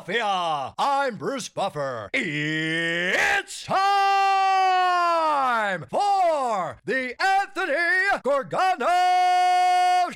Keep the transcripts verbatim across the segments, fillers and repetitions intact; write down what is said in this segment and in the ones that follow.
Philadelphia, I'm Bruce Buffer. It's time for the Anthony Gargano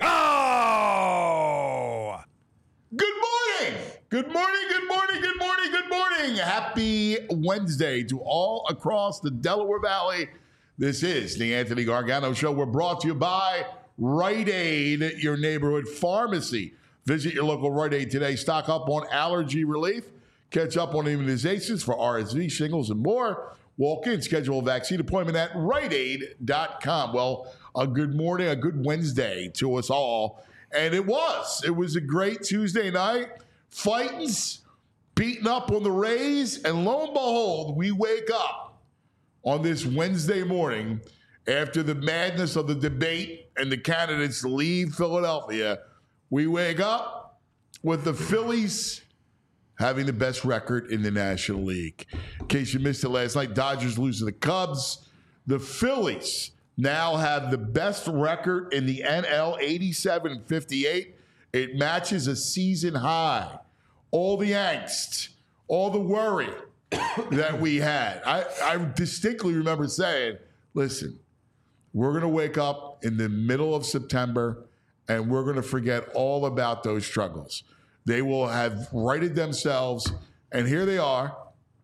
Show! Good morning! Good morning, good morning, good morning, good morning. Happy Wednesday to all across the Delaware Valley. This is the Anthony Gargano Show. We're brought to you by Rite Aid, your neighborhood pharmacy. Visit your local Rite Aid today. Stock up on allergy relief. Catch up on immunizations for R S V, shingles, and more. Walk in, schedule a vaccine appointment at rite aid dot com. Well, a good morning, a good Wednesday to us all. And it was. It was a great Tuesday night. Fightings, beating up on the Rays. And lo and behold, we wake up on this Wednesday morning after the madness of the debate and the candidates leave Philadelphia. We wake up with the Phillies having the best record in the National League. In case you missed it last night, Dodgers losing the Cubs. The Phillies now have the best record in the N L, eighty-seven and fifty-eight. It matches a season high. All the angst, all the worry that we had. I, I distinctly remember saying, listen, we're going to wake up in the middle of September and we're going to forget all about those struggles. They will have righted themselves, and here they are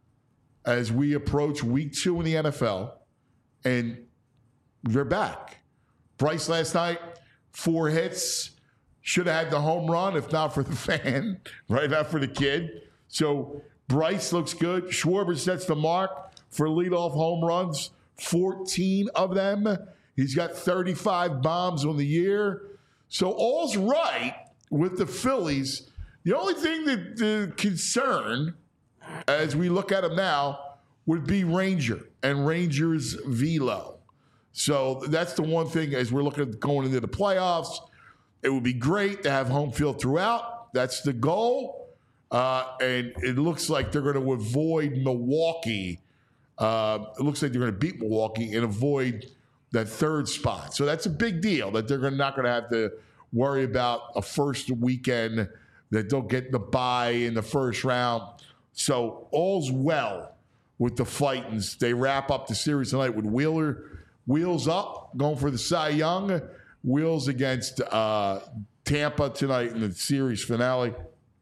as we approach week two in the N F L, and they're back. Bryce last night, four hits, should have had the home run if not for the fan, right, not for the kid. So Bryce looks good. Schwarber sets the mark for leadoff home runs, fourteen of them. He's got thirty-five bombs on the year. So all's right with the Phillies. The only thing that the concern, as we look at them now, would be Ranger and Ranger's velo. So that's the one thing as we're looking at going into the playoffs. It would be great to have home field throughout. That's the goal. Uh, and it looks like they're going to avoid Milwaukee. Uh, it looks like they're going to beat Milwaukee and avoid that third spot. So that's a big deal that they're not going to have to worry about a first weekend, that they'll get the bye in the first round. So all's well with the Fightins. They wrap up the series tonight with Wheeler, Wheels up, going for the Cy Young. Wheels against uh, Tampa tonight in the series finale.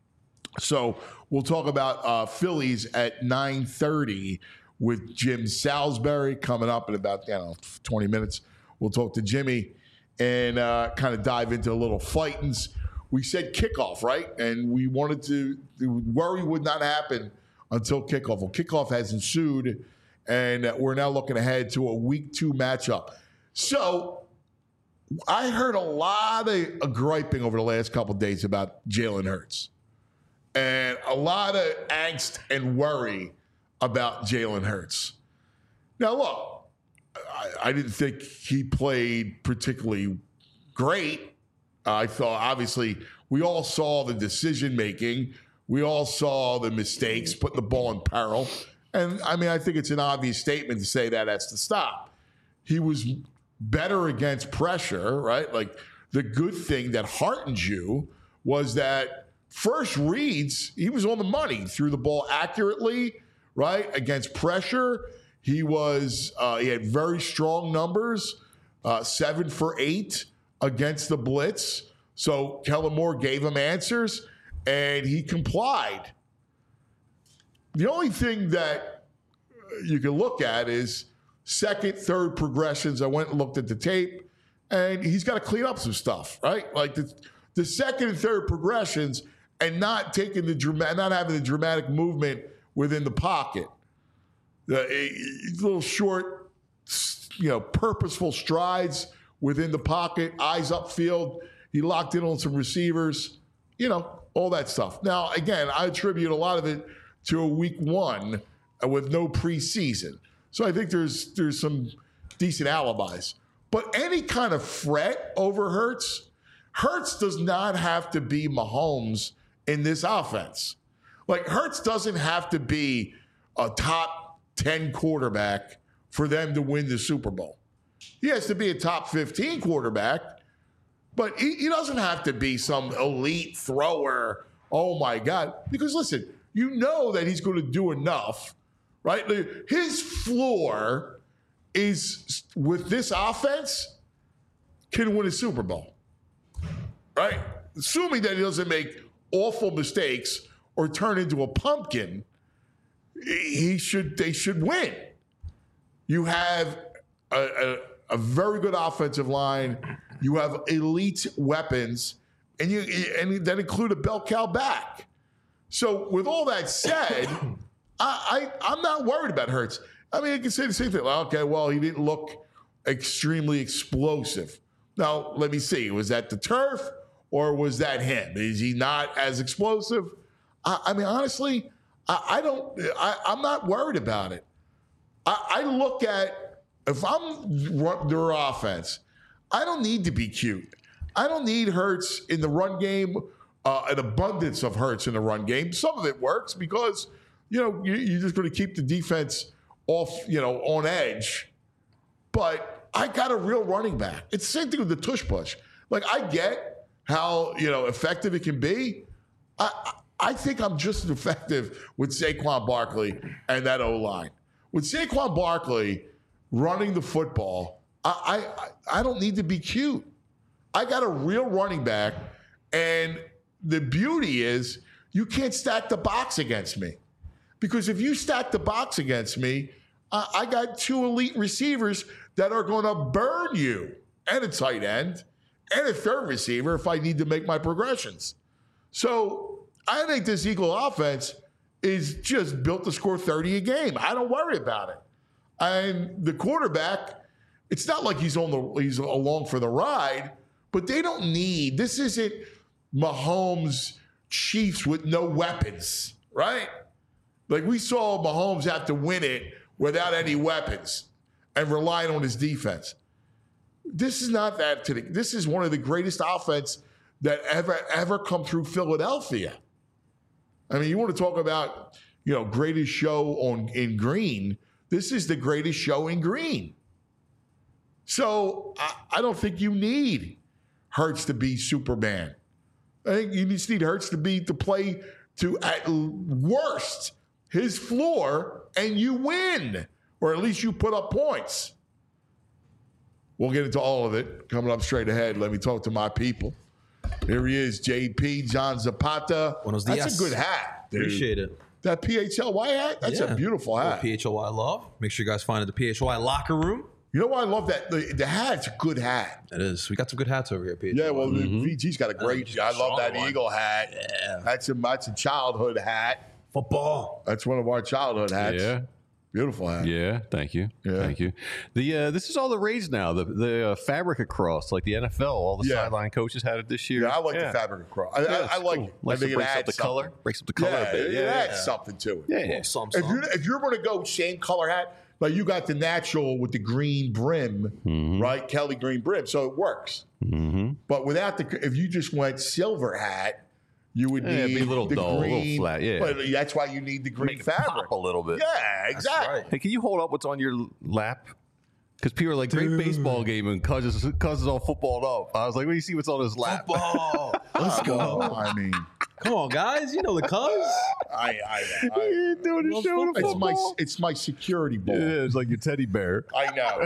So we'll talk about uh, Phillies at nine thirty with Jim Salisbury coming up in about, you know, twenty minutes. We'll talk to Jimmy and uh, kind of dive into a little Fightins. We said kickoff, right? And we wanted to, the worry would not happen until kickoff. Well, kickoff has ensued, and we're now looking ahead to a week two matchup. So I heard a lot of griping over the last couple of days about Jalen Hurts, and a lot of angst and worry about Jalen Hurts. Now, look, I, I didn't think he played particularly great. Uh, I thought, obviously, we all saw the decision-making. We all saw the mistakes, putting the ball in peril. And, I mean, I think it's an obvious statement to say that has to stop. He was better against pressure, right? Like, the good thing that heartened you was that first reads, he was on the money, threw the ball accurately, right? Against pressure, he was uh, he had very strong numbers, uh, seven for eight against the blitz. So Kellen Moore gave him answers, and he complied. The only thing that you can look at is second, third progressions. I went and looked at the tape, and he's got to clean up some stuff, right? Like the the second and third progressions, and not taking the dramatic, not having the dramatic movement within the pocket. The a, little short, you know, purposeful strides within the pocket, eyes upfield. He locked in on some receivers, you know, all that stuff. Now, again, I attribute a lot of it to a week one with no preseason. So I think there's there's some decent alibis. But any kind of fret over Hurts, Hurts does not have to be Mahomes in this offense. Like, Hurts doesn't have to be a top ten quarterback for them to win the Super Bowl. He has to be a top fifteen quarterback, but he, he doesn't have to be some elite thrower. Oh, my God. Because, listen, you know that he's going to do enough, right? His floor is, with this offense, can win a Super Bowl, right? Assuming that he doesn't make awful mistakes or turn into a pumpkin, he should. They should win. You have a, a, a very good offensive line. You have elite weapons, and you and that include a bell cow back. So, with all that said, I, I I'm not worried about Hurts. I mean, I can say the same thing. Okay, well, he didn't look extremely explosive. Now, let me see. Was that the turf or was that him? Is he not as explosive? I, I mean, honestly, I, I don't. I, I'm not worried about it. I, I look at if I'm their offense, I don't need to be cute. I don't need Hurts in the run game. Uh, an abundance of Hurts in the run game. Some of it works because you know you, you're just going to keep the defense off, you know, on edge. But I got a real running back. It's the same thing with the tush push. Like, I get how, you know, effective it can be. I I think I'm just as effective with Saquon Barkley and that O-line. With Saquon Barkley running the football, I, I I don't need to be cute. I got a real running back, and the beauty is you can't stack the box against me. Because if you stack the box against me, I, I got two elite receivers that are going to burn you, and a tight end, and a third receiver if I need to make my progressions. So I think this Eagle offense is just built to score thirty a game. I don't worry about it. And the quarterback, it's not like he's on the he's along for the ride, but they don't need, this isn't Mahomes Chiefs with no weapons, right? Like, we saw Mahomes have to win it without any weapons and relying on his defense. This is not that today. This is one of the greatest offense that ever, ever come through Philadelphia. I mean, you want to talk about, you know, greatest show on in green. This is the greatest show in green. So I, I don't think you need Hurts to be Superman. I think you just need Hurts to be to play to, at worst, his floor, and you win, or at least you put up points. We'll get into all of it coming up straight ahead. Let me talk to my people. Here he is, J P, John Zapata. Buenos That's dias. a good hat, dude. Appreciate it. That P H L Y hat, that's Yeah. a beautiful hat. P H L Y love. Make sure you guys find it at the P H L Y locker room. You know why I love that? The, the hat's a good hat. It is. We got some good hats over here at P H L Y. Yeah, well, mm-hmm. the V G's got a great. Uh, I love that strong one. Eagle hat. Yeah. That's a that's a childhood hat. Football. That's one of our childhood hats. Yeah. Beautiful hat. Yeah, thank you, Yeah. thank you. The uh, this is all the rage now. The the uh, fabric across, like the N F L, all the Yeah. sideline coaches had it this year. Yeah, I like the fabric across. I, Yeah, I, I it's like. cool. I Likes think to it breaks up adds the something. color, breaks up the color Yeah, a bit. it Yeah, adds yeah. something to it. Yeah, yeah. Some, If some. you're if you're going to go same color hat, like you got the natural with the green brim, Mm-hmm. right? Kelly green brim, so it works. Mm-hmm. But without the, if you just went silver hat, you would Yeah, need it'd be a little the dull, a little green. flat, yeah. But that's why you need the green Make it fabric. pop a little bit. Yeah, exactly. right. Hey, can you hold up what's on your lap? Because people are like, great baseball game, and Cuz is, Cuz is all footballed up. I was like, let me see what's on his lap. Football. Let's go. I mean, Come on, guys. You know the cuz. I, I, I You're doing a show with it's my football. it's my security ball. Yeah, it's like your teddy bear. I know.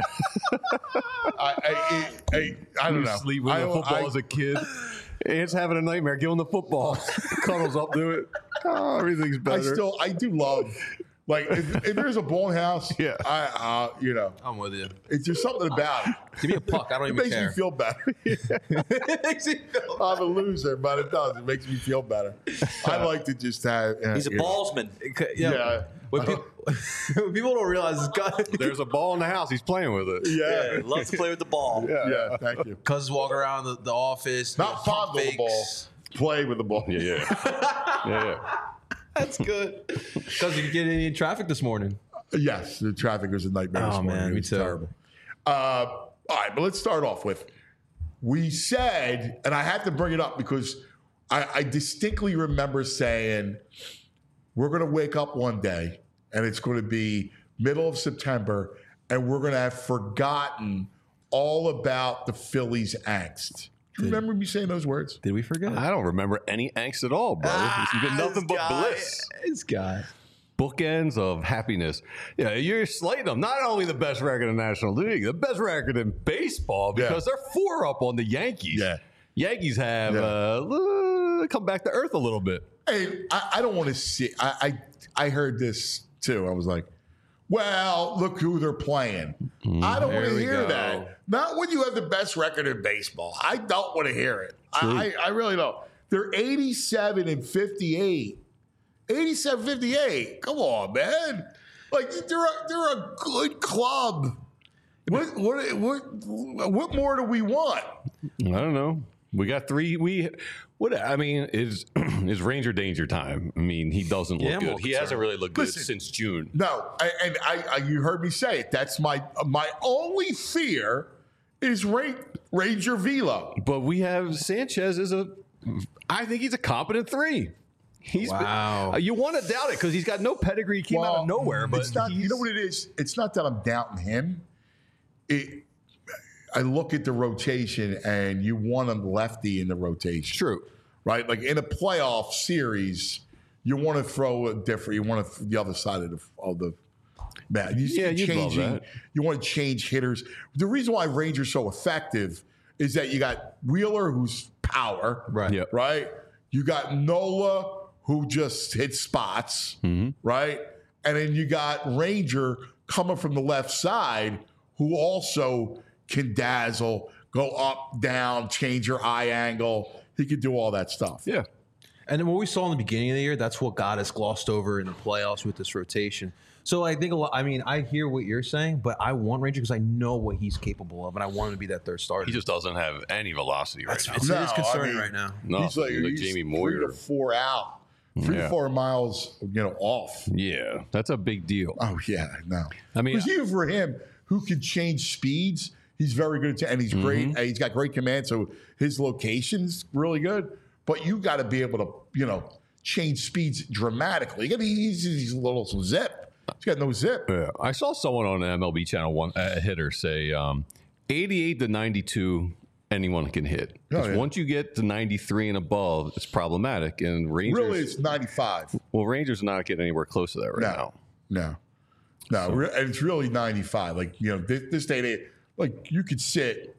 I, I, I, I, I don't You know. sleep with I, a football I, as a kid. Ant's having a nightmare. Give him the football. Cuddles up to it. Oh, everything's I better. still I do love. Like if, if there's a bowling house, Yeah. I uh, you know, I'm with you. it's just something about it. Give me a puck. I don't It even makes care. me feel better. It makes me feel I'm a loser, but it does. It makes me feel better. I like to just have. Uh, He's a you know. ballsman. Yeah. Yeah. When people, when people don't realize this guy, There's a ball in the house. He's playing with it. Yeah. Yeah, loves to play with the ball. Yeah. Yeah. Thank you. cuz walk around the, the office. Not doing fond of the fakes. ball. Play with the ball. Yeah, yeah. yeah, yeah. That's good. Cuz you get any traffic this morning. Yes, the traffic was a nightmare. this Oh, morning. man, It me was too. terrible. Uh, all right, but let's start off with we said, and I have to bring it up because I, I distinctly remember saying we're going to wake up one day and it's going to be middle of September and we're going to have forgotten all about the Phillies angst. Do you remember me saying those words? Did we forget? I don't remember any angst at all, bro. It's been nothing but guy, bliss. This guy. Bookends of happiness. Yeah, you're slating them. Not only the best record in the National League, the best record in baseball because Yeah. they're four up on the Yankees. Yeah. Yankees have Yeah. uh, come back to earth a little bit. Hey, I, I don't want to see. I, I I heard this too. I was like, well, look who they're playing. I don't want there to we hear go. that. Not when you have the best record in baseball. I don't want to hear it. I, I, I really don't. They're eighty-seven and fifty-eight. eighty-seven fifty-eight. Come on, man. Like they're a, they're a good club. What what what what more do we want? I don't know. We got three. We what? I mean, is is Ranger danger time? I mean, he doesn't look Yeah, I'm a good. little He concerned. hasn't really looked good Listen. since June. No, I, and I, I you heard me say it. That's my my only fear is Ra- Ranger Velo. But we have Sanchez as a. I think he's a competent three. He's been- Wow. uh, you want to doubt it because he's got no pedigree. He came out of nowhere. But it's not. You he's- know what it is? It's not that I'm doubting him. It. I look at the rotation, and you want a lefty in the rotation. True. Right? Like in a playoff series, you want to throw a different. You want to the other side of the of the mat. You see Yeah, you'd love changing. that. You want to change hitters. The reason why Rangers so effective is that you got Wheeler, who's power, Right. Yep. right? You got Nola, who just hits spots, Mm-hmm. right? And then you got Ranger coming from the left side, who also can dazzle, go up, down, change your eye angle. He could do all that stuff. Yeah. And then what we saw in the beginning of the year, that's what got us glossed over in the playoffs with this rotation. So I think a lot. I mean, I hear what you're saying, but I want Ranger because I know what he's capable of, and I want him to be that third starter. He just doesn't have any velocity right That's now. it's, No, it is I concerning mean- right now. No, he's like, like he's Jamie three Moyer. to four out, three Yeah. to four miles, you know, off. Yeah, that's a big deal. Oh yeah, no. I mean, Because even for him, who can change speeds, he's very good at, and he's great. Mm-hmm. And he's got great command, so his location's really good. But you got to be able to, you know, change speeds dramatically. You got to use these little some zip. He's got no zip. Yeah, I saw someone on M L B Channel One, a hitter, say um, eighty-eight to ninety-two, anyone can hit. Oh, 'Cause yeah. once you get to ninety-three and above, it's problematic. And Rangers, Really, it's ninety-five. well, Rangers are not getting anywhere close to that right No, now. no, no. Re- and it's really ninety-five. Like you know, this, this day, and age, like you could sit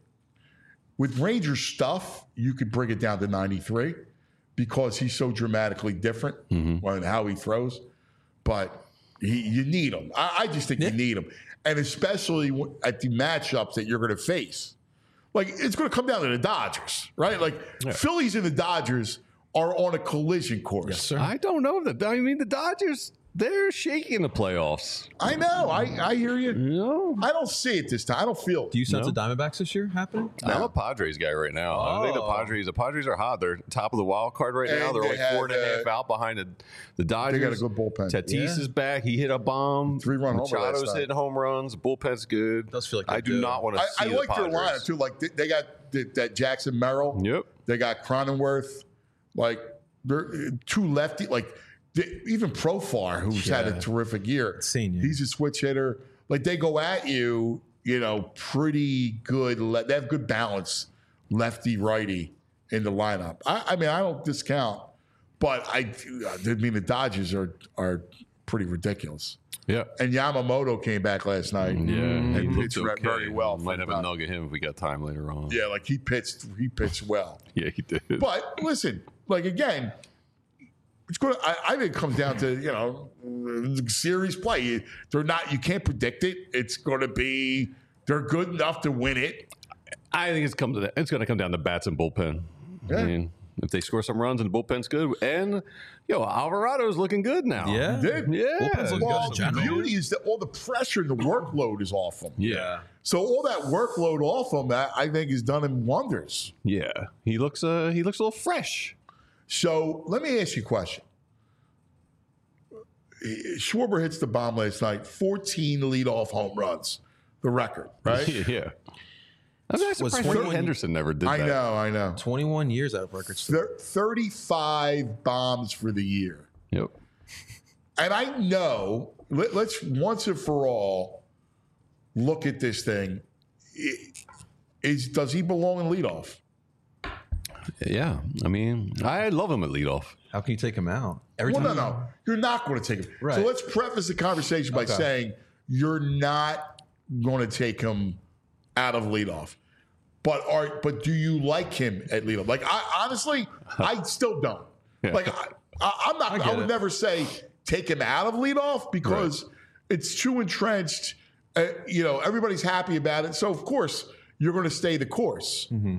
with Ranger stuff. You could bring it down to ninety-three because he's so dramatically different Mm-hmm. on how he throws. But he, you need him. I, I just think you need him, and especially w- at the matchups that you're going to face. Like it's going to come down to the Dodgers, right? Like Phillies and the Dodgers are on a collision course. Yes, sir. I don't know that. I mean, the Dodgers, they're shaky in the playoffs. I know. I, I hear you. No, I don't see it this time. I don't feel it. Do you sense No. the Diamondbacks this year happening? I'm a Padres guy right now. I think the Oh. Padres, the Padres are hot. They're top of the wild card right now. And They're they like had, four and a half uh, out behind the, the Dodgers. They got a good bullpen. Tatis Yeah. is back. He hit a bomb. Three-run homer last Machado's night. hitting home runs. Bullpen's good. Does feel like I they do do. not want to I, see I the like their Padres. lineup too. Like they, they got the, that Jackson Merrill. Yep. They got Cronenworth. Like they're uh, two lefty. Like they, even Profar, who's had a Yeah. terrific year. Senior. He's a switch hitter. Like they go at you. You know, pretty good. Le- they have good balance, lefty righty in the lineup. I, I mean, I don't discount, but I, I mean, the Dodgers are are pretty ridiculous. Yeah. And Yamamoto came back last night. Yeah, and he looked pitched okay. very well. Might for have the a nugget him if we got time later on. Yeah, like he pitched, he pitched well. Yeah, he did. But listen, like again, it's going. I, I think it comes down to you know series play. You, they're not. You can't predict it. It's going to be. They're good enough to win it. I think it's come to that. It's going to come down to bats and bullpen. Yeah. I mean, if they score some runs and the bullpen's good, and yo, Alvarado's looking good now. Yeah. Did Yeah. Bullpen's looking Well, good in the general. beauty is that all the pressure and the workload is off them. Yeah. So all that workload off them, I I think, has done him wonders. Yeah. He looks. Uh. He looks a little fresh. So let me ask you a question. Schwarber hits the bomb last night, fourteen leadoff home runs, the record, right? yeah. I'm not Was surprised Freddie twenty-one Henderson never did I that. know, I know. twenty-one years out of records. Thir- thirty-five bombs for the year. Yep. And I know, let, let's once and for all look at this thing. I- Is, does he belong in leadoff? Yeah, I mean, I love him at leadoff. How can you take him out? Every Well, no, time no. You're not going to take him. Right. So let's preface the conversation by Okay. saying you're not going to take him out of leadoff. But are but do you like him at leadoff? Like, I honestly, I still don't. Yeah. Like, I, I, I'm not. I I, get would it. never say take him out of leadoff because it's too entrenched. Uh, you know, everybody's happy about it, so of course you're going to stay the course. Mm-hmm.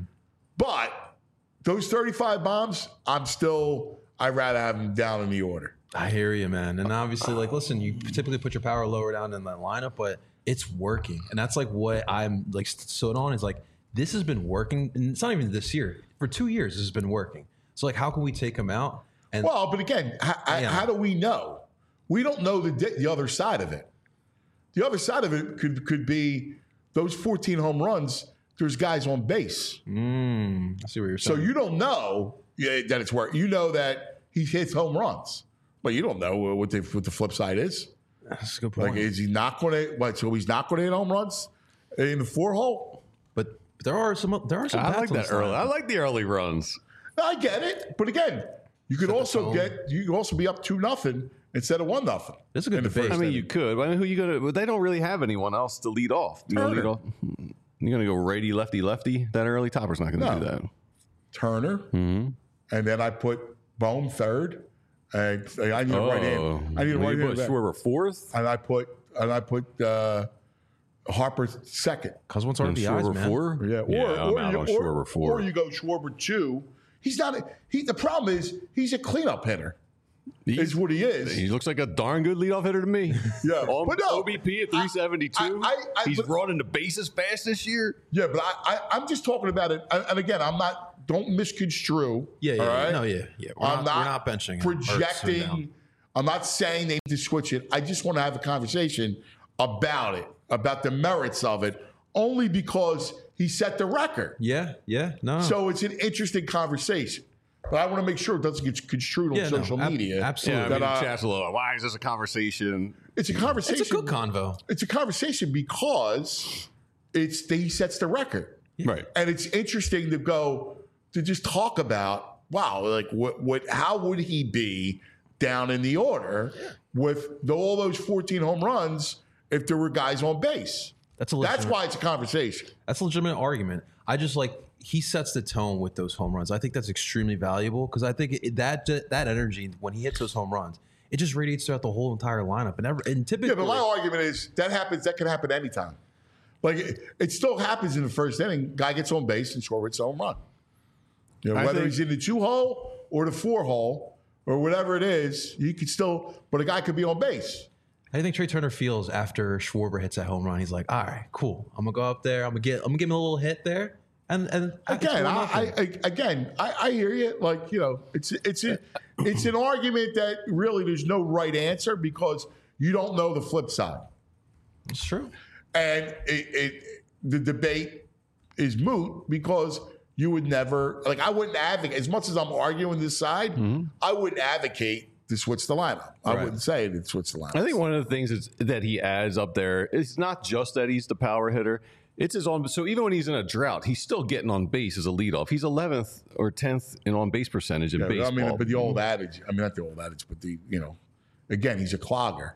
But those thirty-five bombs, I'm still. I'd rather have them down in the order. I hear you, man. And obviously, like, listen, you typically put your power lower down in that lineup, but it's working. And that's like what I'm like stood on is like, this has been working. And it's not even this year. For two years, this has been working. So, like, how can we take him out? And Well, but again, how, Yeah. how do we know? We don't know the the other side of it. The other side of it could could be those fourteen home runs. There's guys on base, mm, I see what you're so saying. you don't know yeah, that it's work. You know that he hits home runs, but you don't know what the what the flip side is. That's a good point. Like, is he not going to? What? So he's not going to hit home runs in the four hole? but there are some there are some I bats like on that this early. lineup. I like the early runs. I get it, but again, you could Set the also tone. get you could also be up two nothing instead of one nothing. That's a good in the debate. first I mean, inning. you could. I mean, who you gonna? But they don't really have anyone else to lead off. You gonna Turner. lead off. You're gonna go righty, lefty, lefty. That early Topper's not gonna No. do that. Turner, Mm-hmm. and then I put Bone third, and I need a right hand. I need a Well, right you put hand, Schwarber fourth. and I put and I put uh, Harper second. Because once And R B Is, Schwarber man. four. Yeah, or yeah, I'm or, out you, on or, Schwarber four. or you go Schwarber two. He's not. A, he. The problem is he's a cleanup hitter. He- Is what he is. He looks like a darn good leadoff hitter to me. Yeah, On but no, O B P at three seventy-two. I- I- I- He's but- running the bases fast this year. Yeah, but I, I I'm just talking about it. And and again, I'm not. Don't misconstrue. Yeah, yeah, all yeah. right? No, yeah, yeah. We're I'm not, not, we're not benching him or sitting down. projecting. I'm not saying they need to switch it. I just want to have a conversation about it, about the merits of it, only because he set the record. Yeah, yeah, no. So it's an interesting conversation. But I want to make sure it doesn't get construed on Yeah, no, social ab- media. absolutely. Yeah, I That, mean, uh, chat's a little. Why is this a conversation? it's a conversation. it's a good convo. It's a conversation because it's he sets the record. Right. And it's interesting to go to just talk about, wow, like what what how would he be down in the order with the, all those fourteen home runs if there were guys on base? That's a That's legitimate, why it's a conversation. that's a legitimate argument. I just like he sets the tone with those home runs. I think that's extremely valuable because I think it, that that energy when he hits those home runs, it just radiates throughout the whole entire lineup. And, ever, and typically, Yeah, but my argument is that happens. That can happen anytime. Like it, it still happens in the first inning. Guy gets on base and scores its home run. You know, I whether think- he's in the two hole or the four hole or whatever it is, you could still. But a guy could be on base. how do you think Trey Turner feels after Schwarber hits that home run? He's like, all right, cool. I'm gonna go up there. I'm gonna get. I'm gonna give him a little hit there. And and Again, I, I, I again, I, I hear you. Like you know, it's it's a, it's an argument that really there's no right answer because you don't know the flip side, it's true. and it, it the debate is moot because you would never like I wouldn't advocate as much as I'm arguing this side. I wouldn't advocate to switch the lineup. I Right. wouldn't say to switch the lineup. I think one of the things is that he adds up there is not just that he's the power hitter. It's his on. So even when he's in a drought, he's still getting on base as a leadoff. He's eleventh or tenth in on base percentage in Yeah, baseball. I mean, but the old adage. I mean, not the old adage, but the you know, again, he's a clogger.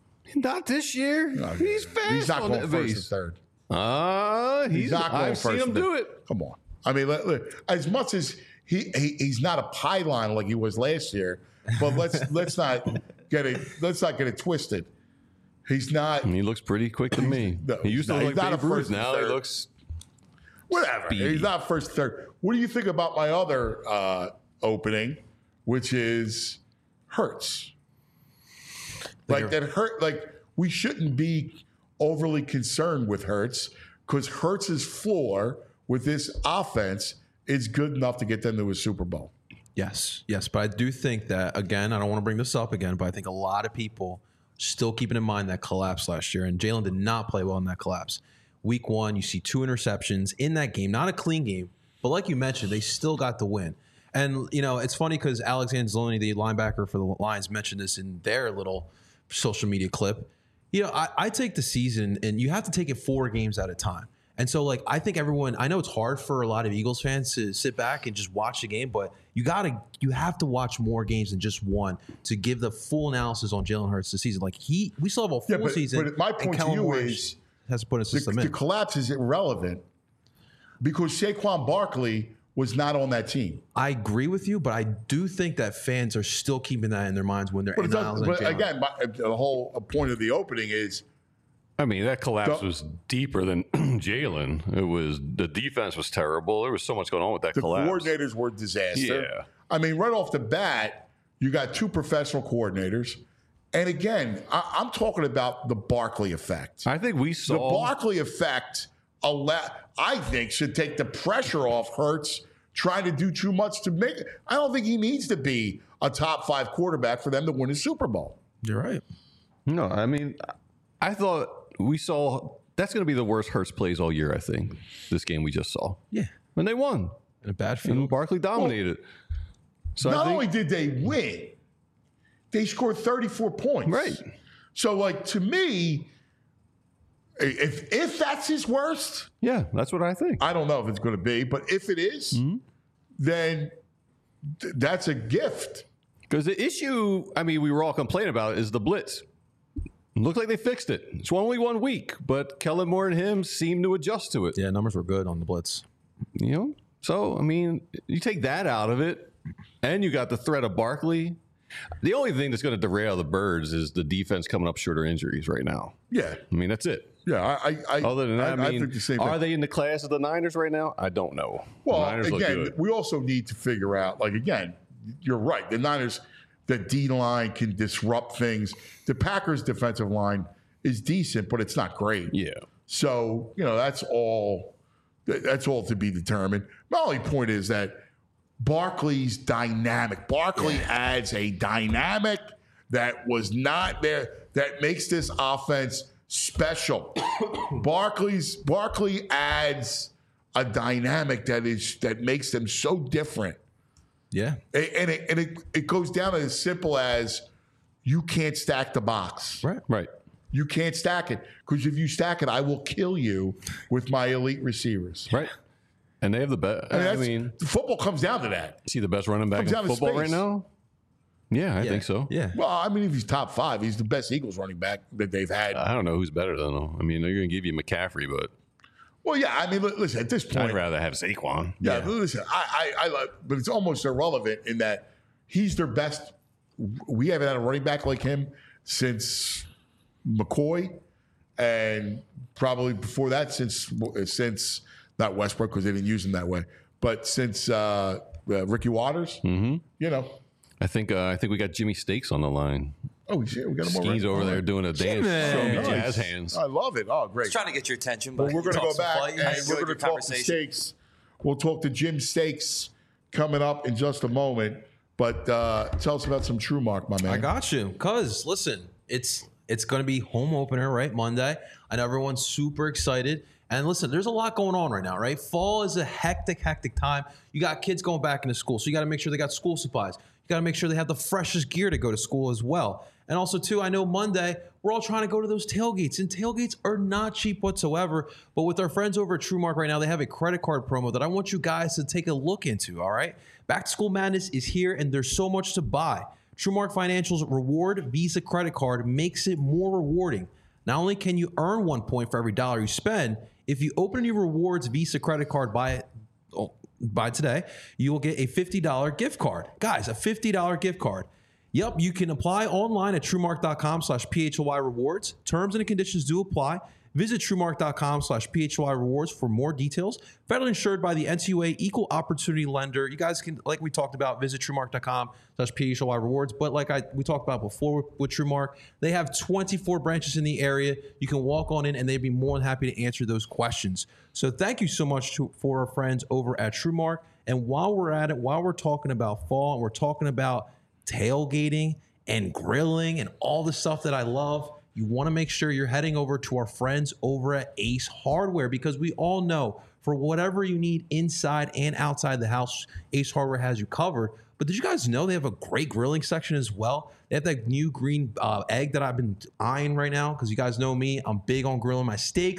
Not this year. He's fast. He's not on going that first base. and third. Ah, he's, He's not going I've first. seen him and do third. it. Come on. I mean, let- let- as much as he, he he's not a pylon like he was last year, but let's let's not get it let's not get it twisted. He's not And he looks pretty quick to me. No, he used to he's look not like a Babe Ruth. first and Now he third. looks. whatever. Speedy. He's not first third. What do you think about my other uh, opening, which is Hurts? Like that hurt. Like we shouldn't be overly concerned with Hurts because Hurts's floor with this offense is good enough to get them to a Super Bowl. Yes, yes, but I do think that again. I don't want to bring this up again, but I think a lot of people still keeping in mind that collapse last year, and Jalen did not play well in that collapse. Week one, you see two interceptions in that game, not a clean game, but like you mentioned, they still got the win. And you know, it's funny because Alex Anzalone, the linebacker for the Lions, mentioned this in their little social media clip. You know, I, I take the season, and you have to take it four games at a time. And so, like, I think everyone, I know it's hard for a lot of Eagles fans to sit back and just watch the game, but you got to, you have to watch more games than just one to give the full analysis on Jalen Hurts this season. Like, he, we still have a full Yeah, but, season. but my and point to Kellen you Moore is has to put a the, system the in. collapse is irrelevant because Saquon Barkley was not on that team. I agree with you, but I do think that fans are still keeping that in their minds when they're But, it doesn't- analyzing but Jalen. again, my, the whole point of the opening is I mean, that collapse The- was deeper than Jalen. It was the defense was terrible. There was so much going on with that the collapse. coordinators were disaster. Yeah. I mean, right off the bat, you got two professional coordinators. And again, I, I'm talking about the Barkley effect. I think we The saw Barkley effect, alla- I think, should take the pressure off Hurts trying to do too much to make it. I don't think he needs to be a top five quarterback for them to win a Super Bowl. You're right. No, I mean, I thought we saw that's going to be the worst Hurts plays all year. I think this game we just saw, Yeah. and they won, In a bad and field. Barkley dominated. So I Not think, only did they win, they scored thirty-four points. right, So, like, to me, if if that's his worst, yeah, that's what I think. I don't know if it's going to be, but if it is, Mm-hmm. then th- that's a gift. Because the issue, I mean, we were all complaining about is the blitz. Looked like they fixed it. It's only one week, but Kellen Moore and him seemed to adjust to it. Yeah, numbers were good on the blitz. You know, so I mean, you take that out of it, and you got the threat of Barkley. The only thing that's going to derail the Birds is the defense coming up short of injuries right now. Yeah, I mean, that's it. yeah. I, I, I Other than that, I, I, mean, think the same are thing. they in the class of the Niners right now? I don't know. Well, the Niners look again, good. we also need to figure out. Like, again, you're right. The Niners, the D line can disrupt things. The Packers' defensive line is decent, but it's not great. Yeah. So, you know, that's all that's all to be determined. My only point is that Barkley's dynamic. Barkley adds a dynamic that was not there, that makes this offense special. Barkley's Barkley adds a dynamic that is that makes them so different. Yeah. And, and it and it, it goes down to as simple as you can't stack the box. Right. Right. You can't stack it because if you stack it, I will kill you with my elite receivers. Right. And they have the best. I mean, I that's- mean, football comes down to that. see the best running back Comes in down to football space. right now? Yeah, I Yeah. think so. Yeah. Well, I mean, if he's top five, he's the best Eagles running back that they've had. I don't know who's better than them. I mean, they're going to give you McCaffrey, but well, yeah, I mean, li- listen, at this I'd point, rather have Saquon. yeah, but listen, I, I, I love, but it's almost irrelevant in that he's their best. We haven't had a running back like him since McCoy, and probably before that since since not Westbrook because they didn't use him that way, but since uh, uh, Ricky Waters. Mm-hmm. You know, I think uh, I think we got Jimmy Stakes on the line. oh, he's here. We got him He's over there doing a dance, showing me Nice. jazz hands. I love it. Oh, great. Trying to get your attention, Well, but we're going to talk go some back fight. and I we're enjoyed going to your talk to conversation. Stakes. We'll talk to Jim Stakes coming up in just a moment. But uh, tell us about some True Mark, my man. I got you. Cause listen, it's it's going to be home opener, right? Monday. I know everyone's super excited. And listen, there's a lot going on right now, right? Fall is a hectic, hectic time. You got kids going back into school, so you got to make sure they got school supplies. You got to make sure they have the freshest gear to go to school as well. And also, too, I know Monday, we're all trying to go to those tailgates, and tailgates are not cheap whatsoever. But with our friends over at TrueMark right now, they have a credit card promo that I want you guys to take a look into, all right? Back to school madness is here, and there's so much to buy. TrueMark Financial's Reward Visa credit card makes it more rewarding. Not only can you earn one point for every dollar you spend, if you open your Rewards Visa credit card by oh, by today, you will get a fifty dollars gift card. Guys, a fifty dollars gift card. Yep, you can apply online at truemark.com slash PHLY rewards. Terms and conditions do apply. Visit truemark.com slash PHLY rewards for more details. Federally insured by the N C U A Equal Opportunity Lender. You guys can, like we talked about, visit truemark.com slash PHLY rewards. But like I we talked about before with TrueMark, they have twenty-four branches in the area. You can walk on in and they'd be more than happy to answer those questions. So thank you so much to, for our friends over at TrueMark. And while we're at it, while we're talking about fall and we're talking about tailgating and grilling and all the stuff that I love, you want to make sure you're heading over to our friends over at Ace Hardware, because we all know for whatever you need inside and outside the house, Ace Hardware has you covered. But did you guys know they have a great grilling section as well? They have that new green uh, egg that I've been eyeing right now, because you guys know me. I'm big on grilling my steaks,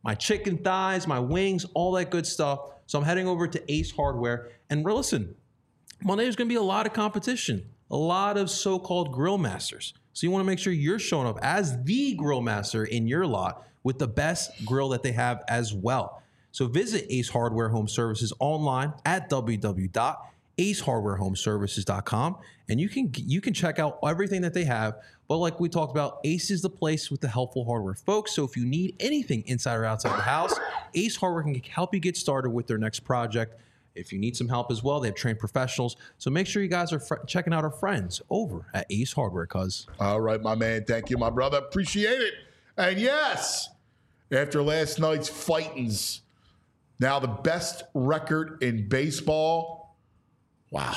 my chicken thighs, my wings, all that good stuff. So I'm heading over to Ace Hardware. And listen, Monday there's going to be a lot of competition, a lot of so-called grill masters. So you want to make sure you're showing up as the grill master in your lot with the best grill that they have as well. So visit Ace Hardware Home Services online at w w w dot ace hardware home services dot com, and you can you can check out everything that they have. But like we talked about, Ace is the place with the helpful hardware, folks. So if you need anything inside or outside the house, Ace Hardware can help you get started with their next project. If you need some help as well, they have trained professionals. So make sure you guys are fr- checking out our friends over at Ace Hardware, cuz. All right, my man. Thank you, my brother. Appreciate it. And yes, after last night's fightings, now the best record in baseball. Wow.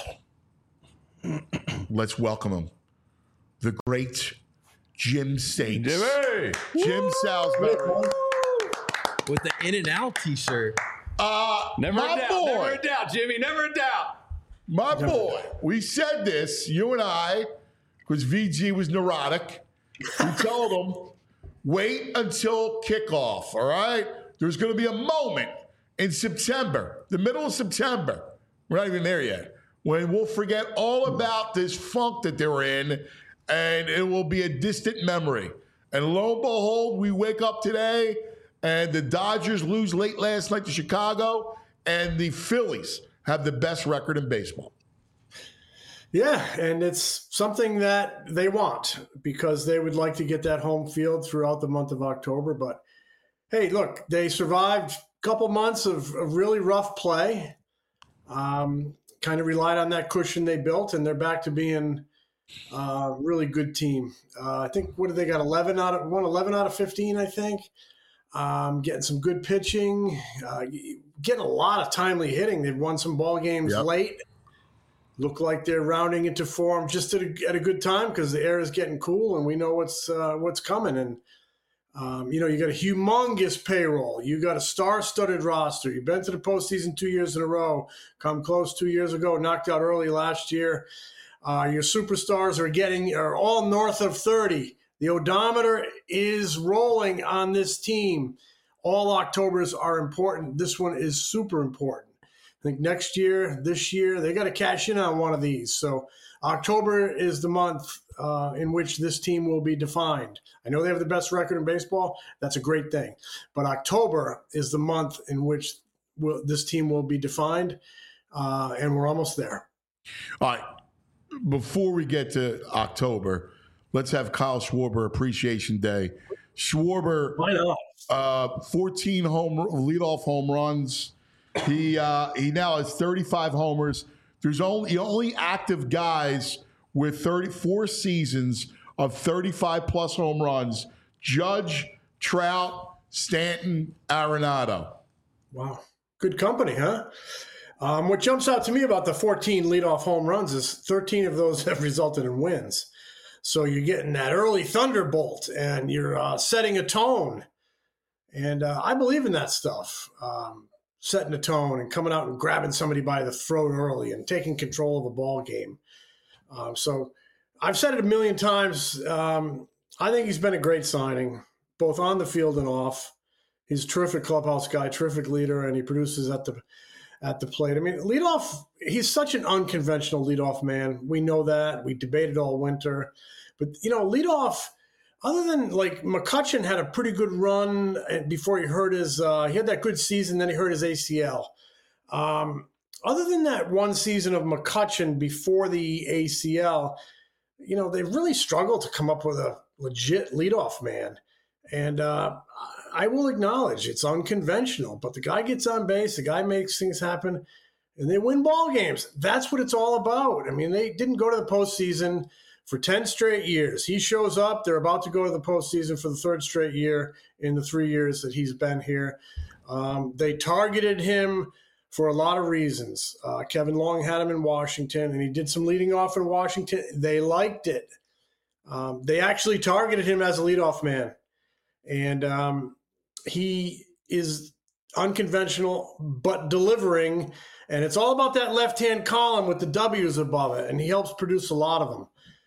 Let's welcome him. The great Jim Saints. Jimmy! Jim Salisbury. With the In-N-Out t-shirt. Uh, Never my a doubt. boy, Never a doubt, Jimmy. Never a doubt. my boy. We said this, you and I, because V G was neurotic. We told him, wait until kickoff, all right? There's going to be a moment in September, the middle of September. We're not even there yet. When we'll forget all about this funk that they were in, and it will be a distant memory. And lo and behold, we wake up today, and the Dodgers lose late last night to Chicago, and the Phillies have the best record in baseball. Yeah, and it's something that they want because they would like to get that home field throughout the month of October. But, hey, look, they survived a couple months of, of really rough play. Um, kind of relied on that cushion they built, and they're back to being a uh, really good team. Uh, I think, what did they got, eleven out of, won eleven out of fifteen, I think. Um, getting some good pitching, uh, getting a lot of timely hitting. They've won some ball games Yep. late. Look like they're rounding into form just at a, at a good time because the air is getting cool and we know what's uh, what's coming. And Um, you know, you got a humongous payroll. You got a star-studded roster. You've been to the postseason two years in a row, come close two years ago, knocked out early last year. Uh, your superstars are getting are all north of thirty. The odometer is rolling on this team. All Octobers are important. This one is super important. I think next year, this year, they got to cash in on one of these. So October is the month uh, in which this team will be defined. I know they have the best record in baseball. That's a great thing. But October is the month in which will, this team will be defined, uh, and we're almost there. All right. Before we get to October, let's have Kyle Schwarber Appreciation Day. Schwarber, Why not? uh, fourteen home leadoff home runs. He uh, he now has thirty-five homers. There's only only active guys with thirty-four seasons of thirty-five plus home runs: Judge, Trout, Stanton, Arenado. Wow. Good company, huh? Um, what jumps out to me about the fourteen leadoff home runs is thirteen of those have resulted in wins. So you're getting that early thunderbolt and you're uh, setting a tone. And uh, I believe in that stuff, um, setting a tone and coming out and grabbing somebody by the throat early and taking control of a ball game. Um, so I've said it a million times. Um, I think he's been a great signing, both on the field and off. He's a terrific clubhouse guy, terrific leader, and he produces at the at the plate. I mean, leadoff, he's such an unconventional leadoff man. We know that. We debated all winter. But, you know, leadoff, other than, like, McCutchen had a pretty good run before he hurt his uh, – he had that good season, then he hurt his A C L. Um, other than that one season of McCutchen before the A C L, you know, they've really struggled to come up with a legit leadoff man. And uh, I will acknowledge it's unconventional, but the guy gets on base, the guy makes things happen, and they win ball games. That's what it's all about. I mean, they didn't go to the postseason for ten straight years. He shows up. They're about to go to the postseason for the third straight year in the three years that he's been here. Um, they targeted him for a lot of reasons. Uh, Kevin Long had him in Washington, and he did some leading off in Washington. They liked it. Um, they actually targeted him as a leadoff man. And um, he is unconventional, but delivering. And it's all about that left-hand column with the W's above it. And he helps produce a lot of them.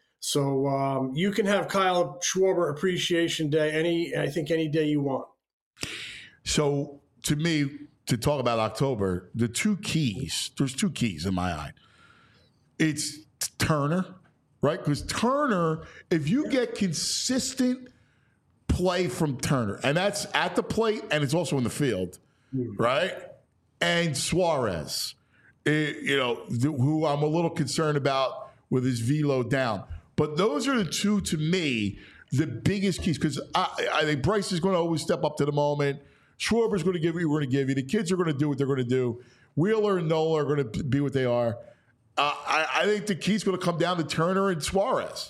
So um, you can have Kyle Schwarber Appreciation Day any, I think, any day you want. So to me, to talk about October, the two keys, there's two keys in my eye. It's Turner, right? Because Turner, if you get consistent play from Turner, and that's at the plate and it's also in the field, right? And Suarez, it, you know, th- who I'm a little concerned about with his velo down. But those are the two, to me, the biggest keys, because I, I think Bryce is going to always step up to the moment. Schwarber's going to give you what we're going to give you. The kids are going to do what they're going to do. Wheeler and Nola are going to be what they are. Uh, I, I think the key's going to come down to Turner and Suarez.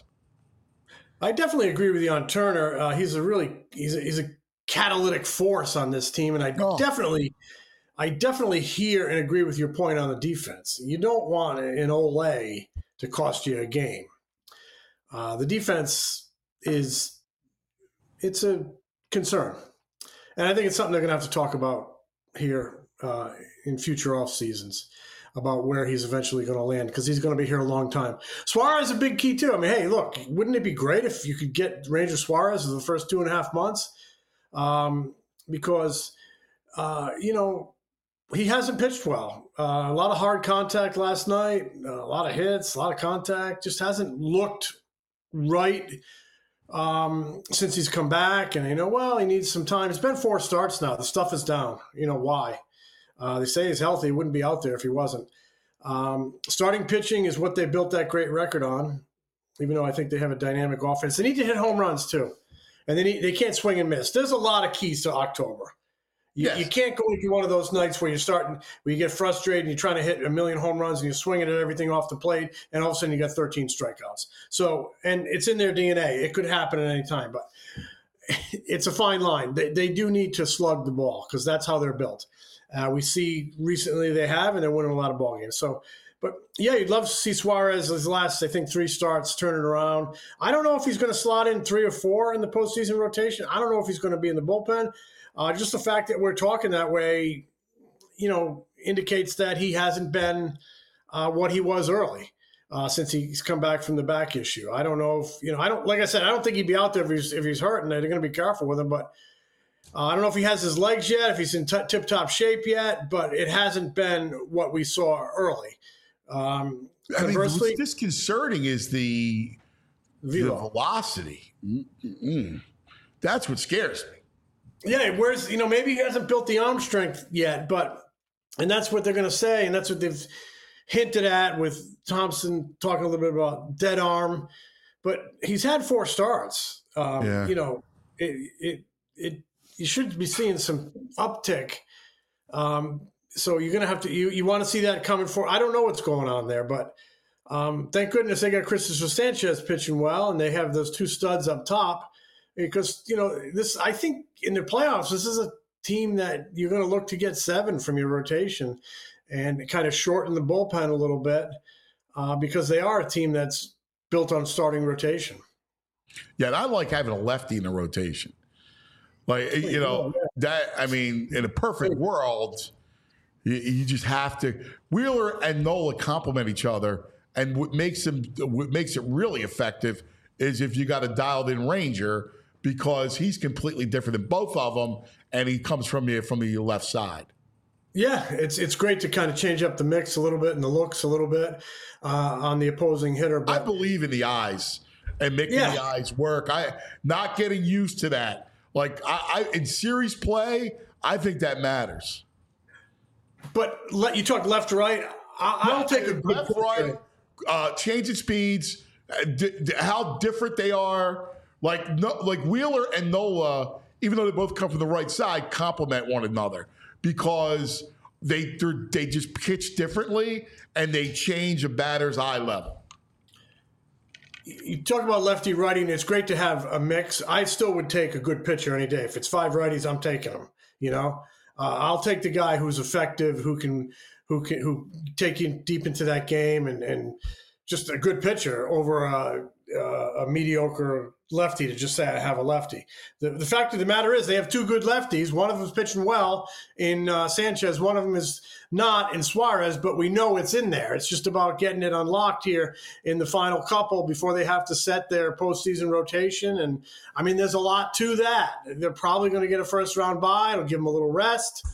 I definitely agree with you on Turner. Uh, he's a really he's a, he's a catalytic force on this team, and I Oh. definitely I definitely hear and agree with your point on the defense. You don't want an Olay to cost you a game. Uh, the defense is it's a concern. And I think it's something they're going to have to talk about here uh, in future off seasons about where he's eventually going to land, because he's going to be here a long time. Suarez is a big key too. I mean, hey, look, wouldn't it be great if you could get Ranger Suarez for the first two and a half months? Um, because, uh, you know, he hasn't pitched well. Uh, a lot of hard contact last night, uh, a lot of hits, a lot of contact. Just hasn't looked right um, since he's come back. And, you know, well, he needs some time. It's been four starts now. The stuff is down. You know why? Uh, they say he's healthy. He wouldn't be out there if he wasn't. Um, starting pitching is what they built that great record on, even though I think they have a dynamic offense. They need to hit home runs, too. And they, need, they can't swing and miss. There's a lot of keys to October. You, Yes. you can't go into one of those nights where you're starting, where you get frustrated and you're trying to hit a million home runs and you're swinging at everything off the plate, and all of a sudden you got thirteen strikeouts. So, and it's in their D N A. It could happen at any time, but it's a fine line. They, they do need to slug the ball because that's how they're built. Uh, we see recently they have, and they're winning a lot of ball games. So, but yeah, you'd love to see Suarez his last, I think, three starts turn it around. I don't know if he's going to slot in three or four in the postseason rotation. I don't know if he's going to be in the bullpen. Uh, just the fact that we're talking that way, you know, indicates that he hasn't been uh, what he was early uh, since he's come back from the back issue. I don't know if, you know, I don't, like I said, I don't think he'd be out there if he's, if he's hurt, and they're going to be careful with him. But uh, I don't know if he has his legs yet, if he's in t- tip-top shape yet, but it hasn't been what we saw early. Um, I mean, conversely, what's disconcerting is the, the velo. velocity. Mm-mm. That's what scares me. Yeah, where's, you know, maybe he hasn't built the arm strength yet, but, and that's what they're going to say, and that's what they've hinted at with Thompson talking a little bit about dead arm, but he's had four starts. Um, Yeah. You know, it, it, it, you should be seeing some uptick. Um, so you're going to have to, you, you want to see that coming for, I don't know what's going on there, but um, thank goodness they got Christopher Sanchez pitching well, and they have those two studs up top. Because, you know, this, I think in the playoffs, this is a team that you're going to look to get seven from your rotation and kind of shorten the bullpen a little bit uh, because they are a team that's built on starting rotation. Yeah, and I like having a lefty in the rotation. Like, you know, that, I mean, in a perfect world, you, you just have to. Wheeler and Nola complement each other, and what makes them, what makes it really effective is if you got a dialed in Ranger, because he's completely different than both of them, and he comes from the from the left side. Yeah, it's it's great to kind of change up the mix a little bit and the looks a little bit uh, on the opposing hitter. But I believe in the eyes and making Yeah. the eyes work. I not getting used to that. Like I, I in series play, I think that matters. but let you talk left to right. I, I'll take a good left, right, uh, changing speeds, uh, d- d- how different they are. Like no, like Wheeler and Nola, even though they both come from the right side, complement one another because they they're- they just pitch differently and they change a batter's eye level. You talk about lefty righty, and it's great to have a mix. I still would take a good pitcher any day. If it's five righties, I'm taking them. You know, uh, I'll take the guy who's effective, who can, who can, who take you deep into that game, and and just a good pitcher over a, a, a mediocre lefty to just say I have a lefty. The, the fact of the matter is they have two good lefties. One of them is pitching well in uh, Sanchez. One of them is not in Suarez, but we know it's in there. It's just about getting it unlocked here in the final couple before they have to set their postseason rotation. And, I mean, there's a lot to that. They're probably going to get a first-round bye. It'll give them a little rest.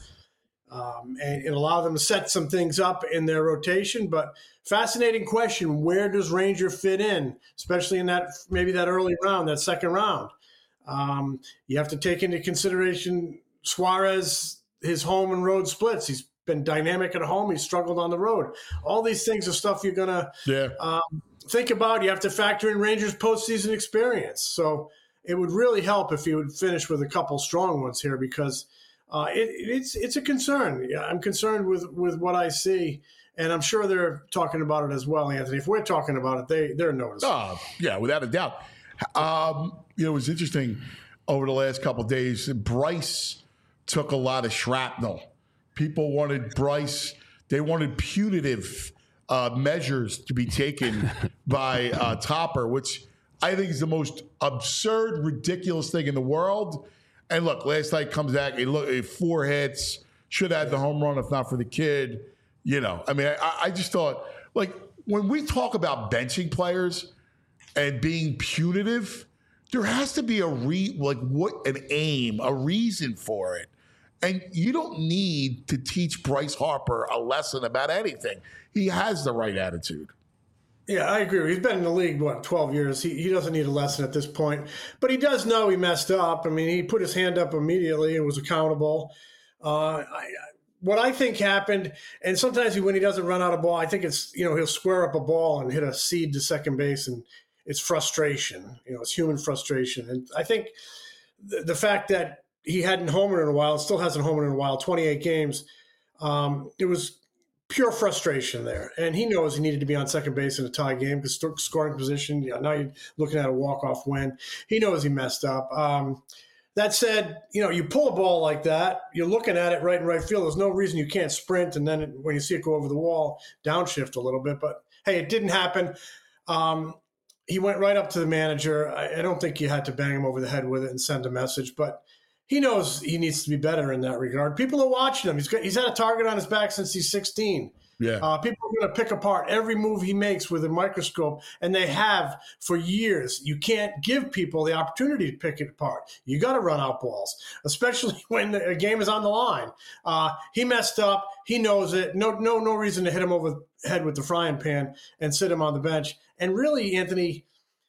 Um, and, and allow them to set some things up in their rotation. But fascinating question, where does Ranger fit in, especially in that maybe that early round, that second round? Um, you have to take into consideration Suarez, his home and road splits. He's been dynamic at home. He's struggled on the road. All these things are stuff you're going to Yeah. um, think about. You have to factor in Rangers' postseason experience. So it would really help if he would finish with a couple strong ones here because – Uh, it, it's it's a concern. Yeah, I'm concerned with, with what I see, and I'm sure they're talking about it as well, Anthony. If we're talking about it, they they're noticing. Oh, yeah, without a doubt. Um, you know, it was interesting over the last couple of days. Bryce took a lot of shrapnel. People wanted Bryce. They wanted punitive uh, measures to be taken by uh, Topper, which I think is the most absurd, ridiculous thing in the world. And look, last night comes back, he look, four hits, should have had the home run if not for the kid. You know, I mean, I, I just thought, like, when we talk about benching players and being punitive, there has to be a re, like, what an aim, a reason for it. And you don't need to teach Bryce Harper a lesson about anything. He has the right attitude. Yeah, I agree. He's been in the league, what, twelve years. He he doesn't need a lesson at this point. But he does know he messed up. I mean, he put his hand up immediately and was accountable. Uh, I, what I think happened, and sometimes when he doesn't run out of ball, I think it's, you know, he'll square up a ball and hit a seed to second base, and it's frustration. You know, it's human frustration. And I think the, the fact that he hadn't homered in a while, still hasn't homered in a while, twenty-eight games, um, it was pure frustration there. And he knows he needed to be on second base in a tie game because scoring position, you know, now you're looking at a walk-off win. He knows he messed up. Um, that said, you know, you pull a ball like that, you're looking at it right in right field. There's no reason you can't sprint, and then it, when you see it go over the wall, downshift a little bit. But, hey, it didn't happen. Um, he went right up to the manager. I, I don't think you had to bang him over the head with it and send a message, but he knows he needs to be better in that regard. People are watching him. He's got, he's had a target on his back since he's sixteen. Yeah. Uh, people are going to pick apart every move he makes with a microscope, and they have for years. You can't give people the opportunity to pick it apart. You got to run out balls, especially when the, a game is on the line. Uh, he messed up. He knows it. No, no, no reason to hit him over the head with the frying pan and sit him on the bench. And really, Anthony,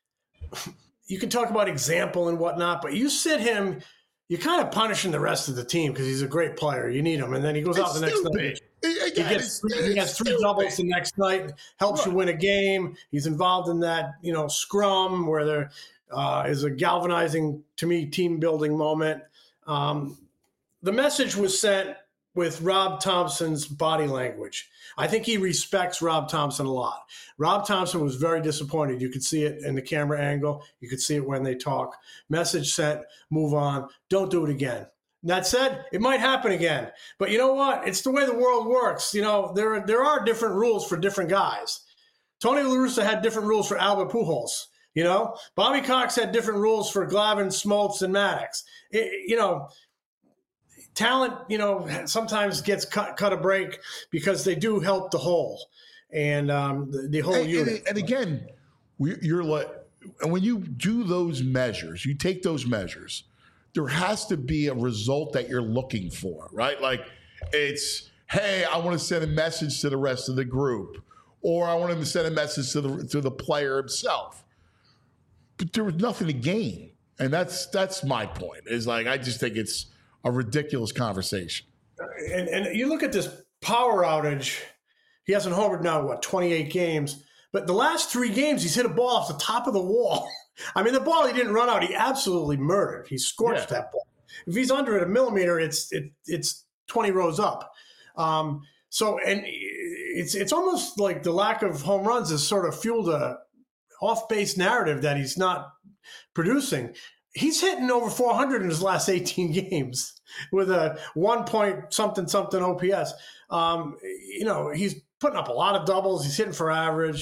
you can talk about example and whatnot, but you sit him. You're kind of punishing the rest of the team because he's a great player. You need him. And then he goes It's out the next stupid. night. Again, He gets, it's- he gets it's three stupid. doubles the next night, helps you win a game. He's involved in that, you know, scrum where there uh, is a galvanizing, to me, team-building moment. Um, the message was sent with Rob Thompson's body language. I think he respects Rob Thompson a lot. Rob Thompson was very disappointed. You could see it in the camera angle. You could see it when they talk. Message sent, move on, don't do it again. That said, it might happen again. But you know what? It's the way the world works. You know, there, there are different rules for different guys. Tony La Russa had different rules for Albert Pujols. You know, Bobby Cox had different rules for Glavine, Smoltz, and Maddox. It, you know, talent, you know, sometimes gets cut, cut a break because they do help the whole and um, the, the whole And, unit. and, and again, we, you're like, and when you do those measures, you take those measures, there has to be a result that you're looking for, right? Like it's, hey, I want to send a message to the rest of the group, or I want him to send a message to the to the player himself. But there was nothing to gain, and that's that's my point. Is like I just think it's a ridiculous conversation. And, and you look at this power outage. He hasn't homered now, what, twenty-eight games. But the last three games, he's hit a ball off the top of the wall. I mean, the ball he didn't run out, he absolutely murdered. He scorched Yeah. that ball. If he's under it a millimeter, it's it, it's twenty rows up. Um, so, and it's it's almost like the lack of home runs has sort of fueled a off-base narrative that he's not producing. He's hitting over four hundred in his last eighteen games with a one point something something O P S. Um, you know, he's putting up a lot of doubles. He's hitting for average.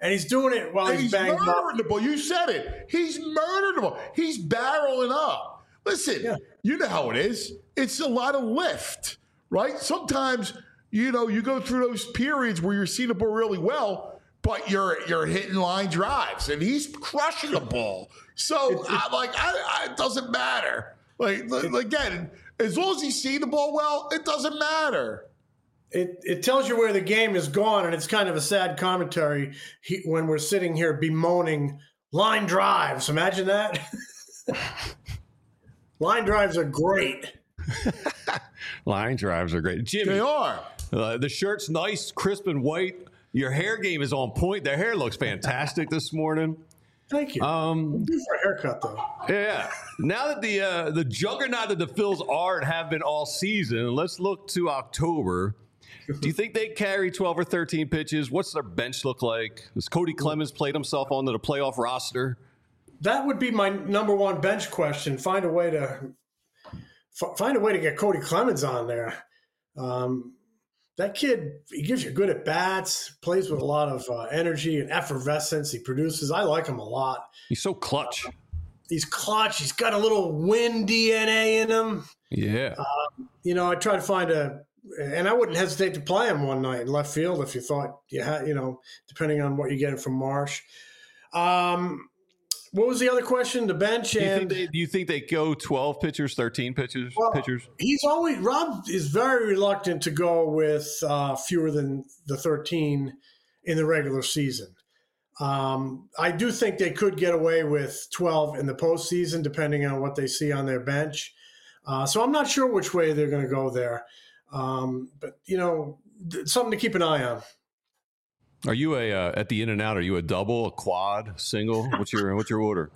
and he's doing it while And he's, he's banged murdering up. the ball. You said it. He's murdering the ball. He's barreling up. Listen, Yeah. you know how it is. It's a lot of lift, right? Sometimes, you know, you go through those periods where you're seeing the ball really well, but you're you're hitting line drives, and he's crushing the ball. So, I, like, I, I, it doesn't matter. Like, like, again, as long as he's seeing the ball well, it doesn't matter. It it tells you where the game is gone, and it's kind of a sad commentary he, when we're sitting here bemoaning line drives. Imagine that. Line drives are great. Line drives are great. Jimmy, They are. Uh, the shirt's nice, crisp and white. Your hair game is on point. The hair looks fantastic this morning. Thank you. Um, Good for a haircut, though. Yeah. Now that the uh, the juggernaut that the Phils are and have been all season, let's look to October. Do you think they carry twelve or thirteen pitches? What's their bench look like? Has Cody Clemens played himself onto the playoff roster? That would be my number one bench question. Find a way to f- find a way to get Cody Clemens on there. Um, that kid, he gives you good at bats, plays with a lot of uh, energy and effervescence. He produces. I like him a lot. He's so clutch. He's clutch. He's got a little win D N A in him. Yeah. Um, you know, I try to find a, and I wouldn't hesitate to play him one night in left field if you thought you had, you know, depending on what you're getting from Marsh. Um, what was the other question? The bench Do you, and think they, do you think they go twelve pitchers, thirteen pitchers? Well, pitchers? he's always Rob is very reluctant to go with uh, fewer than the thirteen in the regular season. Um, I do think they could get away with twelve in the postseason, depending on what they see on their bench. Uh, so I'm not sure which way they're going to go there. Um, but, you know, th- something to keep an eye on. Are you a uh, at the In and Out? Are you a double, a quad, single? What's your what's your order?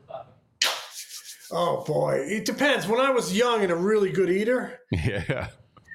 Oh, boy. It depends. When I was young and a really good eater, Yeah.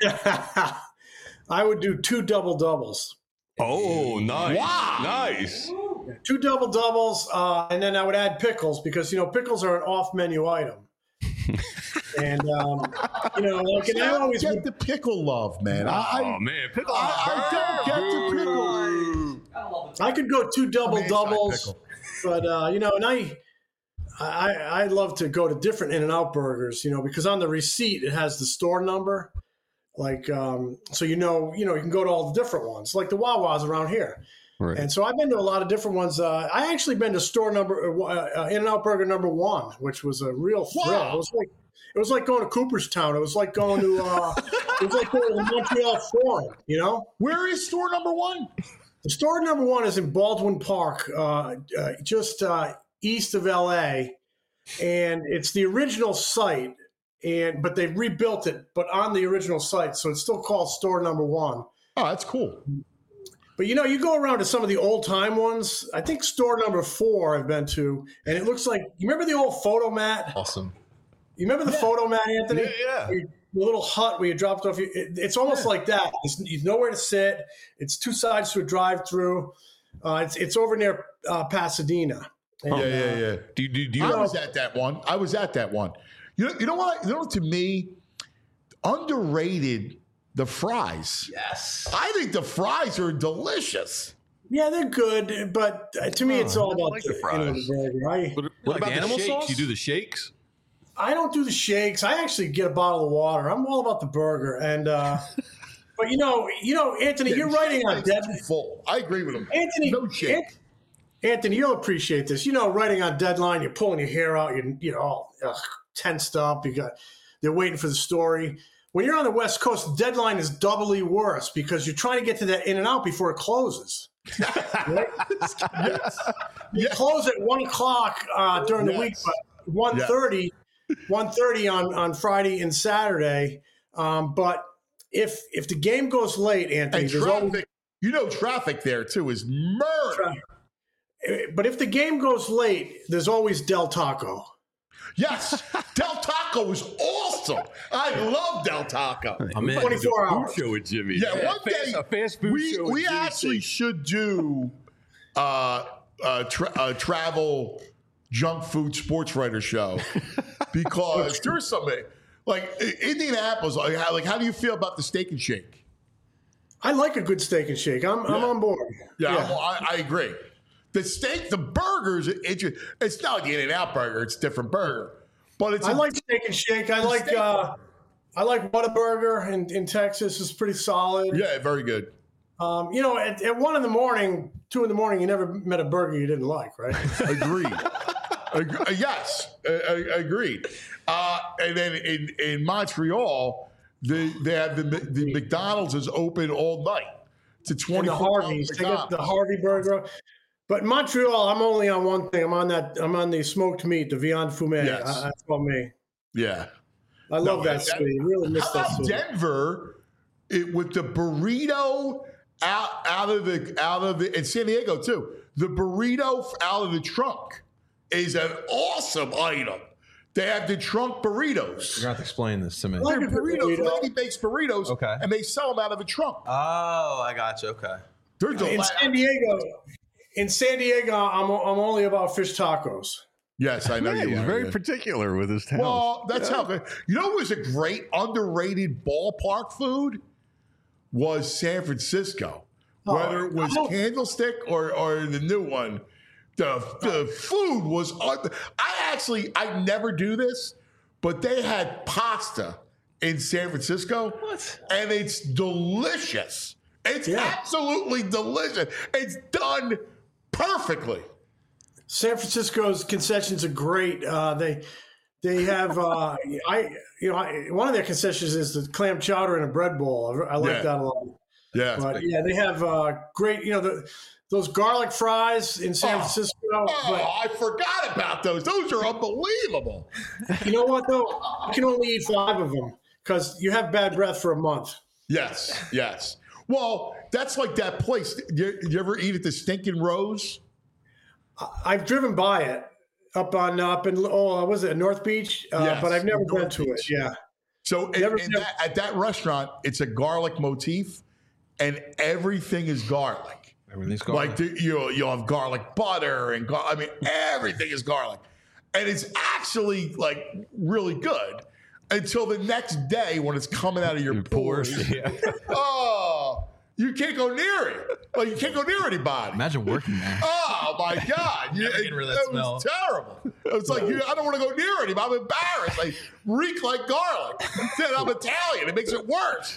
I would do two double doubles. Oh, nice. Wow. Nice. Two double doubles, uh, and then I would add pickles because, you know, pickles are an off menu item. And, um, you know, like, and I I don't always get would, the pickle love, man. I, Oh man, pickle. I, I don't get the pickle. I could go two double I'm doubles, anti-pickle. but, uh, you know, and I, I, I love to go to different In-N-Out burgers, you know, because on the receipt it has the store number. Like, um, so, you know, you know, you can go to all the different ones, like the Wawas around here. Right. And so I've been to a lot of different ones. Uh, I actually been to store number, uh, uh, In-N-Out Burger number one, which was a real thrill. Wow. It was like, it was like going to Cooperstown. It was like going to, uh, it was like going to the Montreal Forum, you know? Where is store number one? The store number one is in Baldwin Park, uh, uh, just uh, east of L A, and it's the original site. And but they rebuilt it, but on the original site, so it's still called store number one. Oh, that's cool. But you know, you go around to some of the old time ones. I think store number four I've been to, and it looks like you remember the old photo mat. Awesome. You remember the photo mat, Anthony? Yeah, yeah. Where you- The little hut where you dropped off. It, it's almost like that. It's, there's nowhere to sit. It's two sides to a drive-through. Uh, it's it's over near uh, Pasadena. And, Yeah, yeah, uh, yeah. Do you, do, do you I know? was at that one. I was at that one. You know, you know what? You know, to me, underrated the fries. Yes. I think the fries are delicious. Yeah, they're good, but uh, to me, it's all I about like the the, you know, fries. the burger. I, What, Like what about the animal shakes? sauce? You do the shakes? I don't do the shakes. I actually get a bottle of water. I'm all about the burger. And uh, but you know, you know, Anthony, you're writing on It's dead. too full. I agree with him. Anthony, no shake. An- Anthony, you'll appreciate this. You know, writing on deadline, you're pulling your hair out. You're you know all ugh, tensed up. You got they're waiting for the story. When you're on the West Coast, the deadline is doubly worse because you're trying to get to that In and Out before it closes. Right? Yes. You close at one o'clock uh, during the Yes. week, but one thirty, one thirty on, on Friday and Saturday. Um, but if if the game goes late, Anthony, And there's always, traffic, you know, traffic there too is murder. but if the game goes late, there's always Del Taco. Yes, Del Taco is awesome. I love Del Taco. I'm in. twenty-four hours. Food show with Jimmy. Yeah, one fast, day a fast food we show. with we Jimmy actually Singh. should do uh, a, tra- a travel junk food sports writer show because there's something like Indianapolis. Like how, like how do you feel about the Steak and Shake? I like a good steak and shake. I'm I'm Yeah. on board. Yeah, I'm- I, I agree. The steak, the burgers, it, it, it's not the In-N-Out burger. It's a different burger. But it's I a, like Steak and Shake. I like steak- uh, I like Whataburger in, in Texas. It's pretty solid. yeah, very good. Um, you know, at, at one in the morning, two in the morning, you never met a burger you didn't like, right? Agreed. Ag- uh, yes, uh, uh, agreed. Uh, and then in, in Montreal, the, they have the the McDonald's is open all night to And twenty the four Harveys, they got the Harvey burger. But in Montreal, I'm only on one thing. I'm on that. I'm on the smoked meat, the Viande Fumée. Yes. I, that's all me. Yeah. I love No, that that- sweet. Really miss How that about sweet. Denver it, with the burrito out out of the out of the in San Diego too? The burrito out of the trunk is an awesome item. They have the trunk burritos. You're going to have to explain this to me. Like They're a good burritos. burrito. Lady bakes burritos, Okay. and they sell them out of a trunk. Oh, I got you. Okay. They're In delightful. San Diego, in San Diego, I'm I'm only about fish tacos. Yes, I know Yeah, you he's are. very yeah. particular with his town. Well, that's how good. You know what was a great underrated ballpark food? Was San Francisco. Oh, Whether it was oh. Candlestick or, or the new one, the, the food was. un- I actually, I never do this, but they had pasta in San Francisco. What? And it's delicious. It's Yeah. absolutely delicious. It's done perfectly. San Francisco's concessions are great. Uh, they they have uh, I you know I, one of their concessions is the clam chowder and a bread bowl. I, I like Yeah. that a lot. Yeah. But yeah, they have uh, great. You know the those garlic fries in San Oh. Francisco. Oh, But I forgot about those. Those are unbelievable. you know what though? You can only eat five of them because you have bad breath for a month. Yes, yes. Well, that's like that place. You, you ever eat at the Stinking Rose? I've driven by it up on up in oh was it North Beach? Uh, Yes, but I've never been North to it. Beach. Yeah. So in- Never- in never- that, at that restaurant, it's a garlic motif, and everything is garlic. Everything's going. Like the, you, you'll have garlic butter and gar- I mean everything is garlic, and it's actually like really good until the next day when it's coming out of your, Your pores. pores, yeah. Oh, you can't go near it. Like you can't go near anybody. Imagine working there. Oh my God! You, Never getting rid of that it was terrible. It's like you, I don't want to go near anybody. I'm embarrassed. They reek like garlic. Then I'm Italian. It makes it worse.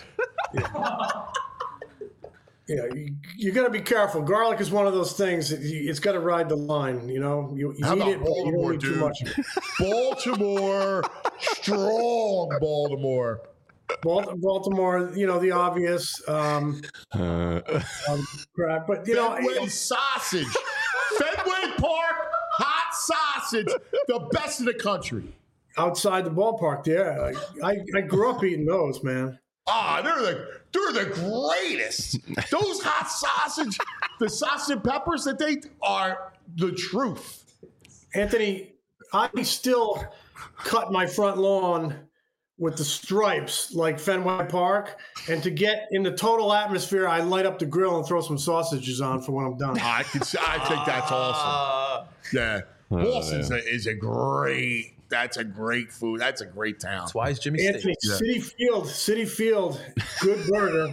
Yeah, you, you got to be careful. Garlic is one of those things that you, it's got to ride the line. You know, you, you How eat about it, but you Baltimore, don't eat too dude? much. Baltimore, strong Baltimore. Bal- Baltimore, you know, the obvious um, Uh, um, crap, but you know, Fenway sausage. Fenway Park hot sausage, the best in the country. outside the ballpark there, I, I, I grew up eating those, man. Ah, they're the they're the greatest. Those hot sausage, the sausage and peppers that they are the truth. Anthony, I still cut my front lawn with the stripes like Fenway Park, and to get in the total atmosphere, I light up the grill and throw some sausages on for when I'm done. I can. I think that's awesome. Yeah, Boston's a, is a great. That's a great food. That's a great town. That's why is Jimmy Anthony, Steak. City Field, City Field, good burger.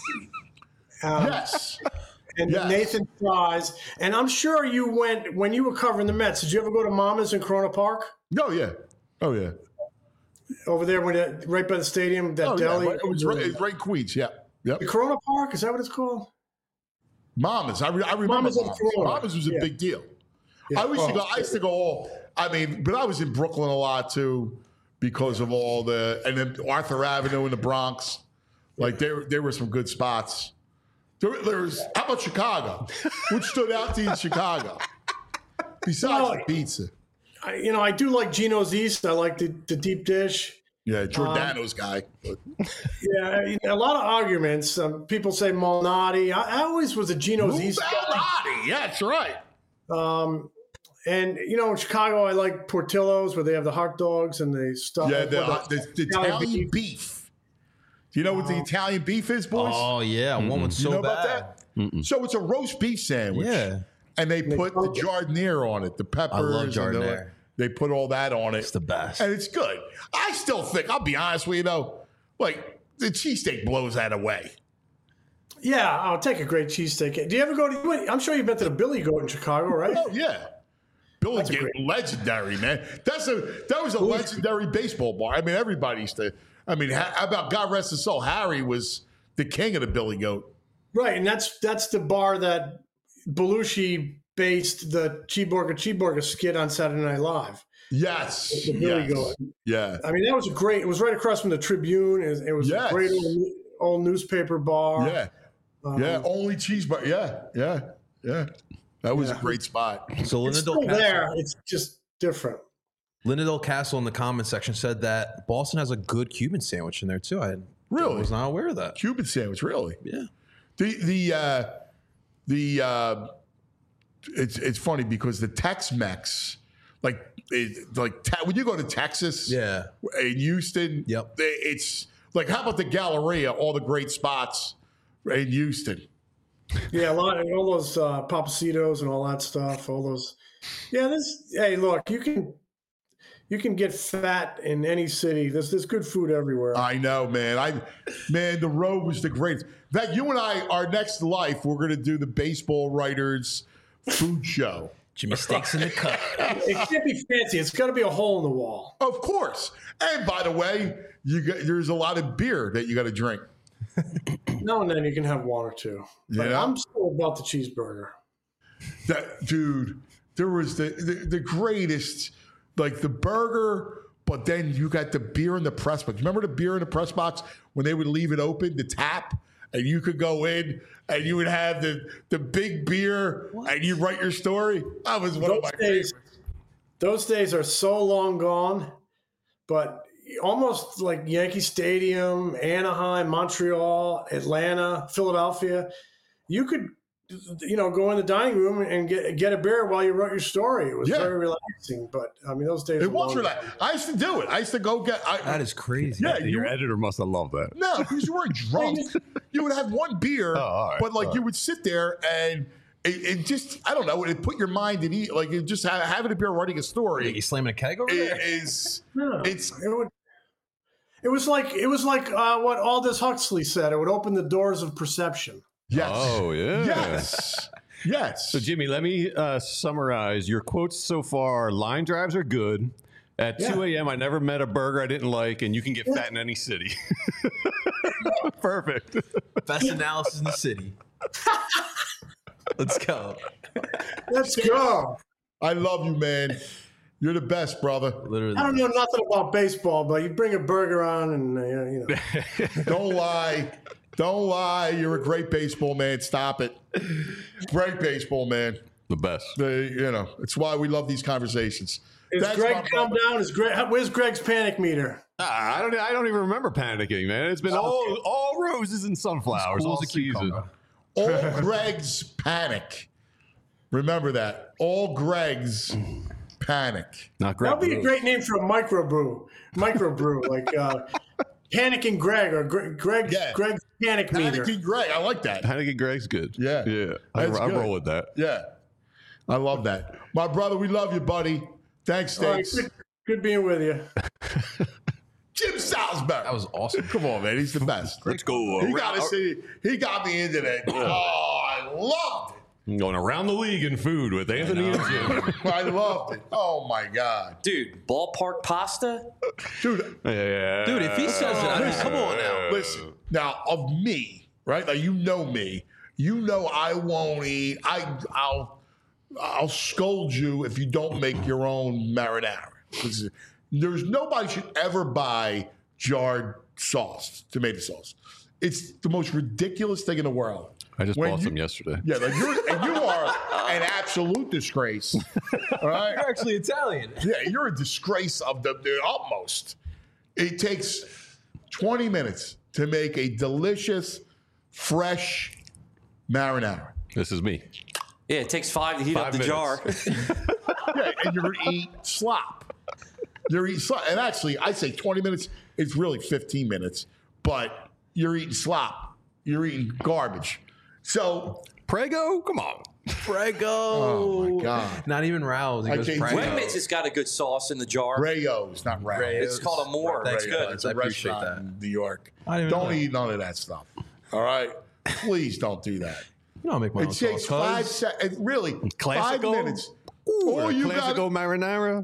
Um, Yes. and Yes. Nathan Fries. And I'm sure you went when you were covering the Mets. Did you ever go to Mama's in Corona Park Oh yeah. Oh yeah. over there when it, right by the stadium? That Oh yeah. deli. Right- It was right, it was right in Queens. Yeah. Yep. The Corona Park, is that what it's called? Mamas. I, re- I remember Mama's Mamas. in Florida. Mamas was a Yeah. big deal. Yeah. I used to Oh, go. I used to go all. I mean, but I was in Brooklyn a lot too because of all the and then Arthur Avenue in the Bronx. Like there, there were some good spots. There, there was. How about Chicago? Which stood out to you in Chicago? Besides Well, the pizza. I, you know, I do like Gino's East. I like the, the deep dish. Yeah, Giordano's guy. But Yeah, you know, a lot of arguments. Um, people say Malnati. I, I always was a Gino's Lou East guy. Malnati. Yeah, that's right. Um, and you know, in Chicago, I like Portillo's where they have the hot dogs and the stuff. Yeah, the, What the, the Italian beef. Do you know what the Italian beef is, boys? Oh yeah, one was you so know about bad. that? So it's a roast beef sandwich. Yeah. And they put the giardiniera on it, the peppers. I love and the- giardiniera. They put all that on it. It's the best. And it's good. I still think, I'll be honest with you, though, like, the cheesesteak blows that away. Yeah, I'll take a great cheesesteak. Do you ever go to? I'm sure you've been to the Billy Goat in Chicago, right? Oh yeah, Billy That's a Goat, great- legendary man. That's a that was a legendary baseball bar. I mean, everybody used to. I mean, how about God rest his soul? Harry was the king of the Billy Goat. Right, and that's that's the bar that Belushi based the Cheeseburger Cheeseburger skit on Saturday Night Live. Yes, The Billy yes. Goat. Yeah, I mean, that was a great. It was right across from the Tribune. It was, it was Yes. a great old, old newspaper bar. yeah, Um, yeah. Only cheeseburger. Yeah, yeah, yeah. That was Yeah. a great spot. So It's Linda still Del there. Castle, It's just different. Linda Del Castle in the comment section said that Boston has a good Cuban sandwich in there too. I Really? was not aware of that. Cuban sandwich, really. Yeah. The the uh, the uh, it's it's funny because the Tex-Mex, like it, like te- when you go to Texas, Yeah. in Houston, Yep. they- it's like how about the Galleria, all the great spots in Houston. Yeah, a lot of all those uh, Papacitos and all that stuff. All those. Yeah, this. Hey, look, you can you can get fat in any city. There's there's good food everywhere. I know, man. I man, the road was the greatest. In fact, you and I, our next life, we're going to do the baseball writers food show. Jimmy Steaks in the cup. It can't be fancy. It's got to be a hole in the wall. Of course. And by the way, you got, there's a lot of beer that you got to drink. Now and then you can have one or two. But Yeah. I'm still about the cheeseburger. That dude, there was the, the the greatest, like the burger, but then you got the beer in the press box. Remember the beer in the press box when they would leave it open, the tap, and you could go in and you would have the the big beer and you write your story. That was one of my Those days, favorites. those days are so long gone, but almost like Yankee Stadium, Anaheim, Montreal, Atlanta, Philadelphia, you could, you know, go in the dining room and get get a beer while you wrote your story. It was Yeah. very relaxing. But I mean, those days It are was long relaxed. I used to do it. I used to go get. I, That is crazy. yeah, you, Your editor must have loved that. no, because you weren't drunk. You would have one beer, Oh, all right, but like all you right. would sit there and it, it just, I don't know, it put your mind at ease. Like it just ha- having a beer, writing a story You slamming a keg over i- there? is, No, it's, it would. It was like it was like uh, what Aldous Huxley said. It would open the doors of perception. yes. Oh, yeah. Yes. Yes. So, Jimmy, let me uh, summarize your quotes so far. Line drives are good. At Yeah. two a.m., I never met a burger I didn't like, and you can get fat in any city. Perfect. Best analysis in the city. Let's go. Let's go. I love you, man. You're the best, brother. Literally. I don't know nothing about baseball, but you bring a burger on, and uh, you know. Don't lie. Don't lie. You're a great baseball man. Stop it. Great baseball man. The best. The, you know, it's why we love these conversations. Is That's Greg my calm brother. down? Is Greg? Where's Greg's panic meter? Ah, I don't. I don't even remember panicking, man. It's been all all roses and sunflowers Cool all as a season. cucumber. All Greg's panic. Remember that. All Greg's panic. Not great. That'd be a great name for a microbrew. Microbrew, like uh, Panicking Greg or Gre- Greg. Yeah. Greg's panic meter. Panicking Greg. I like that. Panicking Greg's good. Yeah. yeah. I, That's I good. roll with that. Yeah. I love that. My brother, we love you, buddy. Thanks, All right, Steaks. good, good being with you. Jim Salzberg. That was awesome. Come on, man. He's the best. Let's go. He around- got to see. He got me into that. Oh, I loved it. going around the league in food with Anthony and Jim. I loved it. Oh my god, Dude, ballpark pasta? dude. Yeah. Dude, if he says it, I mean, come on now. Listen, now of me, right? Like you know me. You know I won't eat. I I'll I'll scold you if you don't make your own marinara. This is- There's nobody should ever buy jarred sauce, tomato sauce. It's the most ridiculous thing in the world. I just When bought you- some yesterday. Yeah, like you're and you are an absolute disgrace. All right. You're actually Italian. Yeah, you're a disgrace of the, the utmost. It takes twenty minutes to make a delicious, fresh marinara. This is me. Yeah, it takes five to heat Five up the minutes. jar. Yeah, and you're gonna eat slop. You're eating slop. And actually, I'd say twenty minutes, it's really fifteen minutes, but you're eating slop. You're eating garbage. So, Prego? Come on. Prego. oh my God. Not even Rouse. He I goes can't- Prego. Wegmans has got a good sauce in the jar. Rayo's, not Rayo. Rayo's. It's called a Moore. Thanks, That's good. It's a I appreciate restaurant that. in New York. I didn't even Don't know that. eat none of that stuff. All right? Please don't do that. You know, I make my It own takes sauce, five cuz. seconds. Really, five Classico? minutes. Ooh, all a you Classico got, marinara.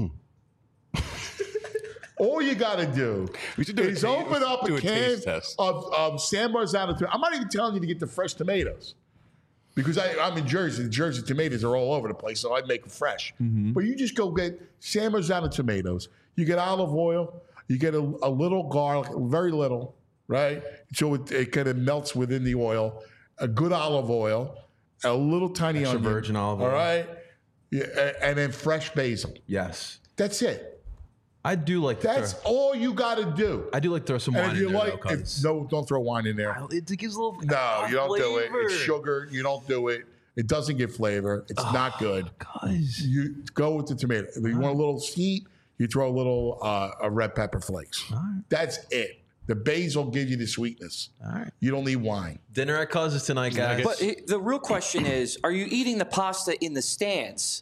all you got to do We should do a is taste- open up do a a can taste test. of, of San Marzano tomato. I'm not even telling you to get the fresh tomatoes because I, I'm in Jersey. The Jersey tomatoes are all over the place, so I make them fresh. Mm-hmm. But you just go get San Marzano tomatoes. You get olive oil. You get a, a little garlic, very little, right? So it, it kind of melts within the oil. A good olive oil, a little tiny Extra onion. virgin olive All oil. right? Yeah, a- and then fresh basil. Yes. That's it. I do like to That's throw, all you got to do. I do like to throw some And wine if in you there, like, though, if, 'cause no, don't throw wine in there. it gives a little No, you don't do it. flavor. It's sugar. You don't do it. It doesn't give flavor. It's not good. Guys. You go with the tomato. If you want a little sweet, you throw a little uh, a red pepper flakes. That's it. The basil gives you the sweetness. All right. You don't need wine. Dinner at Cuz's tonight, guys. But it, the real question is, are you eating the pasta in the stands?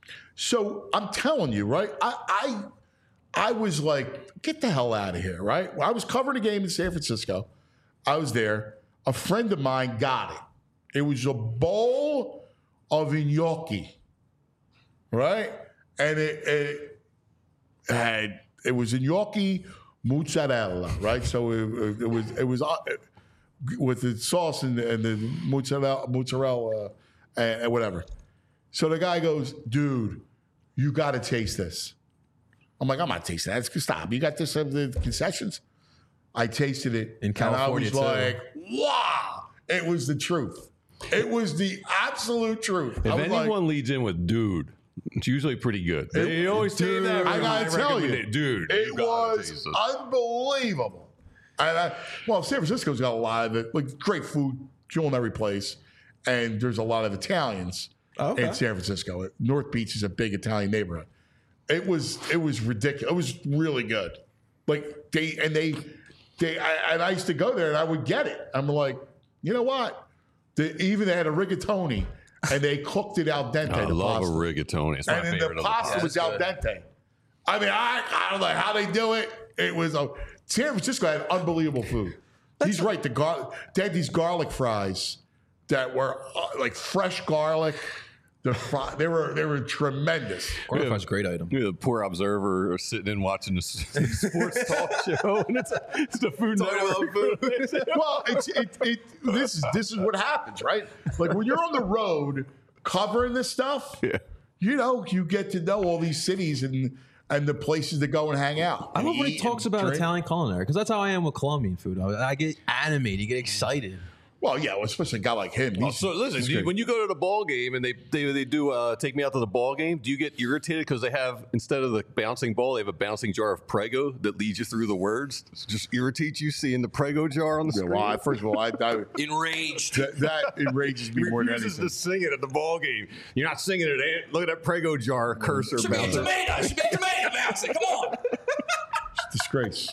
So I'm telling you, right? I I, I was like, get the hell out of here, right? I was covering a game in San Francisco. I was there. A friend of mine got it. It was a bowl of gnocchi, right? And it, it had it was gnocchi mozzarella, right? So it, it was it was uh, with the sauce and the, and the mozzarella, mozzarella, and, and whatever. So the guy goes, dude, you got to taste this. I'm like, I'm not tasting that. It's, stop. You got this at the concessions? I tasted it. In California, and I was too. like, wow. It was the truth. It was the absolute truth. If I was anyone like, lead in with "dude," it's usually pretty good. They It- always say dude, that. I gotta tell recommend you, it. dude, it you gotta was taste this. unbelievable. And I, well, San Francisco's got a lot of it, like great food, culinary place, and there's a lot of Italians Okay. in San Francisco. North Beach is a big Italian neighborhood. It was it was ridiculous. It was really good. Like they and they they I, and I used to go there and I would get it. I'm like, you know what? They, even they had a rigatoni and they cooked it al dente. I the love pasta. a rigatoni. It's my And then favorite the of the pasta pasta. was al dente. I mean, I, I don't know how they do it. It was a San Francisco had unbelievable food. He's right. The gar, they had these garlic fries that were uh, like fresh garlic. The fry, they were they were tremendous. Garlic fries, great item. You're the poor observer sitting in watching the s- sports talk show, and it's, it's the food network. Well, it's it, it this is this is what happens, right? Like when you're on the road covering this stuff, Yeah. you know, you get to know all these cities and and the places to go and hang out. I love when he Eat talks and about drink. Italian culinary because that's how I am with Colombian food. I, I get animated, you get excited. Well, yeah, well, especially a guy like him. Oh, He's- so listen, he's do you, great. when you go to the ball game and they they, they do uh, take me out to the ball game, do you get irritated because they have, instead of the bouncing ball, they have a bouncing jar of Prego that leads you through the words? Does it just irritates you seeing the Prego jar on the Yeah, screen? well, I, first of all, I, I Enraged. that, that enrages me He more than refuses anything. to sing it at the ball game. You're not singing it. eh? Look at that Prego jar cursor Should be a bouncing. tomato. Should be a tomato bouncing. Come on. Disgrace.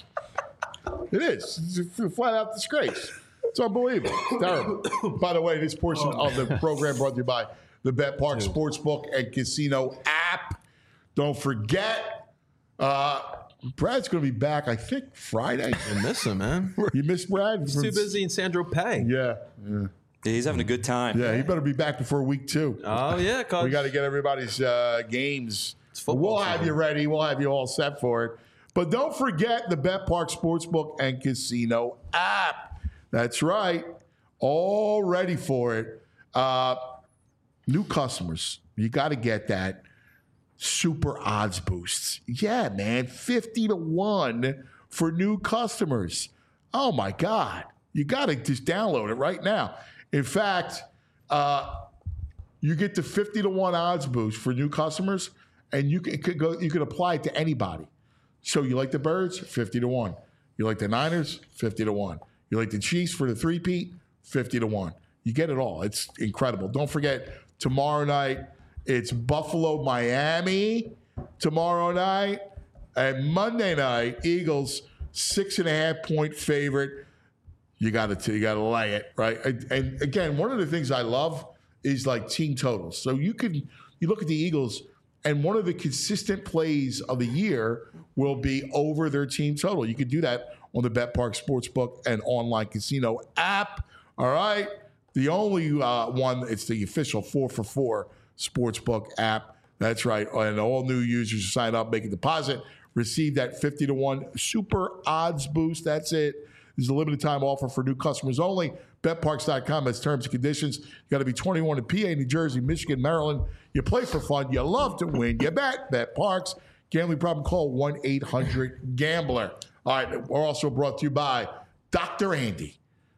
It is. It's a flat out disgrace. It's unbelievable. It's terrible. By the way, this portion of the program brought to you by the Bet Park Sportsbook and Casino app. Don't forget, uh, Brad's going to be back, I think, Friday. I miss him, man. You missed Brad? He's too busy in Sandro Pay. Yeah. Yeah. Yeah, he's having a good time. Yeah, he better be back before week two. Oh, yeah, cuz. We got to get everybody's uh, games. football We'll have season. you ready. We'll have you all set for it. But don't forget the Bet Park Sportsbook and Casino app. That's right. All ready for it. Uh, new customers, you got to get that super odds boosts. Yeah, man, fifty to one for new customers. Oh, my God. You got to just download it right now. In fact, uh, you get the fifty to one odds boost for new customers, and you can, could go, you can apply it to anybody. So you like the Birds? fifty to one. You like the Niners? fifty to one. You like the Chiefs for the three-peat? fifty to one. You get it all. It's incredible. Don't forget, tomorrow night, it's Buffalo, Miami tomorrow night. And Monday night, Eagles, six and a half point favorite. You got to you got to lay it, right? And, and again, one of the things I love is like team totals. So you can you look at the Eagles, and one of the consistent plays of the year will be over their team total. You can do that on the Bet Park Sportsbook and online casino app. All right. The only uh, one, it's the official four for four Sportsbook app. That's right. And all new users who sign up, make a deposit, receive that fifty to one super odds boost. That's it. This is a limited time offer for new customers only. bet parks dot com has terms and conditions. You got to be twenty-one in P A, New Jersey, Michigan, Maryland. You play for fun. You love to win. You bet. BetParks. Gambling problem, call one eight hundred gambler. All right. We're also brought to you by Doctor Andy.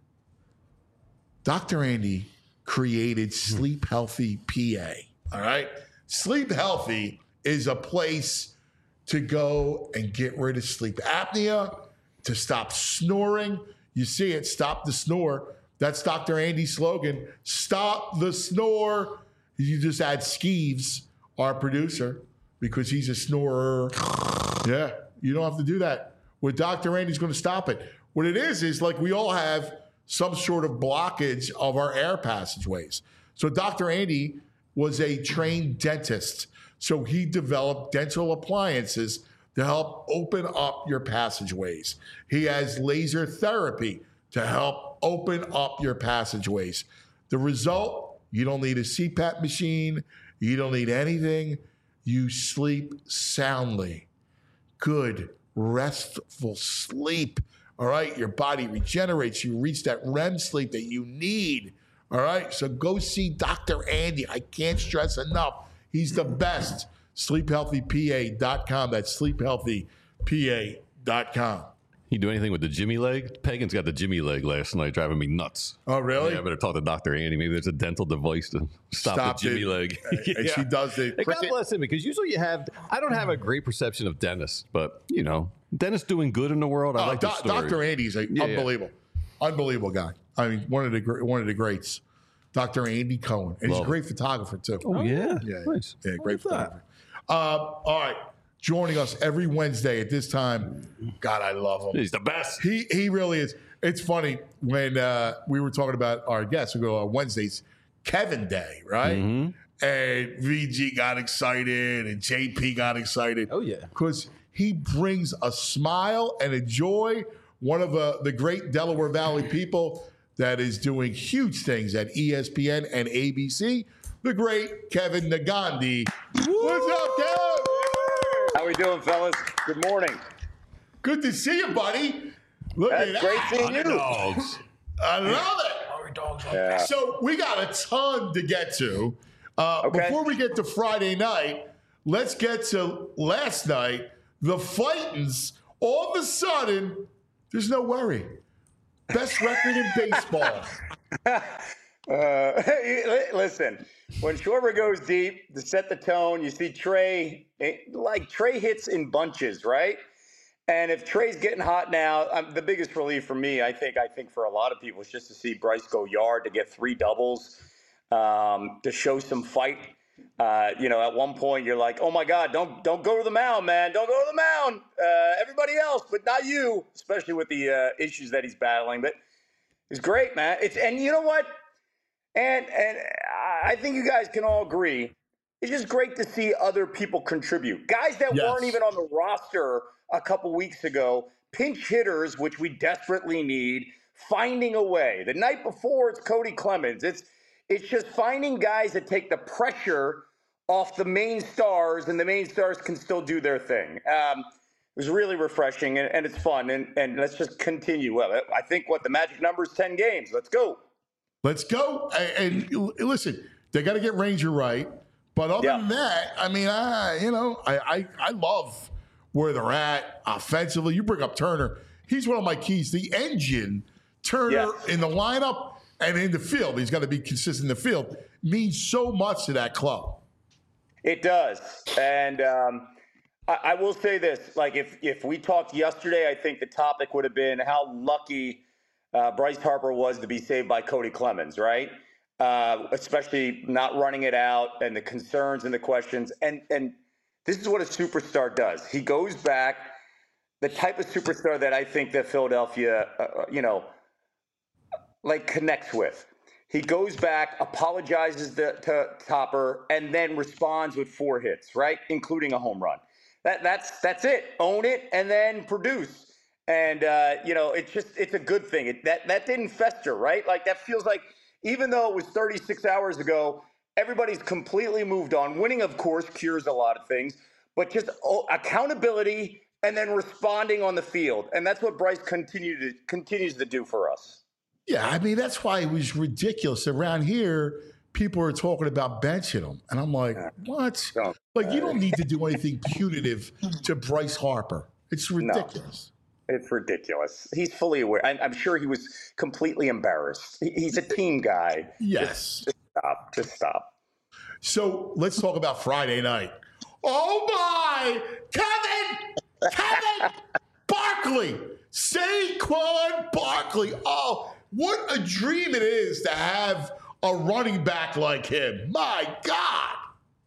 Doctor Andy created Sleep Healthy P A. All right. Sleep Healthy is a place to go and get rid of sleep apnea, to stop snoring. You see it, stop the snore. That's Doctor Andy's slogan. Stop the snore. You just add Skeeves, our producer, because he's a snorer. Yeah, you don't have to do that. With Doctor Andy's going to stop it. What it is, is like we all have some sort of blockage of our air passageways. So Doctor Andy was a trained dentist. So he developed dental appliances to help open up your passageways. He has laser therapy to help open up your passageways. The result, you don't need a C PAP machine. You don't need anything. You sleep soundly. Good, restful sleep. All right, your body regenerates. You reach that R E M sleep that you need. All right, so go see Doctor Andy. I can't stress enough. He's the best. sleep healthy P A dot com. That's sleep healthy P A dot com. You do anything with the Jimmy leg? Pagan's got the Jimmy leg last night, driving me nuts. Oh, really? Yeah, I better talk to Doctor Andy. Maybe there's a dental device to stop, Stop the Jimmy it. leg. And she does the And God bless him, because usually you have, I don't have a great perception of dentists, but, you know, dentists doing good in the world. I Oh, like Do- the story. Doctor Andy's a Yeah, unbelievable, unbelievable guy. I mean, one of the gr- one of the greats, Doctor Andy Cohen, and he's a Love great photographer too. Oh, yeah. yeah, Nice. yeah, great Look at photographer. Um, all right, joining us every Wednesday at this time. God, I love him. He's the best. He he really is. It's funny when uh, we were talking about our guests. We go on Wednesdays, Kevin Day, right? Mm-hmm. And V G got excited, and J P got excited. Oh, yeah. Because he brings a smile and a joy. One of uh, the great Delaware Valley people that is doing huge things at E S P N and A B C. The great Kevin Negandhi. What's up, Kev? How we doing, fellas? Good morning. Good to see you, buddy. Look That's at great that. seeing you. Dogs. I love it. Yeah. So we got a ton to get to. Uh, Okay. Before we get to Friday night, let's get to last night. The Fightins, all of a sudden, there's no worry. Best record in baseball. Uh, li- listen, when Schwarber goes deep to set the tone, you see Trey, it- like Trey hits in bunches, right? And if Trey's getting hot now, um, the biggest relief for me, I think, I think for a lot of people, is just to see Bryce go yard, to get three doubles, um, to show some fight. Uh, you know, at one point you're like, oh my God, don't don't go to the mound, man. Don't go to the mound. Uh, everybody else, but not you, especially with the uh, issues that he's battling. But it's great, man. It's and you know what? And and I think you guys can all agree. It's just great to see other people contribute. Guys that Yes. weren't even on the roster a couple weeks ago, pinch hitters, which we desperately need, finding a way. The night before, it's Cody Clemens. It's it's just finding guys that take the pressure off the main stars, and the main stars can still do their thing. Um, it was really refreshing, and, and it's fun. And, and let's just continue. Well, I think what the magic number is ten games. Let's go. Let's go. And, and listen, they got to get Ranger right. But other Yeah. than that, I mean, I you know, I, I I love where they're at offensively. You bring up Turner. He's one of my keys. The engine, Turner Yes. in the lineup and in the field. He's got to be consistent in the field. Means so much to that club. It does. And um, I, I will say this. Like, if, if we talked yesterday, I think the topic would have been how lucky uh, Bryce Harper was to be saved by Cody Clemens, right? Uh, especially not running it out and the concerns and the questions. And and this is what a superstar does. He goes back, the type of superstar that I think that Philadelphia, uh, you know, like connects with. He goes back, apologizes to, to Topper, and then responds with four hits, right, including a home run. That that's that's it. Own it and then produce. And, uh, you know, it's just, it's a good thing. It, that, that didn't fester, right? Like, that feels like, even though it was thirty-six hours ago, everybody's completely moved on. Winning, of course, cures a lot of things, but just oh, accountability and then responding on the field. And that's what Bryce continue to, continues to do for us. Yeah, I mean, that's why it was ridiculous. Around here, people are talking about benching him. And I'm like, what? Like, you don't need to do anything punitive to Bryce Harper. It's ridiculous. No, it's ridiculous. He's fully aware. I'm, I'm sure he was completely embarrassed. He, he's a team guy. Yes. Just, just stop. Just stop. So let's talk about Friday night. Oh, my! Kevin! Kevin! Barkley! Saquon Barkley! Oh, what a dream it is to have a running back like him. My God.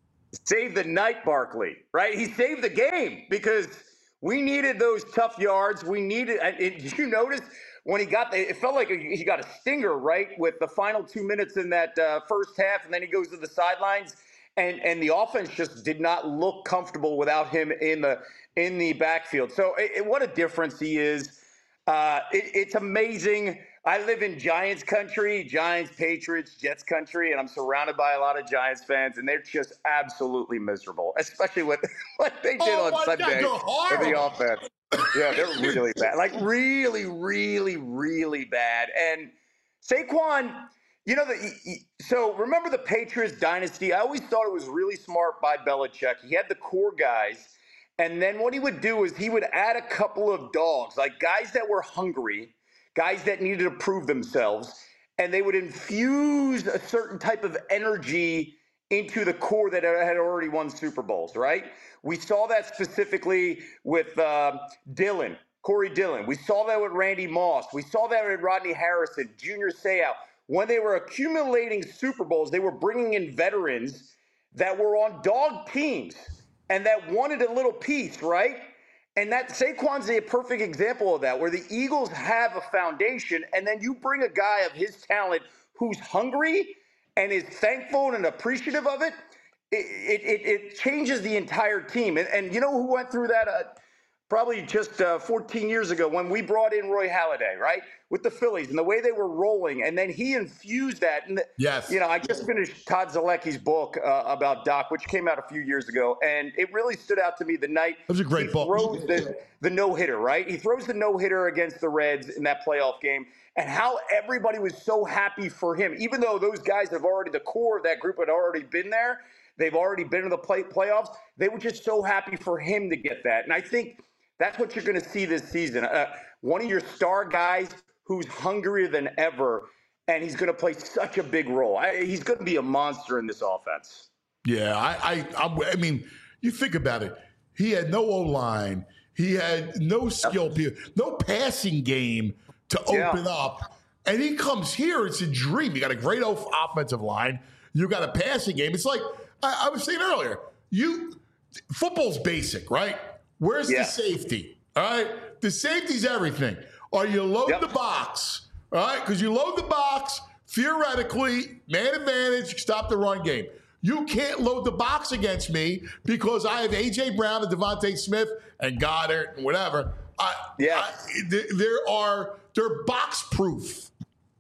Save the night, Barkley, right? He saved the game because we needed those tough yards. We needed, and it, did you notice when he got, the, it felt like he got a stinger, right? With the final two minutes in that uh, first half, and then he goes to the sidelines, and, and the offense just did not look comfortable without him in the, in the backfield. So it, it, what a difference he is. Uh, it, it's amazing. I live in Giants country, Giants, Patriots, Jets country, and I'm surrounded by a lot of Giants fans, and they're just absolutely miserable, especially with what they did Oh on my Sunday God, with they're the horrible. offense. Yeah, they're really bad. Like, really, really, really bad. And Saquon, you know, the, so remember the Patriots dynasty? I always thought it was really smart by Belichick. He had the core guys, and then what he would do is he would add a couple of dogs, like guys that were hungry, guys that needed to prove themselves, and they would infuse a certain type of energy into the core that had already won Super Bowls, right? We saw that specifically with uh, Dillon, Corey Dillon. We saw that with Randy Moss. We saw that with Rodney Harrison, Junior Seau. When they were accumulating Super Bowls, they were bringing in veterans that were on dog teams and that wanted a little piece, right? And that Saquon's a perfect example of that, where the Eagles have a foundation, and then you bring a guy of his talent who's hungry and is thankful and appreciative of it. It, it, it changes the entire team. And, and you know who went through that uh, probably just uh, fourteen years ago when we brought in Roy Halladay, right, with the Phillies and the way they were rolling. And then he infused that. And, yes. You know, I just finished Todd Zalecki's book uh, about Doc, which came out a few years ago. And it really stood out to me the night That was a great he book. throws the, the no-hitter, right? He throws the no-hitter against the Reds in that playoff game. And how everybody was so happy for him, even though those guys have already, the core of that group had already been there. They've already been in the play, playoffs. They were just so happy for him to get that. And I think that's what you're going to see this season. Uh, one of your star guys who's hungrier than ever, and he's going to play such a big role. I, he's going to be a monster in this offense. Yeah, I, I, I, I mean, you think about it. He had no O-line. He had no skill, no passing game to open Yeah. up. And he comes here, it's a dream. You got a great o- offensive line. You got a passing game. It's like I, I was saying earlier, you football's basic, right? Where's Yeah. the safety? All right? The safety's everything. Or you load Yep. the box, all right? Because you load the box, theoretically, man advantage, stop the run game. You can't load the box against me because I have A J. Brown and Devontae Smith and Goddard and whatever. I, Yeah. I, th- there are, they're box proof.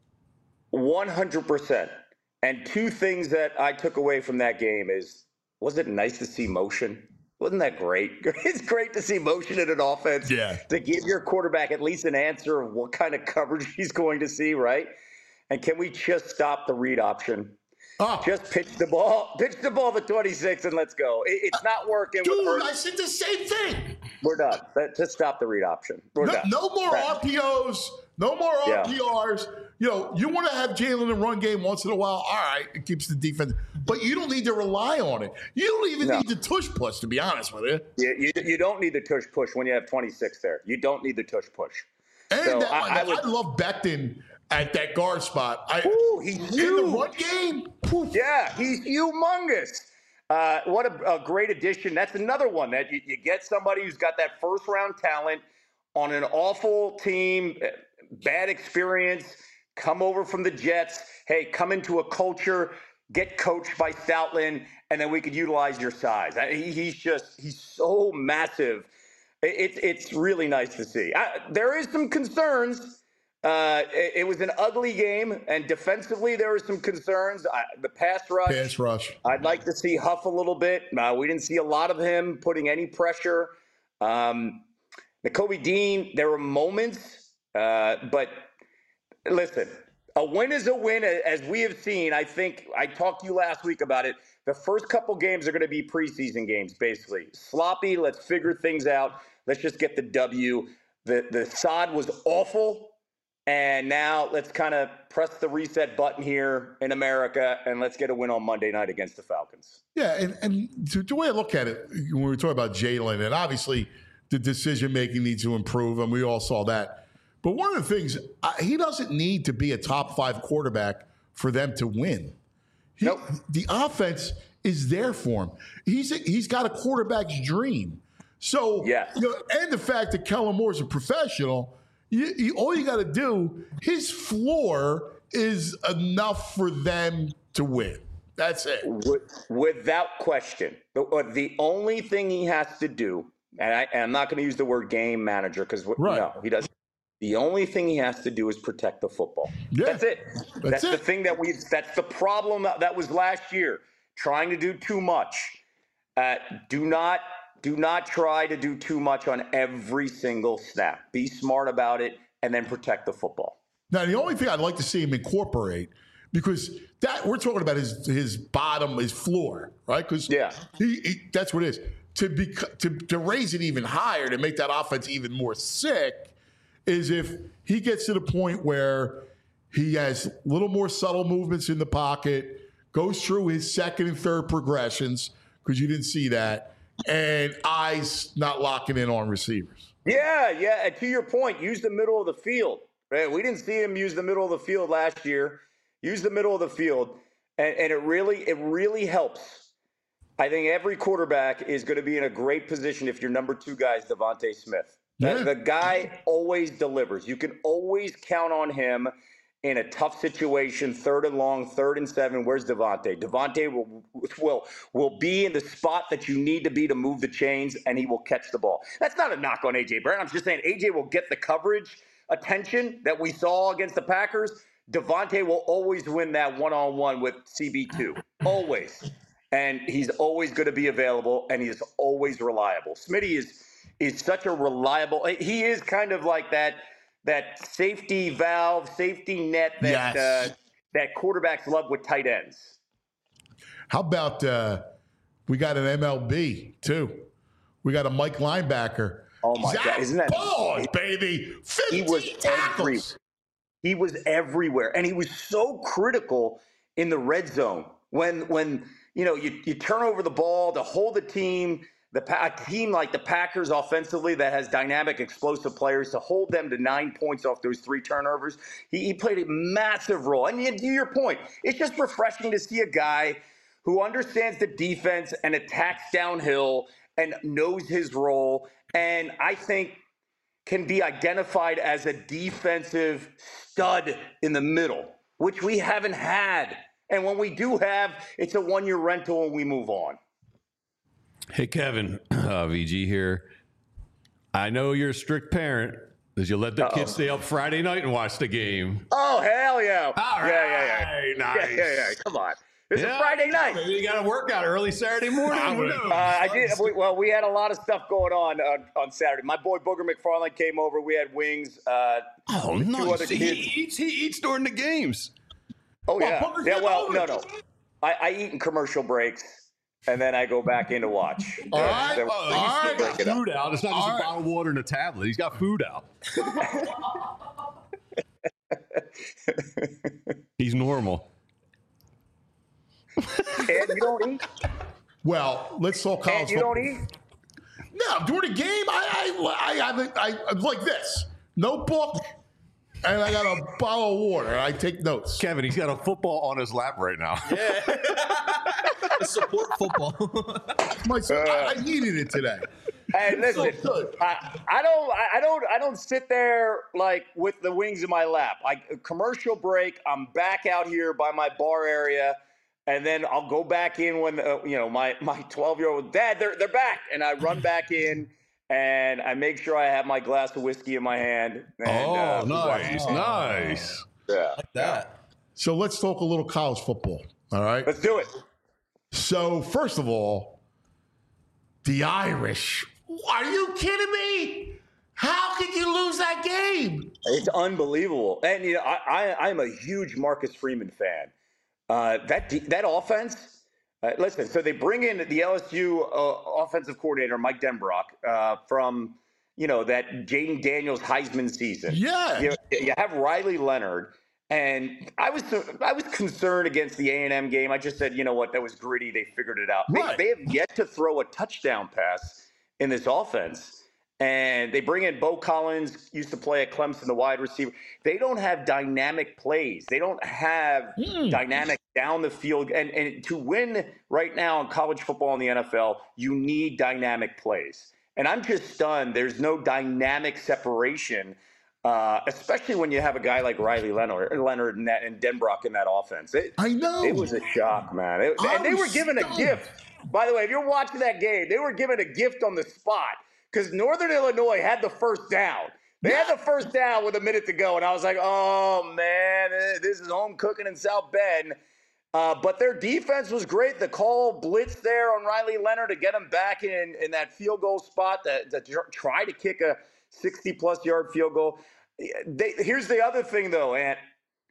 one hundred percent. And two things that I took away from that game is, was it nice to see motion? Wasn't that great? It's great to see motion in an offense. Yeah. To give your quarterback at least an answer of what kind of coverage he's going to see, right? And can we just stop the read option? Oh, Just pitch the ball, pitch the ball to twenty-six and let's go. It, it's not working. with dude, Hurts. I said the same thing. We're done. That- Just stop the read option. We're No, done. no more Right. R P Os, no more Yeah. R P Rs. You know, you want to have Jalen in run game once in a while. All right, it keeps the defense, but you don't need to rely on it. You don't even No. need the tush push, to be honest with you. You, you, you don't need the tush push when you have twenty-six there. You don't need the tush push. And So that, I- I, I would- love Becton at that guard spot. I, Ooh, he's in the huge. run game, poof. Yeah, he's humongous. Uh, what a, a great addition. That's another one that you, you get somebody who's got that first round talent on an awful team, eh, bad experience, come over from the Jets. Hey, come into a culture, get coached by Stoutland, and then we could utilize your size. I, he, he's just, he's so massive. It, it, it's really nice to see. I, there is some concerns. Uh, it, it was an ugly game, and defensively there were some concerns. I, the pass rush. Pass rush. I'd like to see Huff a little bit. Uh, we didn't see a lot of him putting any pressure. Um, Nakobe Dean, there were moments, uh, but listen, a win is a win, as we have seen. I think I talked to you last week about it. The first couple games are going to be preseason games, basically. Sloppy, let's figure things out. Let's just get the W. The, the S O D was awful, and now let's kind of press the reset button here in America, and let's get a win on Monday night against the Falcons. Yeah, and, and the, the way I look at it, when we were talking about Jalen, and obviously the decision-making needs to improve, and we all saw that. But one of the things, uh, he doesn't need to be a top five quarterback for them to win. He, Nope. The offense is there for him. He's a, he's got a quarterback's dream. So, Yes. you know, and the fact that Kellen Moore's a professional, you, you, all you got to do, his floor is enough for them to win. That's it. Without question. The, the only thing he has to do, and, I, and I'm not going to use the word game manager because Right. no, he doesn't. The only thing he has to do is protect the football. Yeah. That's it. That's That's, it. the thing that we. That's the problem that was last year. Trying to do too much. Uh, do not do not try to do too much on every single snap. Be smart about it, and then protect the football. Now, the only thing I'd like to see him incorporate, because that we're talking about his his bottom, his floor, right? Because Yeah. he, he that's what it is. To be to to raise it even higher, to make that offense even more sick, is if he gets to the point where he has a little more subtle movements in the pocket, goes through his second and third progressions, because you didn't see that, and eyes not locking in on receivers. Yeah, yeah. And to your point, use the middle of the field. Right? We didn't see him use the middle of the field last year. Use the middle of the field, and, and it really, it really helps. I think every quarterback is going to be in a great position if your number two guy is Devontae Smith. Yeah. The, the guy always delivers. You can always count on him in a tough situation, third and long, third and seven. Where's Devontae? Devontae will will will be in the spot that you need to be to move the chains, and he will catch the ball. That's not a knock on A J Brown. I'm just saying A J will get the coverage attention that we saw against the Packers. Devontae will always win that one-on-one with C B two. Always. And he's always going to be available, and he's always reliable. Smitty is is such a reliable. He is kind of like that that safety valve, safety net that Yes. uh, that quarterbacks love with tight ends. How about uh, we got an M L B too? We got a Mike linebacker. Oh my Zach God, isn't that- Ball, baby? He was fifteen every, tackles. he was everywhere, and he was so critical in the red zone when when you know you, you turn over the ball to hold the team. The a team like the Packers offensively that has dynamic, explosive players, to hold them to nine points off those three turnovers. He, he played a massive role. And to your point, it's just refreshing to see a guy who understands the defense and attacks downhill and knows his role, and I think can be identified as a defensive stud in the middle, which we haven't had. And when we do have, it's a one-year rental and we move on. Hey, Kevin, uh, V G here. I know you're a strict parent. Did you let the Uh-oh. kids stay up Friday night and watch the game? Oh, hell yeah. All yeah, yeah, yeah. right, nice. Yeah, yeah, yeah. Come on. It's Yeah, a Friday night. Maybe you got to work out early Saturday morning. Who knows? Uh, I did. We, well, we had a lot of stuff going on uh, on Saturday. My boy Booger McFarland came over. We had wings. Uh, Oh, two nice. other He kids. eats, he eats during the games. Oh, Well, yeah. Booger Yeah, came well, over. no, no. I, I eat in commercial breaks, and then I go back in to watch. All Uh, right. then- Oh, All he's right. still got Break it up. food out. It's not just All a right. bottle of water and a tablet. He's got food out. He's normal. And you don't eat? Well, let's talk college And you football. don't eat? No, during the game, I I I have it- I, I like this notebook, and I got a bottle of water. And I take notes. Kevin, he's got a football on his lap right now. Support football. My son, I, I needed it today. Hey, listen, So good. I, I don't, I I don't, I don't sit there like with the wings in my lap. Like commercial break, I'm back out here by my bar area, and then I'll go back in when uh, you know my my twelve year old dad they're they're back, and I run back in, and I make sure I have my glass of whiskey in my hand. And, Oh, uh, we watch nice, the game. nice. Yeah. Like that. So let's talk a little college football. All right. Let's do it. So first of all, the Irish. Are you kidding me? How could you lose that game? It's unbelievable. And you know, I, I I'm a huge Marcus Freeman fan. Uh, that de- that offense. Uh, listen, so they bring in the L S U uh, offensive coordinator Mike Denbrock uh, from you know that Jaden Daniels Heisman season. Yeah. You, you have Riley Leonard, and I was I was concerned against the A and M game. I just said, you know what, that was gritty. They figured it out. Right. They, they have yet to throw a touchdown pass in this offense. And they bring in Bo Collins, used to play at Clemson, the wide receiver. They don't have dynamic plays. They don't have Mm. dynamic down the field. And, and to win right now in college football in the N F L, you need dynamic plays. And I'm just stunned. There's no dynamic separation, uh, especially when you have a guy like Riley Leonard, Leonard and, that, and Denbrock in that offense. It, I know. It was a shock, man. It, and they I'm were given stunned. a gift. By the way, if you're watching that game, they were given a gift on the spot. Because Northern Illinois had the first down. They had the first down with a minute to go. And I was like, oh, man, this is home cooking in South Bend. Uh, but their defense was great. The call blitz there on Riley Leonard to get him back in, in that field goal spot to, to try to kick a sixty-plus yard field goal. They, here's the other thing, though, Ant.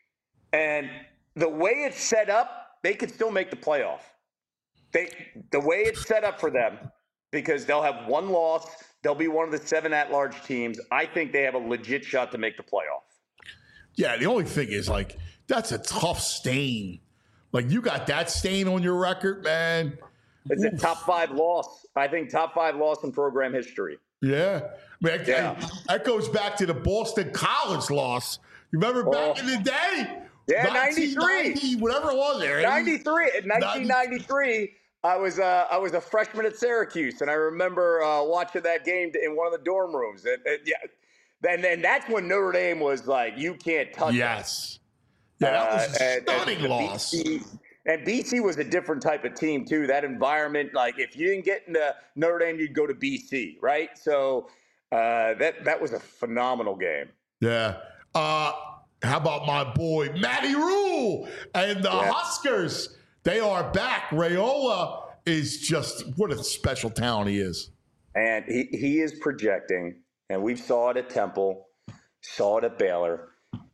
And the way it's set up, they could still make the playoff. They, the way it's set up for them, because they'll have one loss. They'll be one of the seven at-large teams. I think they have a legit shot to make the playoff. Yeah, the only thing is, like, that's a tough stain. Like, you got that stain on your record, man. It's a top five loss. I think top five loss in program history. Yeah. Man, Yeah. that goes back to the Boston College loss. You remember back Oh. in the day? Yeah, nineteen ninety, ninety-three. whatever it was there. ninety-three. In nineteen ninety-three, I was uh, I was a freshman at Syracuse, and I remember uh, watching that game in one of the dorm rooms. And, and yeah, and then that's when Notre Dame was like, "You can't touch us." Yes. Yeah, that was a Uh, and- stunning and loss. B C, and B C was a different type of team too. That environment, like if you didn't get into Notre Dame, you'd go to B C, right? So uh, that that was a phenomenal game. Yeah. Uh, how about my boy Matty Rule and the Yeah. Huskers? They are back. Raiola is just what a special talent he is. And he, he is projecting, and we saw it at Temple, saw it at Baylor.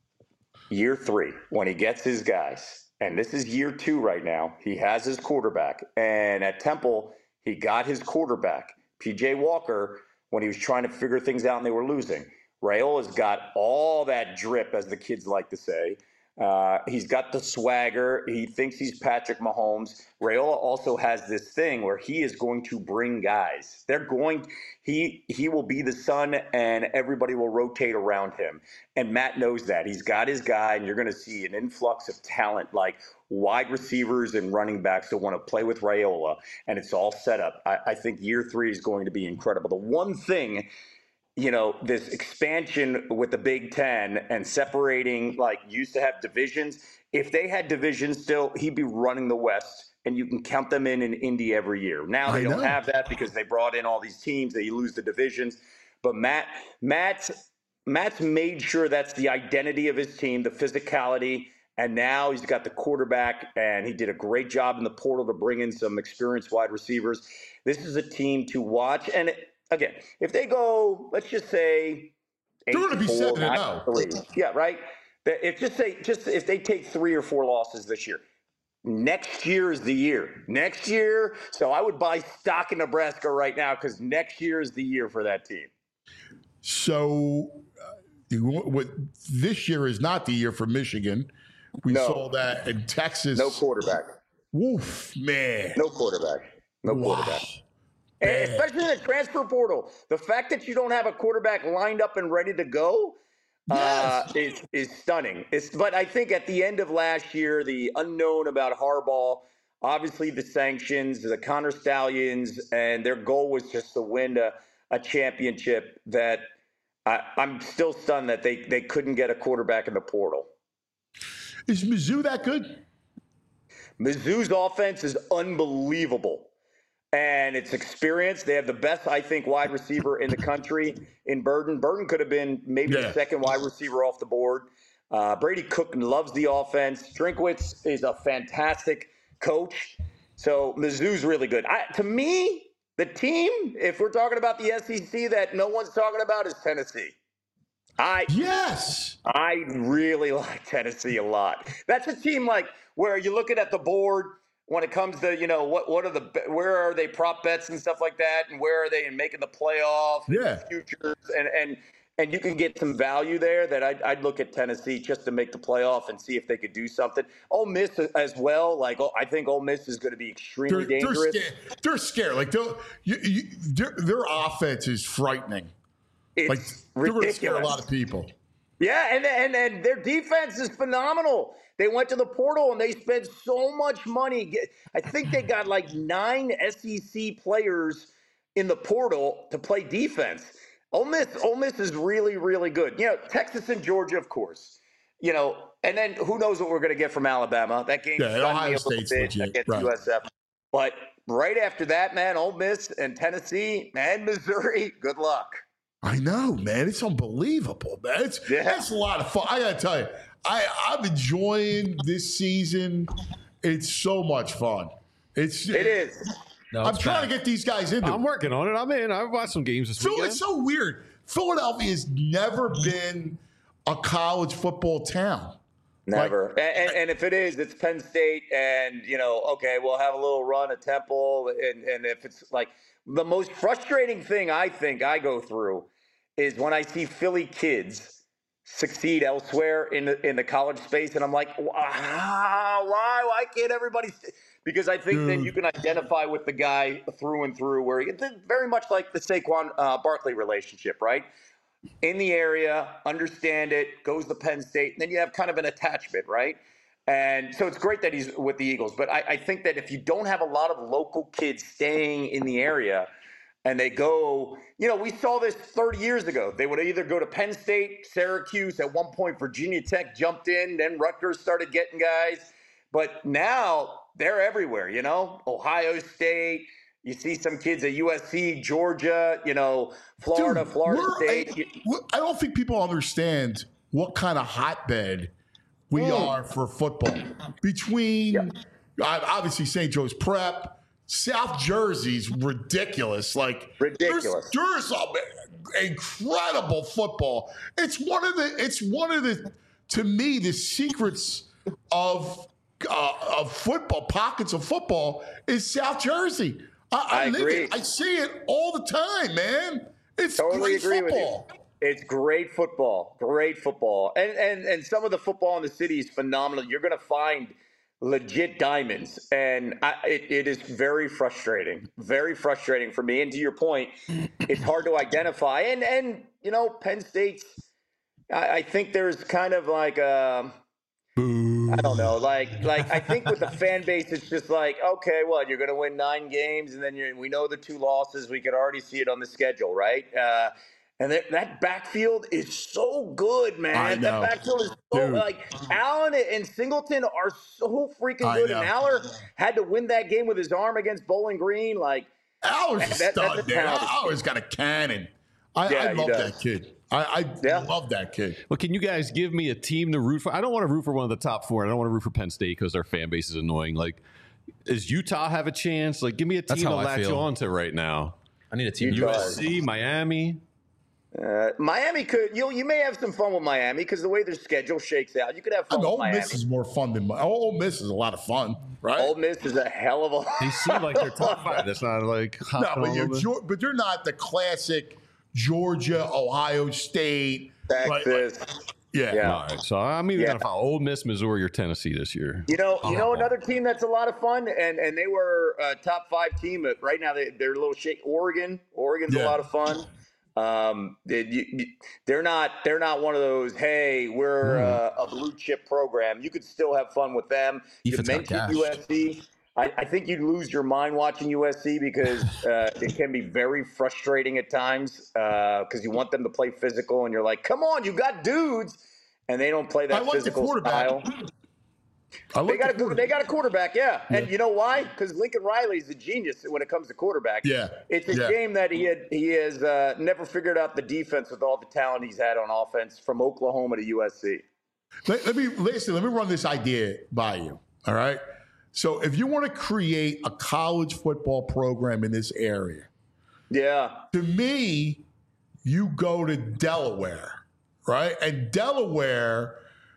Year three, when he gets his guys, and this is year two right now, he has his quarterback. And at Temple, he got his quarterback, P J Walker, when he was trying to figure things out and they were losing. Raiola's got all that drip, as the kids like to say. Uh, he's got the swagger. He thinks he's Patrick Mahomes. Raiola also has this thing where he is going to bring guys. They're going. He he will be the sun, and everybody will rotate around him. And Matt knows that. He's got his guy, and you're going to see an influx of talent, like wide receivers and running backs that want to play with Raiola. And it's all set up. I, I think year three is going to be incredible. The one thing, you know, this expansion with the Big Ten and separating, like, used to have divisions. If they had divisions still, he'd be running the West, and you can count them in in Indy every year. Now they I don't know. have that because they brought in all these teams. They lose the divisions. But Matt, Matt's, Matt's made sure that's the identity of his team, the physicality. And now he's got the quarterback, and he did a great job in the portal to bring in some experienced wide receivers. This is a team to watch. And it, again, if they go, let's just say, eight They're gonna be four, seven and nine, oh. three. Yeah, right. If just say, just if they take three or four losses this year, next year is the year. Next year, so I would buy stock in Nebraska right now because next year is the year for that team. So, uh, you- what, this year is not the year for Michigan. We No. saw that in Texas. No quarterback. Woof, man. No quarterback. No Wow. quarterback. And especially in the transfer portal. The fact that you don't have a quarterback lined up and ready to go uh, is, is stunning. It's, but I think at the end of last year, the unknown about Harbaugh, obviously the sanctions, the Connor Stallions, and their goal was just to win a, a championship, that I, I'm still stunned that they, they couldn't get a quarterback in the portal. Is Mizzou that good? Mizzou's offense is unbelievable. and it's experience. They have the best, I think, wide receiver in the country in Burden. Burden could have been maybe Yeah. the second wide receiver off the board. Uh, Brady Cook loves the offense. Drinkwitz is a fantastic coach. So Mizzou's really good. I, to me, the team, if we're talking about the S E C that no one's talking about, is Tennessee. I Yes. I really like Tennessee a lot. That's a team like where you're looking at the board when it comes to, you know, what what are the where are they prop bets and stuff like that, and where are they in making the playoff, and Yeah. futures, and and and you can get some value there. That I'd, I'd look at Tennessee just to make the playoff and see if they could do something. Ole Miss as well. Like oh, I think Ole Miss is going to be extremely They're, they're dangerous. scared. They're scared. Like they'll, you, you, their, their offense is frightening. It's Like they're going to scare a ridiculous. lot of people. Yeah, and, and and their defense is phenomenal. They went to the portal and they spent so much money. Get- I think they got like nine S E C players in the portal to play defense. Ole Miss, Ole Miss is really, really good. You know, Texas and Georgia, of course. You know, and then who knows what we're going to get from Alabama? That game, Yeah, and stunned me Ohio a little State's bit legit, against right. U S F. But right after that, man, Ole Miss and Tennessee and Missouri, good luck. I know, man. It's unbelievable, man. It's, Yeah. That's a lot of fun. I got to tell you, I, I'm enjoying this season. It's so much fun. It's It is. No, I'm it's trying bad. to get these guys into I'm it. working on it. I'm in. I've watched some games this Phil, weekend. it's so weird. Philadelphia has never been a college football town. Never. And, and, and if it is, it's Penn State, and, you know, okay, we'll have a little run at Temple. And, and if it's like the most frustrating thing I think I go through is when I see Philly kids succeed elsewhere in the, in the college space. And I'm like, wow, why? Why can't everybody? St-? Because I think that you can identify with the guy through and through, where it's very much like the Saquon uh, Barkley relationship, right? In the area, understand it, goes to Penn State, and then you have kind of an attachment, right? And so it's great that he's with the Eagles. But I, I think that if you don't have a lot of local kids staying in the area and they go, you know, we saw this thirty years ago. They would either go to Penn State, Syracuse, at one point Virginia Tech jumped in, then Rutgers started getting guys. But now they're everywhere, you know, Ohio State. You see some kids at U S C, Georgia, you know, Florida, Dude, Florida we're- State. I, we're- I don't think people understand what kind of hotbed we Mm. are for football. Between uh, obviously Saint Joe's Prep, South Jersey's ridiculous. Like Ridiculous. There's, there's a, incredible football. It's one of the. It's one of the. To me, the secrets of uh, of football, pockets of football, is South Jersey. I, I, I live agree. it. I see it all the time, man. It's Totally great agree football. with you. It's great football, great football, and and and some of the football in the city is phenomenal. You're going to find legit diamonds, and I, it, it is very frustrating, very frustrating for me. And to your point, it's hard to identify. And and you know, Penn State's. I, I think there's kind of like a. I don't know, like, like I think with the fan base, it's just like, okay, what, you're going to win nine games, and then you're, we know the two losses. We could already see it on the schedule, right? Uh, and that, that backfield is so good, man. I know. That backfield is so Dude. like Allen and Singleton are so freaking I good. know. And Aller had to win that game with his arm against Bowling Green, like. Aller's a That- that's stud, a man. talent. Aller's got a cannon. I, Yeah, I he love does. that kid. I, I Yeah. love that kid. Well, can you guys give me a team to root for? I don't want to root for one of the top four. I don't want to root for Penn State because their fan base is annoying. Like, does Utah have a chance? Like, give me a That's team to how I latch feel. on to right now. I need a team. Utah. U S C, Miami. Uh, Miami could you you may have some fun with Miami because the way their schedule shakes out, you could have I fun mean, with Ole Miami. Miss is more fun than Ole Miss is a lot of fun, right? Ole Miss is a hell of a. They seem like they're top five. That's not like no, hopping but, all you're, over. Geor- but they're not the classic Georgia, Ohio State. right? Like- Texas. yeah. Yeah. All right, so I'm either Yeah. gonna follow Ole Miss, Missouri, or Tennessee this year. You know, you know Oh. another team that's a lot of fun, and and they were a top five team. But right now they they're a little shake. Oregon, Oregon's Yeah. a lot of fun. Um, they, you, you- they're not they're not one of those. Hey, we're uh, a blue chip program. You could still have fun with them. You Defense got mentioned cash. U S C. I, I think you'd lose your mind watching U S C because uh, it can be very frustrating at times because you want them to play physical, and you're like, come on, you got dudes, and they don't play I that like the physical quarterback. style. I They like got the a they got a quarterback, yeah. And you know why? Because Lincoln Riley's a genius when it comes to quarterback. Yeah. It's a Yeah. shame that he had he has uh, never figured out the defense with all the talent he's had on offense from Oklahoma to U S C. Let, let me listen. Let me run this idea by you. All right. So if you want to create a college football program in this area, Yeah. to me, you go to Delaware, right? And Delaware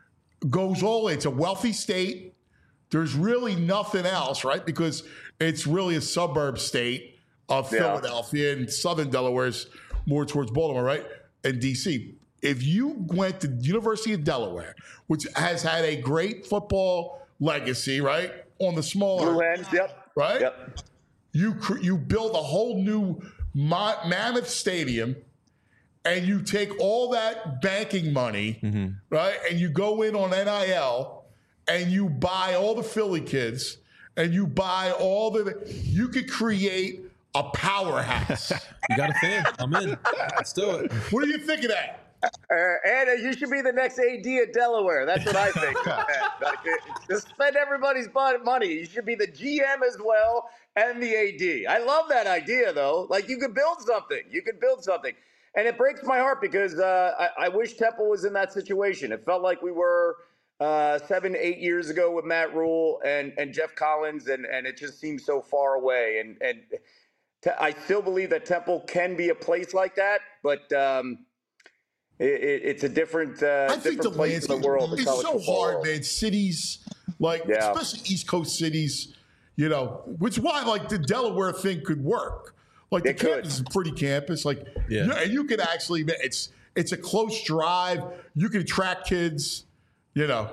goes all. It's a wealthy state. There's really nothing else, right? Because it's really a suburb state of Yeah. Philadelphia, and southern Delaware's more towards Baltimore, right? And D C. If you went to University of Delaware, which has had a great football legacy, right, on the smaller, Blue Hens, yep. right? Yep. You cr- you build a whole new ma- mammoth stadium, and you take all that banking money, Mm-hmm. right, and you go in on N I L, and you buy all the Philly kids, and you buy all the. You could create a powerhouse. You got a fan. I'm in. Let's do it. What do you think of that? Uh, and uh, you should be the next A D at Delaware. That's what I think. Like, uh, just spend everybody's mon- money. You should be the G M as well and the A D. I love that idea, though. Like, you could build something. You could build something. And it breaks my heart because uh, I-, I wish Temple was in that situation. It felt like we were uh, seven, eight years ago with Matt Rule and, and Jeff Collins, and, and it just seems so far away. And, and te- I still believe that Temple can be a place like that, but um, – It, it, it's a different, uh, I think different the place in landscape the world. the it's college so football hard, world. man. Cities, like Yeah. especially East Coast cities, you know, which is why like the Delaware thing could work. Like the It could. campus is a pretty campus, like Yeah. you know, and you could actually, it's it's a close drive. You can attract kids, you know.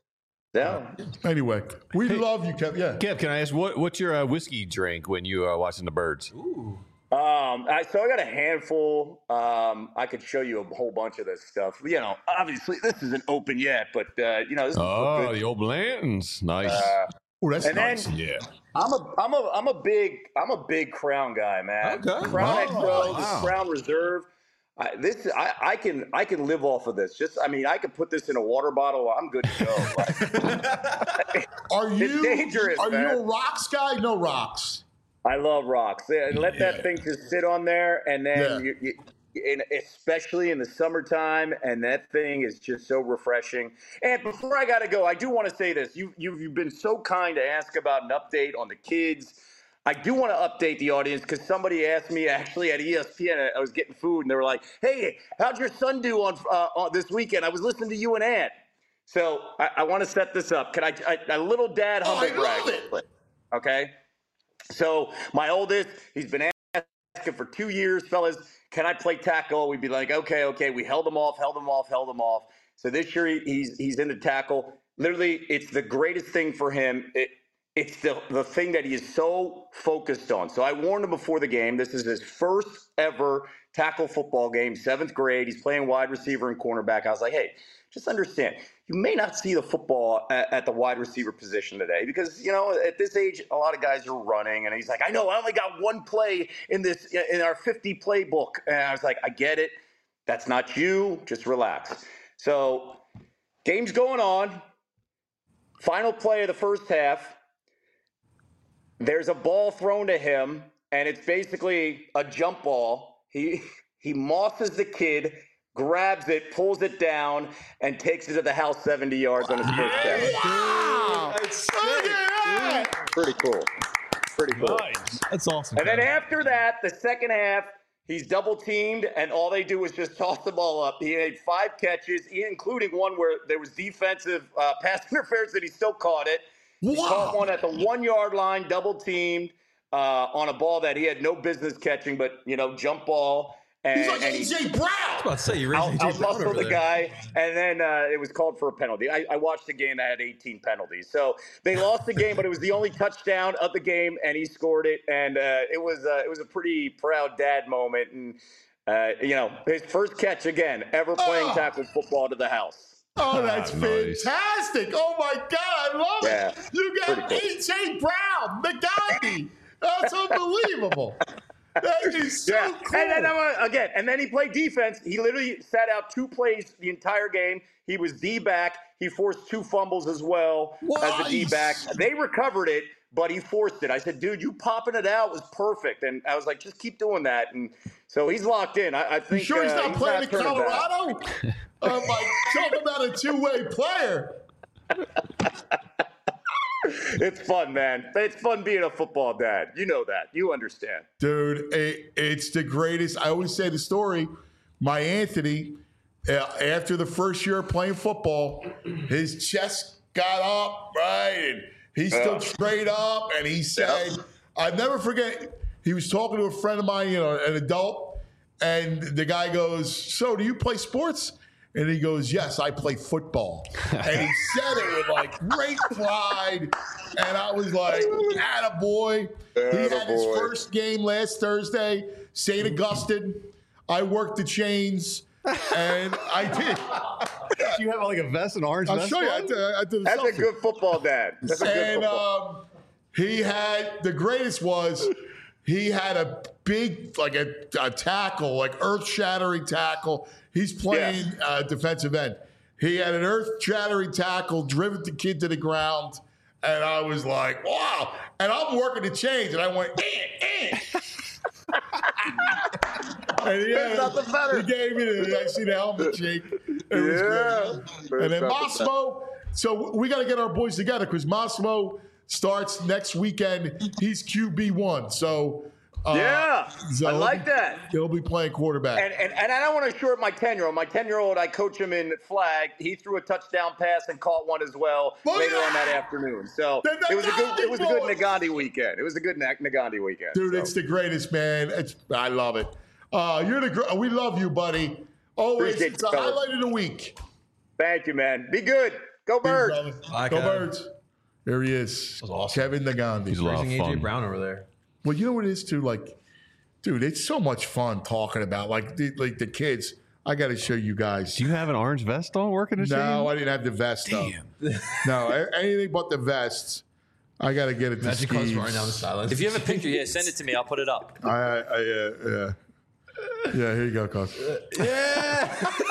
Yeah. Anyway, we love you, Kev. Yeah. Kev, can I ask what what's your uh, whiskey drink when you are watching the birds? Um, I, so I got a handful. Um, I could show you a whole bunch of this stuff. You know, obviously this isn't open yet, but uh, you know, this is Oh, good. the old Blanton's. Nice. Uh, Oh, that's And nice. then- yeah. I'm a, I'm a, I'm a big, I'm a big Crown guy, man. Okay. Crown Oh, X O, wow. the Crown Reserve. I, this, I, I can, I can live off of this. Just, I mean, I could put this in a water bottle. I'm good to go. Like, Are you dangerous, are man. you a rocks guy? No rocks. I love rocks. Yeah, let Yeah. that thing just sit on there, and then Yeah. you, you, in, especially in the summertime, and that thing is just so refreshing. And before I gotta go, I do want to say this: you you've, you've been so kind to ask about an update on the kids. I do want to update the audience because somebody asked me actually at E S P N. I was getting food, and they were like, "Hey, how'd your son do on, uh, on this weekend? I was listening to you and Aunt." So I, I want to set this up. Can I, I a little dad Oh, I humble brag? love it. Okay. So my oldest, he's been asking for two years, fellas, can I play tackle? We'd be like, okay, okay. We held him off, held him off, held him off. So this year he, he's he's into tackle. Literally, it's the greatest thing for him. It, it's the, the thing that he is so focused on. So I warned him before the game. This is his first ever tackle football game, seventh grade. He's playing wide receiver and cornerback. I was like, hey, just understand, you may not see the football at, at the wide receiver position today because, you know, at this age, a lot of guys are running. And he's like, I know, I only got one play in this in our fifty playbook. And I was like, I get it. That's not you. Just relax. So game's going on. Final play of the first half. There's a ball thrown to him, and it's basically a jump ball. He he mosses the kid, grabs it, pulls it down, and takes it to the house seventy yards on his first catch. Wow. That's Look at that. Pretty cool. Pretty cool. That's awesome. And then Kevin. after that, the second half, he's double teamed, and all they do is just toss the ball up. He had five catches, including one where there was defensive uh, pass interference, and he still caught it. He Wow. caught one at the one-yard line, double teamed uh, on a ball that he had no business catching, but, you know, jump ball. And, He's like and A he J Brown. I was about to say you raised out, A J Brown out-muscled over the there. guy, and then uh, it was called for a penalty. I, I watched the game that had eighteen penalties. So they lost the game, but it was the only touchdown of the game, and he scored it. And uh, it was uh, it was a pretty proud dad moment. And, uh, you know, his first catch, again, ever playing Oh. tackle football to the house. Oh, that's Ah, nice. fantastic. Oh, my God. I love Yeah. it. You got Pretty A J Brown, the guy. That's unbelievable. That is so yeah. cool. And then uh, again, and then he played defense. He literally sat out two plays the entire game. He was D-back. He forced two fumbles as well as a D-back. They recovered it, but he forced it. I said, dude, you popping it out was perfect. And I was like, just keep doing that. And so he's locked in. I, I think. You sure he's uh, not he's playing not in turning back. Colorado? Oh my! Talk about a two-way player. It's fun, man. It's fun being a football dad. You know that. You understand. Dude, it, it's the greatest. I always say the story. My Anthony, uh, after the first year of playing football, his chest got up, right? And he stood Yeah. straight up, and he said, I'll never forget, he was talking to a friend of mine, you know, an adult, and the guy goes, so do you play sports? And he goes, yes, I play football. And he said it with like great pride. And I was like, attaboy. He had his Attaboy. first game last Thursday, Saint Augustine. I worked the chains, and I did. Do you have like a vest, an orange I'll vest? show you. I on? did, I did a That's a selfie. good football dad. That's a good And football. um, he had, the greatest was, he had a big, like a, a tackle, like earth-shattering tackle. He's playing Yeah. uh, defensive end. He had an earth-shattering tackle, driven the kid to the ground, and I was like, wow. And I'm working the chains, and I went, eh, eh. And he, There's had, nothing better. he gave me the, I see the helmet shake. It was Yeah. great. And then There's nothing Massimo, so we got to get our boys together because Massimo starts next weekend. He's Q B one. So, uh, Yeah, so I he'll like be- that. He'll be playing quarterback. And, and and I don't want to short my ten-year-old. My ten-year-old, I coach him in flag. He threw a touchdown pass and caught one as well Oh, later yeah! on that afternoon. So The it was a good it was a good Nagandi boy! Nagandi weekend. It was a good Nag- Nagandi weekend. Dude, so. it's the greatest, man. It's, I love it. Uh, you're the gr- we love you, buddy. Always, Appreciate it's you, a fellas. highlight of the week. Thank you, man. Be good. Go Birds. Brother. Bye, Go Kev. Birds. There he is. was awesome. Kevin Nagandi. He's a lot of Raising A J fun. Brown over there. Well, you know what it is too. Like, dude, it's so much fun talking about like the, like the kids. I got to show you guys. Do you have an orange vest on working the No, chain? I didn't have the vest. Damn. No, a- anything but the vests. I got to get it to Magic comes Steve. running down the sidelines. If you have a picture here, send it to me. I'll put it up. I, I, I uh, yeah, yeah. Here you go, Cos. yeah.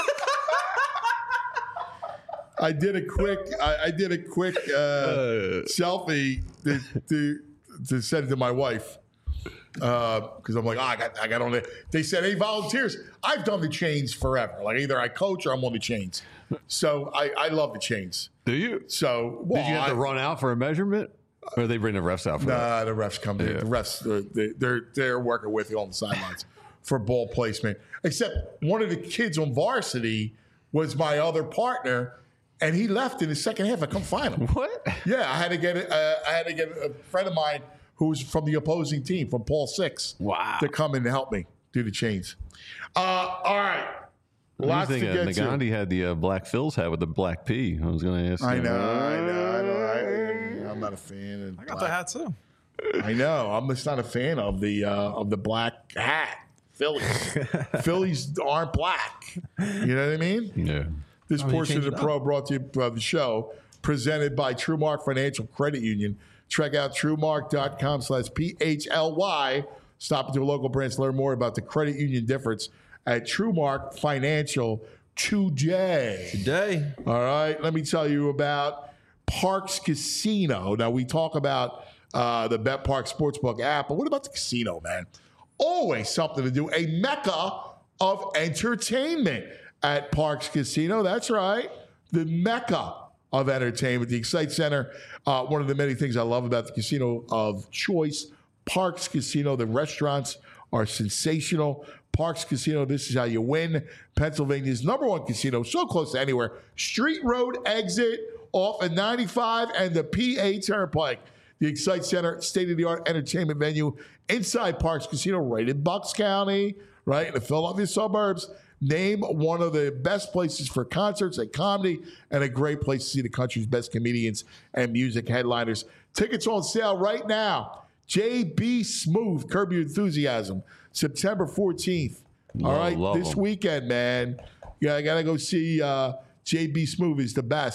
I did a quick. I, I did a quick uh, selfie to, to to send to my wife because I'm like, oh, I got I got on it. They said, hey, volunteers. I've done the chains forever. Like either I coach or I'm on the chains. So I, I love the chains. Do you? So well, Did you have to I- run out for a measurement? Or they bring the refs out for that? Nah, the refs come in. Yeah. The refs, uh, they, they're they're working with you on the sidelines for ball placement. Except one of the kids on varsity was my other partner, and he left in the second half. I come find him. What? Yeah, I had to get it. Uh, I had to get a friend of mine who was from the opposing team, from Paul Six, Wow. to come in and help me do the chains. Uh, all right, lots to I think get uh, to. Nagandi had the uh, black Phil's hat with the black P. I was going to ask. I you. know, I know, I know. I, I'm not a fan. Of I got black. the hat too. I know. I'm just not a fan of the uh, of the black hat. Phillies. Phillies aren't black. You know what I mean? Yeah. This I mean, portion of change the it pro brought to you by the show, presented by TrueMark Financial Credit Union. Check out truemark.com slash P H L Y. Stop into a local branch to learn more about the credit union difference at TrueMark Financial today. Today. All right, let me tell you about Parks Casino. Now, we talk about uh, the Bet Park Sportsbook app, but what about the casino, man? Always something to do. A mecca of entertainment at Parks Casino. That's right, the mecca of entertainment. The Excite Center, uh, one of the many things I love about the casino of choice, Parks Casino. The restaurants are sensational. Parks Casino, this is how you win. Pennsylvania's number one casino, so close to anywhere. Street Road exit off of ninety-five and the P A Turnpike. The Excite Center, state-of-the-art entertainment venue inside Parks Casino, right in Bucks County, right in the Philadelphia suburbs. Name one of the best places for concerts and comedy, and a great place to see the country's best comedians and music headliners. Tickets on sale right now. J B Smooth, Curb Your Enthusiasm, September fourteenth. All Love- right, love this 'em. weekend, man. Yeah, I got to go see uh, J B Smooth is the best.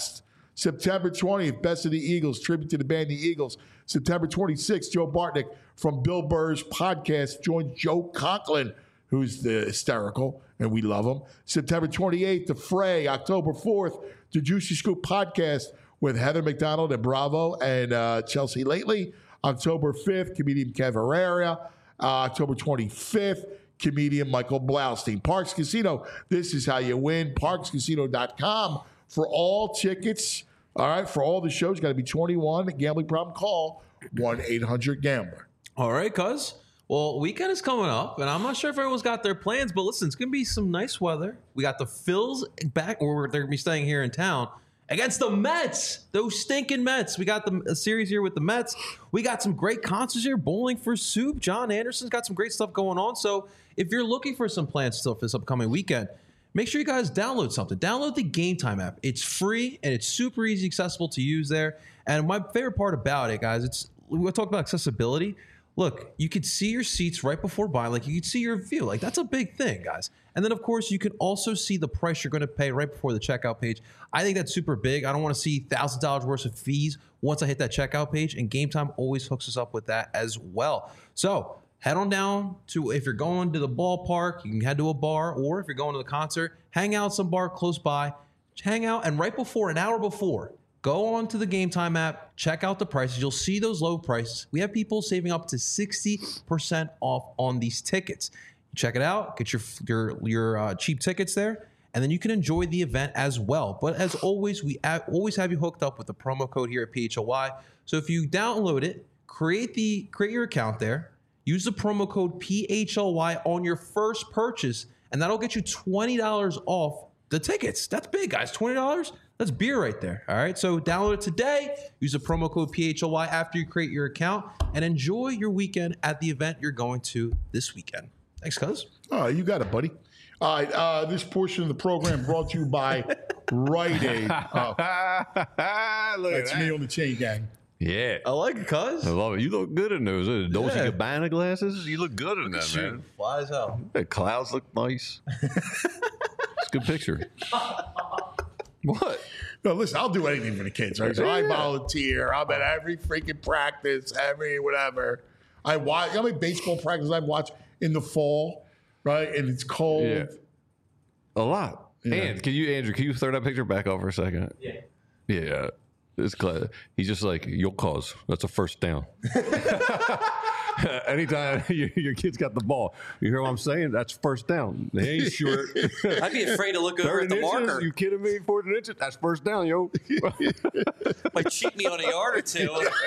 September twentieth, Best of the Eagles, tribute to the band The Eagles. September twenty-sixth, Joe Bartnick from Bill Burr's podcast joins Joe Conklin, who's the hysterical, and we love him. September twenty-eighth, The Fray. October fourth, the Juicy Scoop podcast with Heather McDonald and Bravo and uh, Chelsea Lately. October fifth, comedian Kev Herrera. Uh, October twenty-fifth, comedian Michael Blaustein. Parks Casino, this is how you win. parks casino dot com for all tickets. All right, for all the shows, got to be twenty-one. Gambling problem, call one eight hundred gambler. All right, cuz. Well, weekend is coming up, and I'm not sure if everyone's got their plans, but listen, it's going to be some nice weather. We got the Phils back, or they're going to be staying here in town, against the Mets, those stinking Mets. We got the a series here with the Mets. We got some great concerts here, Bowling for Soup. John Anderson's got some great stuff going on. So if you're looking for some plans still for this upcoming weekend, make sure you guys download something. Download the Game Time app. It's free, and it's super easy, accessible to use there. And my favorite part about it, guys, it's we talk about accessibility. Look, you could see your seats right before buying. Like, you could see your view. Like, that's a big thing, guys. And then, of course, you can also see the price you're going to pay right before the checkout page. I think that's super big. I don't want to see one thousand dollars worth of fees once I hit that checkout page, and Game Time always hooks us up with that as well. So head on down to, if you're going to the ballpark, you can head to a bar, or if you're going to the concert, hang out at some bar close by. Hang out, and right before, an hour before, go on to the Game Time app, check out the prices. You'll see those low prices. We have people saving up to sixty percent off on these tickets. Check it out. Get your your your uh, cheap tickets there, and then you can enjoy the event as well. But as always, we a- always have you hooked up with the promo code here at P H L Y. So if you download it, create the create your account there, use the promo code P H L Y on your first purchase, and that'll get you twenty dollars off the tickets. That's big, guys. twenty dollars. That's beer right there. All right. So download it today. Use the promo code P H L Y after you create your account, and enjoy your weekend at the event you're going to this weekend. Thanks, cuz. All right, you got it, buddy. All right, uh, this portion of the program brought to you by Rite Aid. Oh, Look that's at me that. on the chain gang. Yeah. I like it, cuz. I love it. You look good in those uh, Dolce Yeah. Gabbana glasses. You look good in them, man. Fly as hell. The clouds look nice. It's a good picture. What? No, listen, I'll do anything for the kids, right? So I Yeah. volunteer. I'm at every freaking practice, every whatever. I watch. You know how many baseball practices I watch in the fall, right? And it's cold. Yeah. A lot. Yeah. And can you, Andrew, can you throw that picture back up for a second? Yeah. Yeah. It's glad. He's just like, your cause. That's a first down. Anytime your, your kid's got the ball, you hear what I'm saying? That's first down. They ain't short. I'd be afraid to look over at thirty the inches? marker. You kidding me? fourteen inches? That's first down, yo. Might cheat me on a yard or two.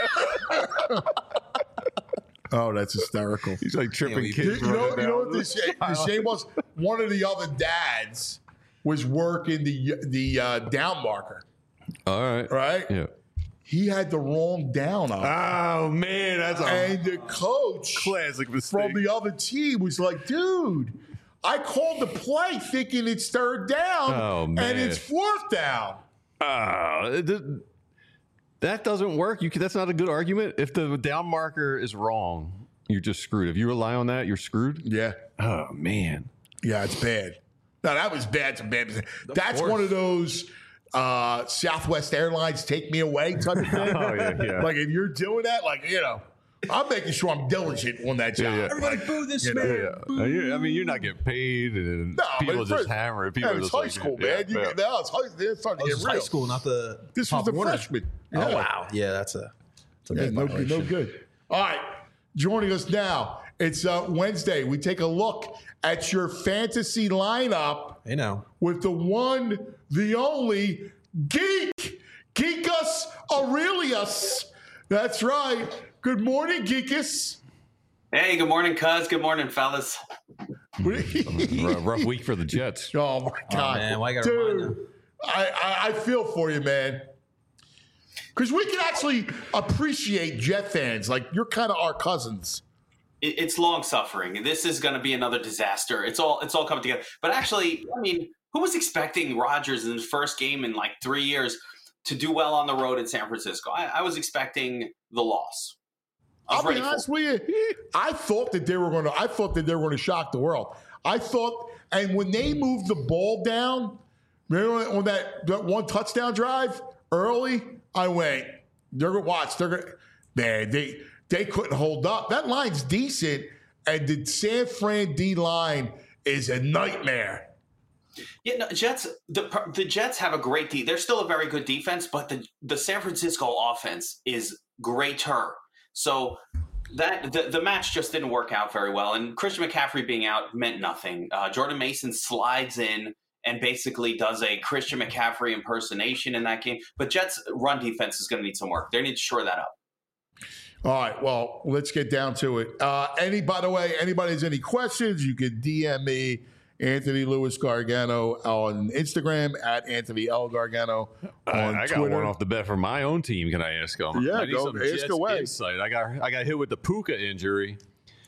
Oh, that's hysterical. He's like tripping Yeah, kids. You know, running you know down. what the shame, the shame was? One of the other dads was working the the uh, down marker, All right. right? Yeah. He had the wrong down up. Oh, man. That's a And the coach classic mistake. from the other team was like, dude, I called the play thinking it's third down, Oh, man. and it's fourth down. Ah, it did- that doesn't work. You can, that's not a good argument. If the down marker is wrong, you're just screwed. If you rely on that, you're screwed. Yeah. Oh, man. Yeah, it's bad. No, that was bad. Some bad. That's course. one of those uh, Southwest Airlines take me away type of thing. Oh, yeah, yeah. Like if you're doing that, like, you know, I'm making sure I'm diligent on that job. Yeah, yeah. Everybody boo this You know, man. Yeah. Uh, you- I mean, you're not getting paid, and No, people but just first- hammer it. People yeah, are it's just high like, school, yeah, man. You yeah. get, no, it's, high, it's starting Oh, to this get is real. high school, not the. This was Pop the Warner. freshman. Oh Yeah. wow, yeah, that's a. That's a Yeah, big no, violation. no good. All right, joining us now. It's uh, Wednesday. We take a look at your fantasy lineup Hey now. with the one, the only Geek, Geekus Aurelius. That's right. Good morning, Geekus. Hey, good morning, cuz. Good morning, fellas. rough, rough week for the Jets. Oh my God, man, why you gotta remind dude! them? I, I I feel for you, man. Because we can actually appreciate Jet fans. Like you're kind of our cousins. It, it's long suffering. This is going to be another disaster. It's all it's all coming together. But actually, I mean, who was expecting Rodgers in his first game in like three years to do well on the road in San Francisco? I, I was expecting the loss. I was I'll be ready for honest it. with you. I thought that they were going to. I thought that they were going to shock the world. I thought, and when they moved the ball down, remember on that, that one touchdown drive early, I went, they're going to watch. They're going to, man, they, they couldn't hold up. That line's decent, and the San Fran D line is a nightmare. Yeah, no, Jets. The the Jets have a great D. They're still a very good defense, but the the San Francisco offense is greater. So that the, the match just didn't work out very well. And Christian McCaffrey being out meant nothing. Uh, Jordan Mason slides in and basically does a Christian McCaffrey impersonation in that game. But Jets' run defense is going to need some work. They need to shore that up. All right, well, let's get down to it. Uh, any, by the way, anybody has any questions, you can D M me, Anthony Lewis Gargano, on Instagram, at Anthony L. Gargano on I, I got Twitter. one off the bet for my own team. Can I ask them? Yeah, I need go some ask Jets away. Insight. I got I got hit with the Puka injury.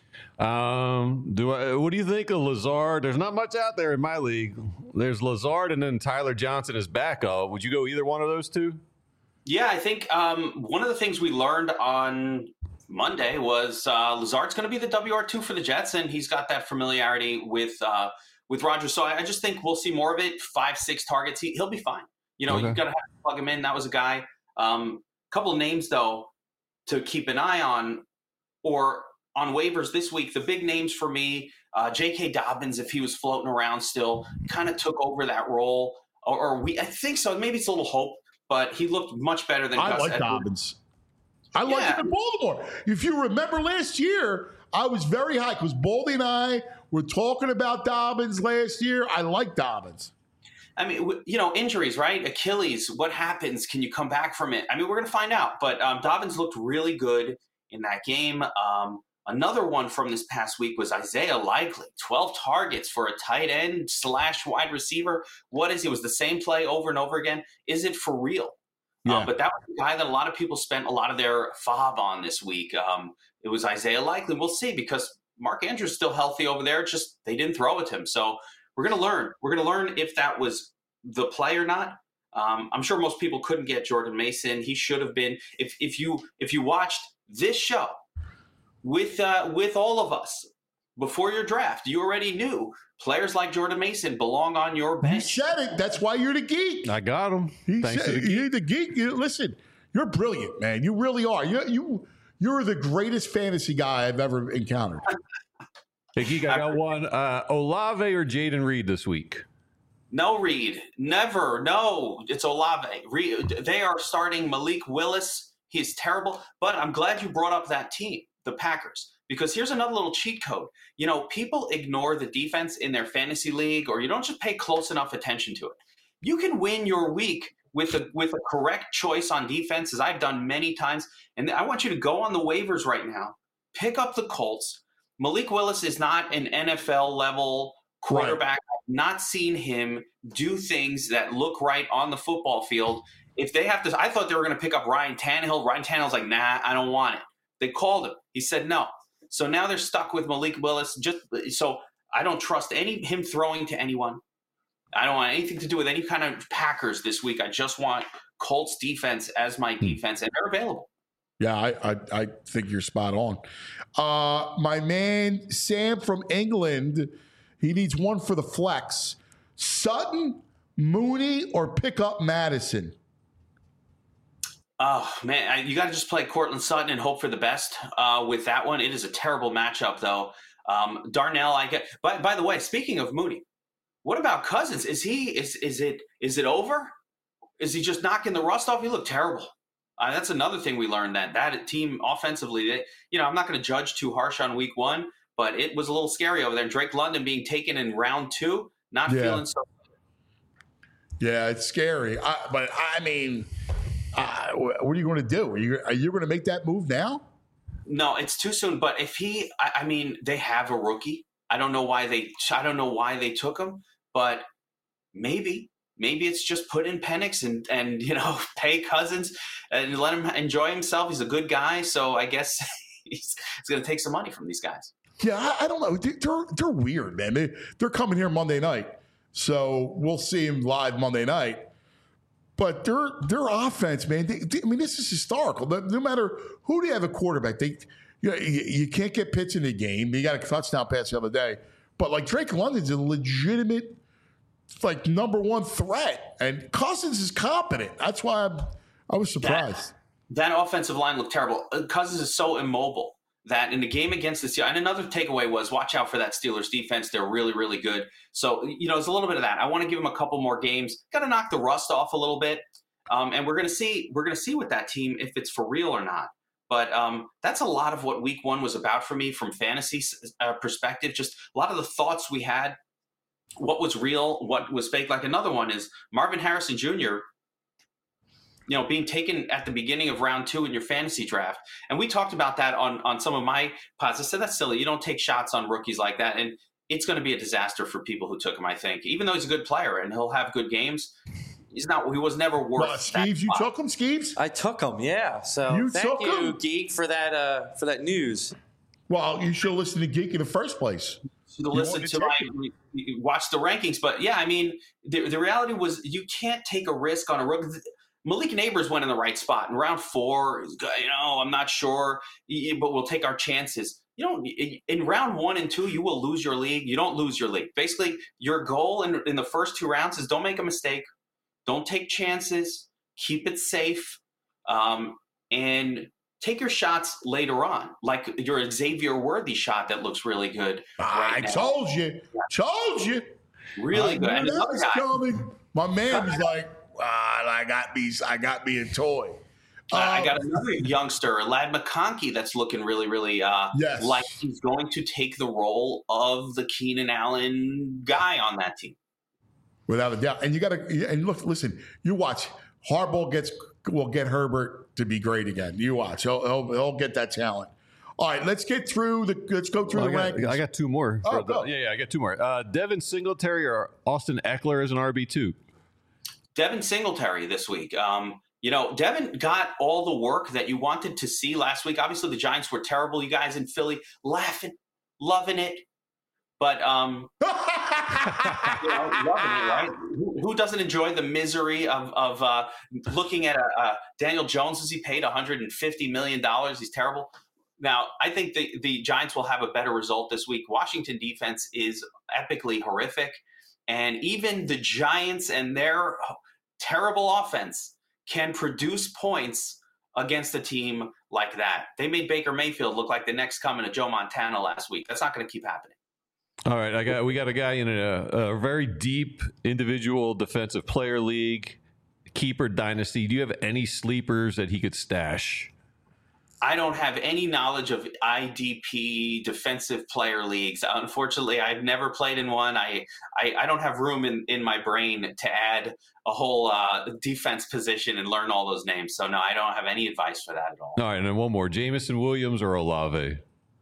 Um, do I? What do you think of Lazard? There's not much out there in my league. There's Lazard and then Tyler Johnson as backup. Would you go either one of those two? Yeah, I think um, one of the things we learned on Monday was uh, Lazard's going to be the W R two for the Jets, and he's got that familiarity with uh, with Rodgers. So I, I just think we'll see more of it. Five, six targets, he, he'll be fine. You know, Okay. you've got to have to plug him in. That was a guy. A um, couple of names, though, to keep an eye on, or on waivers this week. The big names for me, uh, J K. Dobbins, if he was floating around still, kind of took over that role. Or, or we, I think so. Maybe it's a little hope, but he looked much better than I Gus like Edwards. Dobbins. I like Yeah. him in Baltimore. If you remember last year, I was very high because Baldy and I were talking about Dobbins last year. I like Dobbins. I mean, w- you know, injuries, right? Achilles, what happens? Can you come back from it? I mean, we're going to find out. But um, Dobbins looked really good in that game. Um, another one from this past week was Isaiah Likely, twelve targets for a tight end slash wide receiver. What is he? It was the same play over and over again. Is it for real? Yeah. Um, but that was the guy that a lot of people spent a lot of their fob on this week. Um, it was Isaiah Likely. We'll see, because Mark Andrews is still healthy over there. Just they didn't throw it to him. So we're going to learn. We're going to learn if that was the play or not. Um, I'm sure most people couldn't get Jordan Mason. He should have been. If if you if you watched this show with uh, with all of us before your draft, you already knew players like Jordan Mason belong on your You bench. said it. That's why you're the geek. I got him. He Thanks said, to the you're the geek. You, listen, you're brilliant, man. You really are. You you you're the greatest fantasy guy I've ever encountered. Hey, Geek, I got one. Uh, Olave or Jaden Reed this week? No, Reed. Never. No, it's Olave. Reed, they are starting Malik Willis. He is terrible. But I'm glad you brought up that team, the Packers, because here's another little cheat code. You know, people ignore the defense in their fantasy league, or you don't just pay close enough attention to it. You can win your week with a with a correct choice on defense, as I've done many times. And I want you to go on the waivers right now, pick up the Colts. Malik Willis is not an N F L level quarterback. I've not seen him do things that look right on the football field. If they have to, I thought they were going to pick up Ryan Tannehill. Ryan Tannehill's like, nah, I don't want it. They called him. He said no. So now they're stuck with Malik Willis. Just so I don't trust any him throwing to anyone. I don't want anything to do with any kind of Packers this week. I just want Colts defense as my defense, and they're available. Yeah, I, I, I think you're spot on. Uh, my man Sam from England, he needs one for the flex. Sutton, Mooney, or pick up Madison? Oh, man, I, you got to just play Cortland Sutton and hope for the best uh, with that one. It is a terrible matchup, though. Um, Darnell, I get. By, by the way, speaking of Mooney, what about Cousins? Is he is is it is it over? Is he just knocking the rust off? He looked terrible. Uh, that's another thing we learned, that that team offensively, they, you know, I'm not going to judge too harsh on week one, but it was a little scary over there. Drake London being taken in round two, not Yeah. feeling so. Yeah, it's scary. I, but I mean, uh, what are you going to do? Are you are you going to make that move now? No, it's too soon. But if he, I, I mean, they have a rookie. I don't know why they, I don't know why they took him, but maybe, maybe it's just put in Penix and and you know pay Cousins and let him enjoy himself. He's a good guy, so I guess he's, he's going to take some money from these guys. Yeah, I, I don't know. They- They're they're weird, man. They they're coming here Monday night, so we'll see him live Monday night. But their their offense, man. They, they, I mean, this is historical. No, no matter who they have a quarterback, they you, know, you you can't get Pitts in the game. He got a touchdown pass the other day, but like Drake London's a legitimate like number one threat. And Cousins is competent. That's why I'm, I was surprised. That, that offensive line looked terrible. Cousins is so immobile that in the game against the Steelers, and another takeaway was watch out for that Steelers defense. They're really, really good. So, you know, there's a little bit of that. I want to give them a couple more games. Got to knock the rust off a little bit. Um, and we're going to see, we're going to see with that team if it's for real or not. But um, that's a lot of what week one was about for me from fantasy uh, perspective. Just a lot of the thoughts we had, what was real, what was fake. Like another one is Marvin Harrison Junior, you know, being taken at the beginning of round two in your fantasy draft. And we talked about that on, on some of my pods. I said, that's silly. You don't take shots on rookies like that. And it's going to be a disaster for people who took him, I think. Even though he's a good player and he'll have good games, he's not. He was never worth. Uh, Skeeves, you took him, Skeeves? I took him, yeah. So You thank took you, him? Geek, for that uh, for that news. Well, you should listen to Geek in the first place. To listen wanted to to my take watch the rankings. But yeah, I mean, the, the reality was you can't take a risk on a rookie. Malik Neighbors went in the right spot in round four. You know, I'm not sure, but we'll take our chances. You know, in round one and two, you will lose your league. You don't lose your league. Basically, your goal in, in the first two rounds is don't make a mistake. Don't take chances. Keep it safe. Um, and take your shots later on, like your Xavier Worthy shot that looks really good. Right I now. told you. Told you. Really I good. And knew that another was guy, coming. My man was like, ah, I got me, I got me a toy. Uh, I Um, got another youngster, Lad McConkey, that's looking really, really uh, Yes. like he's going to take the role of the Keenan Allen guy on that team. Without a doubt. And you got to, and look, listen, you watch. Harbaugh gets, will get Herbert to be great again. You watch. He'll, he'll, he'll get that talent. All right, let's get through the, let's go through Well, the I, got, rankings. I got two more. Oh, For the- go. yeah, yeah, I got two more. Uh, Devin Singletary or Austin Eckler as an R B two? Devin Singletary this week. Um, you know, Devin got all the work that you wanted to see last week. Obviously, the Giants were terrible. You guys in Philly laughing, loving it. But, um, you know, loving it, right? Who, who doesn't enjoy the misery of, of uh, looking at a, a Daniel Jones as he paid one hundred fifty million dollars? He's terrible. Now, I think the, the Giants will have a better result this week. Washington defense is epically horrific. And even the Giants and their terrible offense can produce points against a team like that. They made Baker Mayfield look like the next coming of Joe Montana last week. That's not going to keep happening. All right, I got we got a guy in a, a very deep individual defensive player league, keeper dynasty. Do you have any sleepers that he could stash? I don't have any knowledge of I D P defensive player leagues. Unfortunately, I've never played in one. I I, I don't have room in, in my brain to add a whole uh, defense position and learn all those names. So, no, I don't have any advice for that at all. All right, and then one more: Jameson Williams or Olave?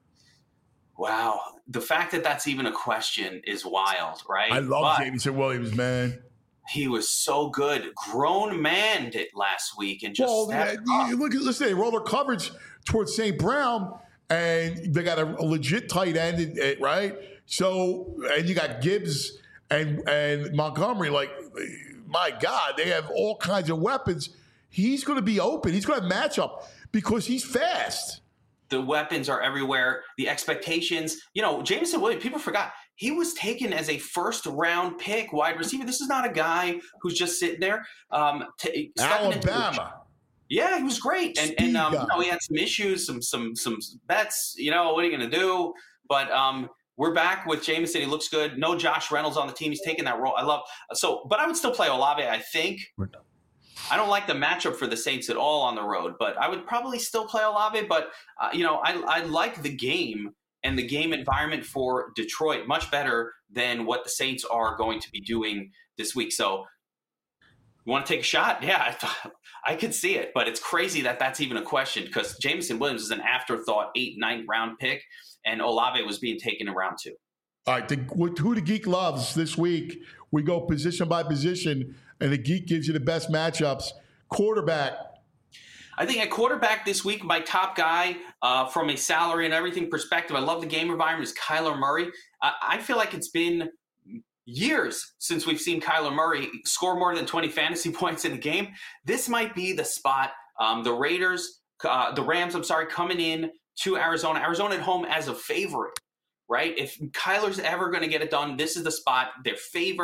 Wow. The fact that that's even a question is wild, right? I love But Jameson Williams, man. he was so good. Grown man did last week and just Well, stepped yeah, up. you look at listen, they roll their coverage towards Saint Brown, and they got a, a legit tight end, in it, right? So, and you got Gibbs and and Montgomery. Like, my God, they have all kinds of weapons. He's going to be open. He's going to have matchup because he's fast. The weapons are everywhere. The expectations, you know, Jameson Williams, people forgot, he was taken as a first round pick wide receiver. This is not a guy who's just sitting there. Um, t- stepping into the- Alabama. Yeah, he was great, and Speed and um, guy. you know, he had some issues, some some some bets. You know, what are you going to do? But um, we're back with Jameson. He looks good. No Josh Reynolds on the team. He's taking that role. I love so, but I would still play Olave. I think. We're done. I don't like the matchup for the Saints at all on the road, but I would probably still play Olave. But uh, you know, I I like the game and the game environment for Detroit much better than what the Saints are going to be doing this week. So. You want to take a shot? Yeah, I thought I could see it, but it's crazy that that's even a question because Jameson Williams is an afterthought eight, ninth round pick, and Olave was being taken in round two. All right, the, who the geek loves this week, we go position by position, and the geek gives you the best matchups. Quarterback. I think at quarterback this week, my top guy uh, from a salary and everything perspective, I love the game environment, is Kyler Murray. Uh, I feel like it's been years since we've seen Kyler Murray score more than twenty fantasy points in a game. This might be the spot. Um, the Raiders, uh, the Rams, I'm sorry, coming in to Arizona. Arizona at home as a favorite, right? If Kyler's ever going to get it done, this is the spot. They're favored.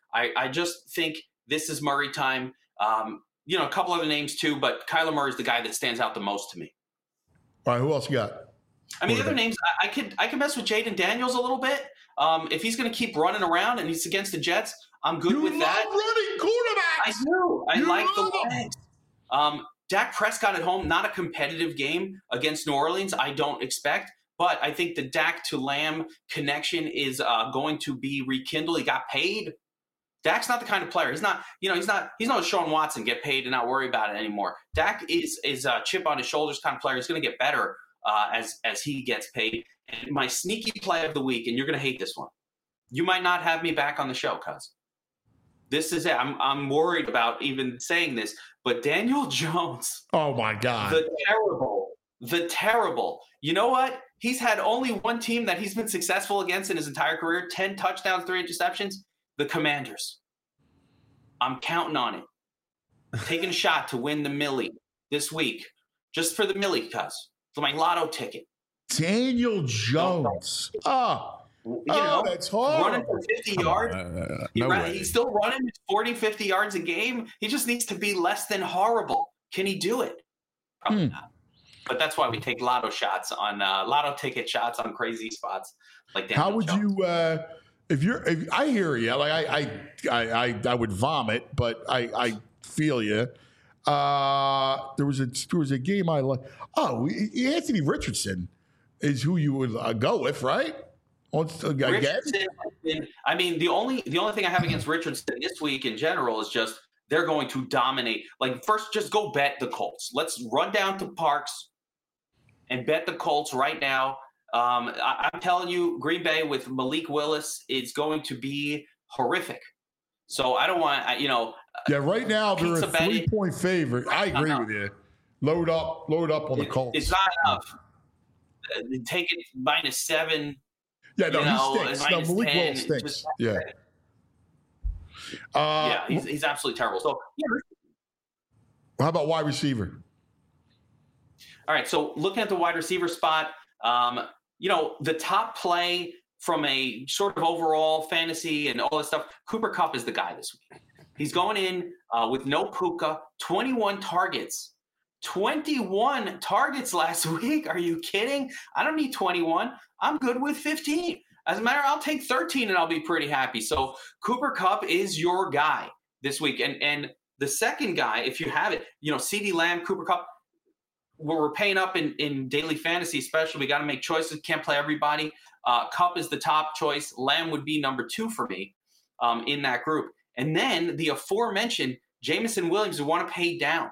I, I just think this is Murray time. Um, you know, a couple other names too, but Kyler Murray is the guy that stands out the most to me. All right, who else you got? I mean, the other names, I, I could I could mess with Jaden Daniels a little bit. Um, if he's going to keep running around and he's against the Jets, I'm good you with love that. running quarterbacks. I do. I you like the them. legs. Um, Dak Prescott at home, not a competitive game against New Orleans, I don't expect. But I think the Dak to Lamb connection is uh, going to be rekindled. He got paid. Dak's not the kind of player. He's not, you know, he's not, he's not Sean Watson, get paid and not worry about it anymore. Dak is is a chip on his shoulders kind of player. He's going to get better uh, as as he gets paid. And my sneaky play of the week, and you're going to hate this one. You might not have me back on the show, cuz this is it. I'm I'm worried about even saying this, but Daniel Jones. Oh my God. The terrible, the terrible. You know what? He's had only one team that he's been successful against in his entire career. ten touchdowns, three interceptions. The Commanders. I'm counting on it. Taking a shot to win the Millie this week, just for the Millie, cuz for my lotto ticket. Daniel Jones. Oh. You oh, know, that's horrible. running for fifty yards. Uh, he no ran, way. he's still running forty, fifty yards a game. He just needs to be less than horrible. Can he do it? Probably Hmm. not. But that's why we take lotto shots on uh, lotto ticket shots on crazy spots like Daniel How would Jones. you, uh, if you're, if I hear you, like I, I, I, I, I would vomit, but I, I feel you. Uh, there was a, there was a game I like. Oh, Anthony Richardson is who you would uh, go with, right? Again? Richardson, I mean, the only the only thing I have against Richardson this week in general is just they're going to dominate. Like, first, just go bet the Colts. Let's run down to Parks and bet the Colts right now. Um, I, I'm telling you, Green Bay with Malik Willis is going to be horrific. So I don't want, you know. Yeah, right now they're a pizza betting. three-point favorite. I agree with you. Load up, load up on the Colts. It's not enough. Uh, Take it minus seven. Yeah, no, you know, he stinks. No, minus Malik ten, Willis stinks. just- Yeah. Uh, yeah, he's, he's absolutely terrible. So, yeah. How about wide receiver? All right, so looking at the wide receiver spot, um, you know, the top play from a sort of overall fantasy and all this stuff, Cooper Kupp is the guy this week. He's going in uh, with no Puka, twenty-one targets. twenty-one targets last week. Are you kidding? I don't need twenty-one. I'm good with fifteen. As a matter, I'll take thirteen and I'll be pretty happy. So Cooper Kupp is your guy this week. And and the second guy, if you have it, you know, CeeDee Lamb, Cooper Kupp, where we're paying up in, in daily fantasy, especially, we got to make choices. Can't play everybody. Uh, Kupp is the top choice. Lamb would be number two for me um, in that group. And then the aforementioned Jameson Williams, who want to pay down.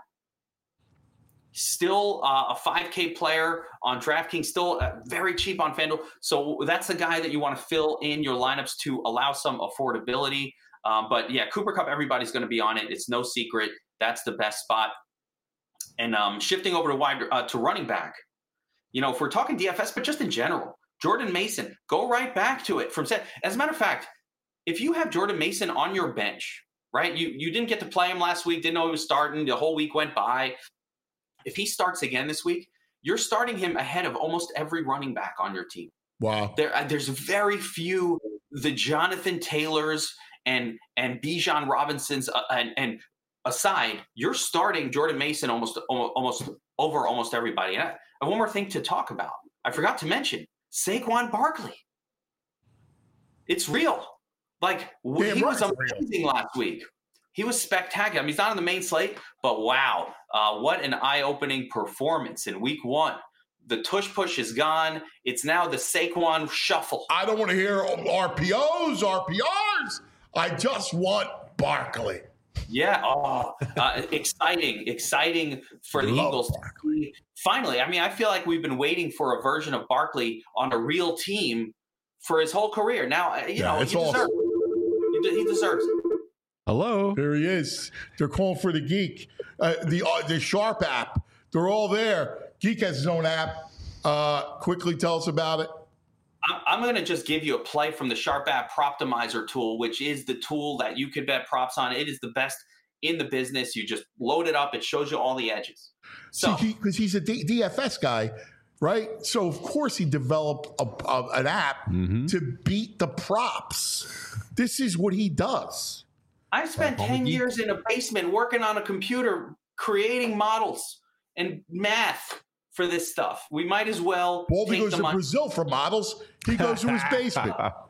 Still uh, a five K player on DraftKings, still uh, very cheap on FanDuel. So that's the guy that you want to fill in your lineups to allow some affordability. Um, but yeah, Cooper Kupp, everybody's going to be on it. It's no secret. That's the best spot. And um, shifting over to wide uh, to running back, you know, if we're talking D F S, but just in general, Jordan Mason, go right back to it from set. As a matter of fact, if you have Jordan Mason on your bench, right, you you didn't get to play him last week, didn't know he was starting, the whole week went by. If he starts again this week, you're starting him ahead of almost every running back on your team. Wow. There, uh, there's very few the Jonathan Taylors and and Bijan Robinsons uh, and and aside, you're starting Jordan Mason almost almost over almost everybody. And I have one more thing to talk about. I forgot to mention Saquon Barkley. It's real. Like Damn he right was amazing real. last week. He was spectacular. I mean, he's not on the main slate, but wow, uh, what an eye-opening performance in week one. The tush push is gone. It's now the Saquon shuffle. I don't want to hear R P Os, R P Rs. I just want Barkley. Yeah. Oh, uh, exciting, exciting for the Love Eagles. Barkley. Finally, I mean, I feel like we've been waiting for a version of Barkley on a real team for his whole career. Now, you Yeah, know, it's he deserves awesome. it. He, de- he deserves it. Hello. There he is. They're calling for the Geek. Uh, the uh, the Sharp app. They're all there. Geek has his own app. Uh, quickly tell us about it. I'm, I'm going to just give you a play from the Sharp app Proptimizer tool, which is the tool that you could bet props on. It is the best in the business. You just load it up. It shows you all the edges. So, See, because he, he's a D- DFS guy, right? So of course he developed a, a, an app Mm-hmm. to beat the props. This is what he does. I spent ten years in a basement working on a computer, creating models and math for this stuff. We might as well. Baldy take goes the to money. Brazil for models. He goes to his basement.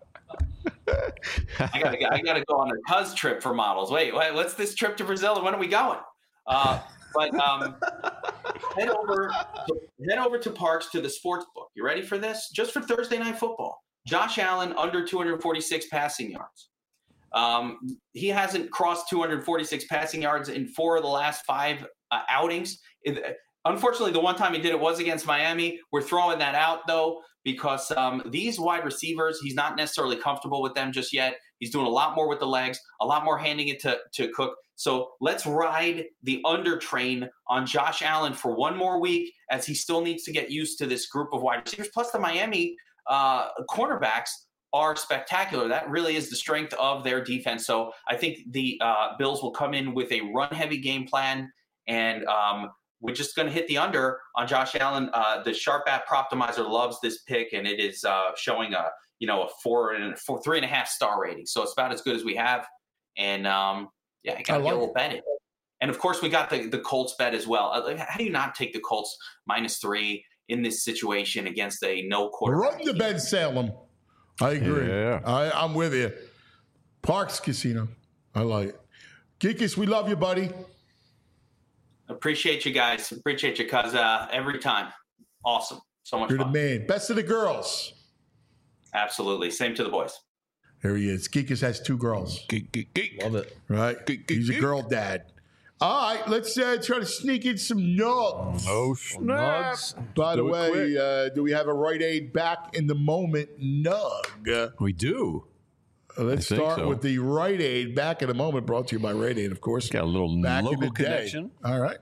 I gotta, I gotta go on a Cuz trip for models. Wait, wait, what's this trip to Brazil and when are we going? Uh, but um, head over, head over to Parks to the sports book. You ready for this? Just for Thursday Night Football, Josh Allen under two hundred forty-six passing yards. Um, he hasn't crossed two hundred forty-six passing yards in four of the last five uh, outings. It, unfortunately, the one time he did it was against Miami. We're throwing that out though, because um, these wide receivers, he's not necessarily comfortable with them just yet. He's doing a lot more with the legs, a lot more handing it to, to Cook. So let's ride the under train on Josh Allen for one more week as he still needs to get used to this group of wide receivers. Plus the Miami uh, cornerbacks are spectacular. That really is the strength of their defense. So I think the uh, Bills will come in with a run-heavy game plan, and um, we're just going to hit the under on Josh Allen. Uh, the Sharp App Proptimizer loves this pick, and it is uh, showing a you know a four and four, three and a half star rating. So it's about as good as we have. And um, yeah, I got to get a little bet it. And of course, we got the the Colts bet as well. How do you not take the Colts minus three in this situation against a no quarterback? Run to Ben Salem. I agree. Yeah. I, I'm with you. Parks Casino. I like it. Geekus, we love you, buddy. Appreciate you guys. Appreciate you, cuz uh, every time. Awesome. So much You're fun. the man. Best of the girls. Absolutely. Same to the boys. There he is. Geekus has two girls. Geek, geek, geek. Love it. Right? Geek, geek, He's a geek. girl dad. All right, let's uh, try to sneak in some nugs. Oh, snap. By the Do it way, quick. uh, do we have a Rite Aid back in the moment nug? We do. Uh, let's I think start so. with the Rite Aid back in the moment, brought to you by Rite Aid, of course. Got a little back in local the day. connection. All right.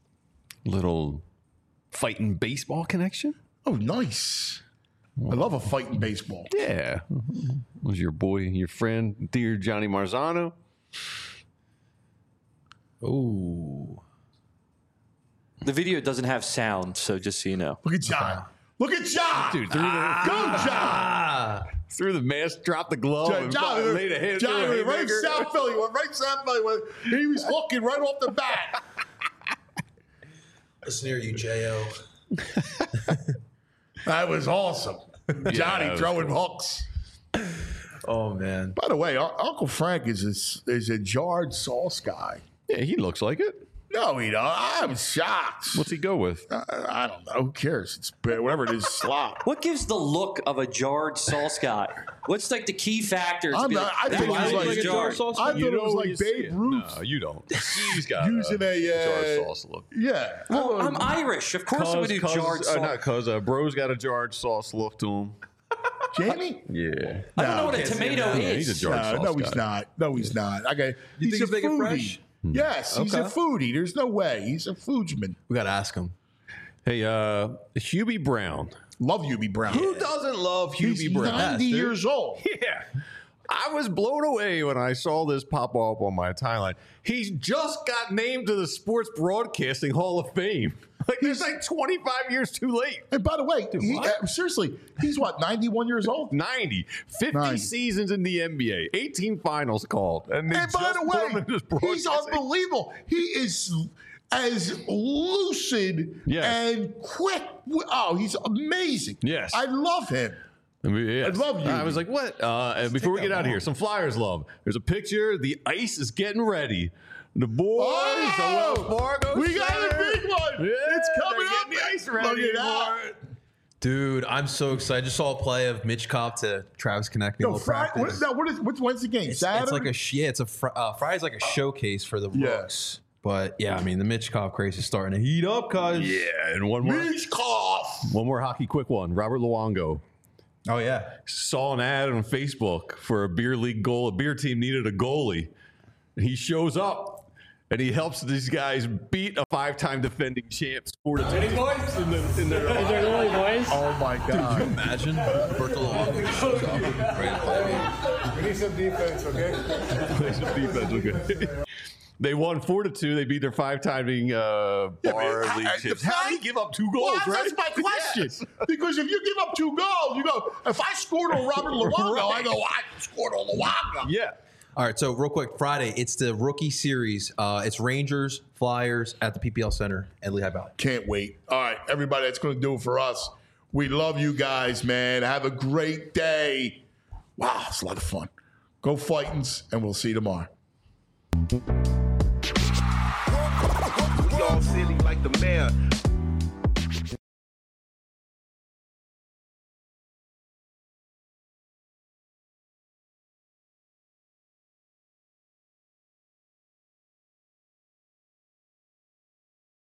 Little fighting baseball connection. Oh, nice. I love a fight in baseball. Yeah. Was your boy, your friend, dear Johnny Marzano? Ooh. The video doesn't have sound, so just so you know. Look at John. Look at John. Dude, threw the, Go, John. through the mask, dropped the glove, John, and John, laid a hand John through a right haymaker. South Philly. Went right South Philly. Went, he was hooking right off the bat. Listen here, you J O. That was awesome. Johnny that was throwing cool. hooks. Oh, man. By the way, our, Uncle Frank is a, is a jarred sauce guy. Yeah, he looks like it. No, he don't. I'm shocked. What's he go with? I, I don't know. Who cares? It's whatever it is, slop. What gives the look of a jarred sauce guy? What's like the key factors? to I'm be not- like, I that think it guy's was like- jarred. I thought You it was know like you see Babe it. Ruth. No, you don't. He's got Using a, a, uh, jarred sauce look. Yeah. Well, I'm Irish. Of course, I would do Cuz- jarred uh, sauce. Not cuz, uh, bro's got a jarred sauce look to him. Jamie? Yeah. I don't know No, what a can't see him tomato now. Yeah, is. he's a jarred No, sauce no, he's guy. not. No, he's not. Okay. You he's think a he's making foodie. fresh? Yes, he's a Okay. foodie. There's no way. He's a foodsman. We got to ask him. Hey, uh, Hubie Brown. Love Hubie Brown. Who doesn't love He's Hubie Brown? ninety dude. years old. Yeah. I was blown away when I saw this pop up on my timeline. He's just got named to the Sports Broadcasting Hall of Fame. Like, he's like twenty-five years too late. And by the way, he, what? uh, seriously, he's what, ninety-one years old? ninety. fifty ninety. seasons in the N B A. eighteen finals called. And, they And by just the put him in this way, he's broadcasting. unbelievable. He is as lucid Yes. and quick. Oh, he's amazing. Yes. I love him. I, mean, yes. I love you. I was like, what? Uh, and before we get out of here, some Flyers love. There's a picture. The ice is getting ready. The boys, Oh! the Wells Fargo We got a Center. big one. Yeah, It's coming they're up. getting the ice Look ready at that. for it. Dude, I'm so excited. I just saw a play of Mitch Kopp to Travis Konechny. No, little Friday, what, practice. no, what is, what's, when's the game? It's, Saturday? it's like a sh- yeah, it's a fr- uh, Friday's like a showcase for the Yeah. Rooks. But yeah, I mean the Mitch Kopp craze is starting to heat up, cuz. Yeah, and one more, Mitch Koff. one more hockey quick one. Robert Luongo Oh yeah. saw an ad on Facebook for a beer league goal. A beer team needed a goalie, and he shows up. And he helps these guys beat a five-time defending champ. Scored a Ready, boys? In the, in their Oh, my God. Imagine Berto Luongo just shows up and ready to play. We need some defense, okay? Play some defense, okay? They won four to two. They beat their five-timing uh, bar I- league I- champs. the How do you fact- give up two Well, goals, that's, right? that's my question. Yes. Because if you give up two goals, you go, if I scored on Robert Luongo, I go, I scored on Luongo. Yeah. All right, so real quick, Friday, it's the rookie series. Uh, it's Rangers, Flyers at the P P L Center at Lehigh Valley. Can't wait. All right, everybody, that's going to do it for us. We love you guys, man. Have a great day. Wow, it's a lot of fun. Go Fightins, and we'll see you tomorrow. We all silly like the mayor.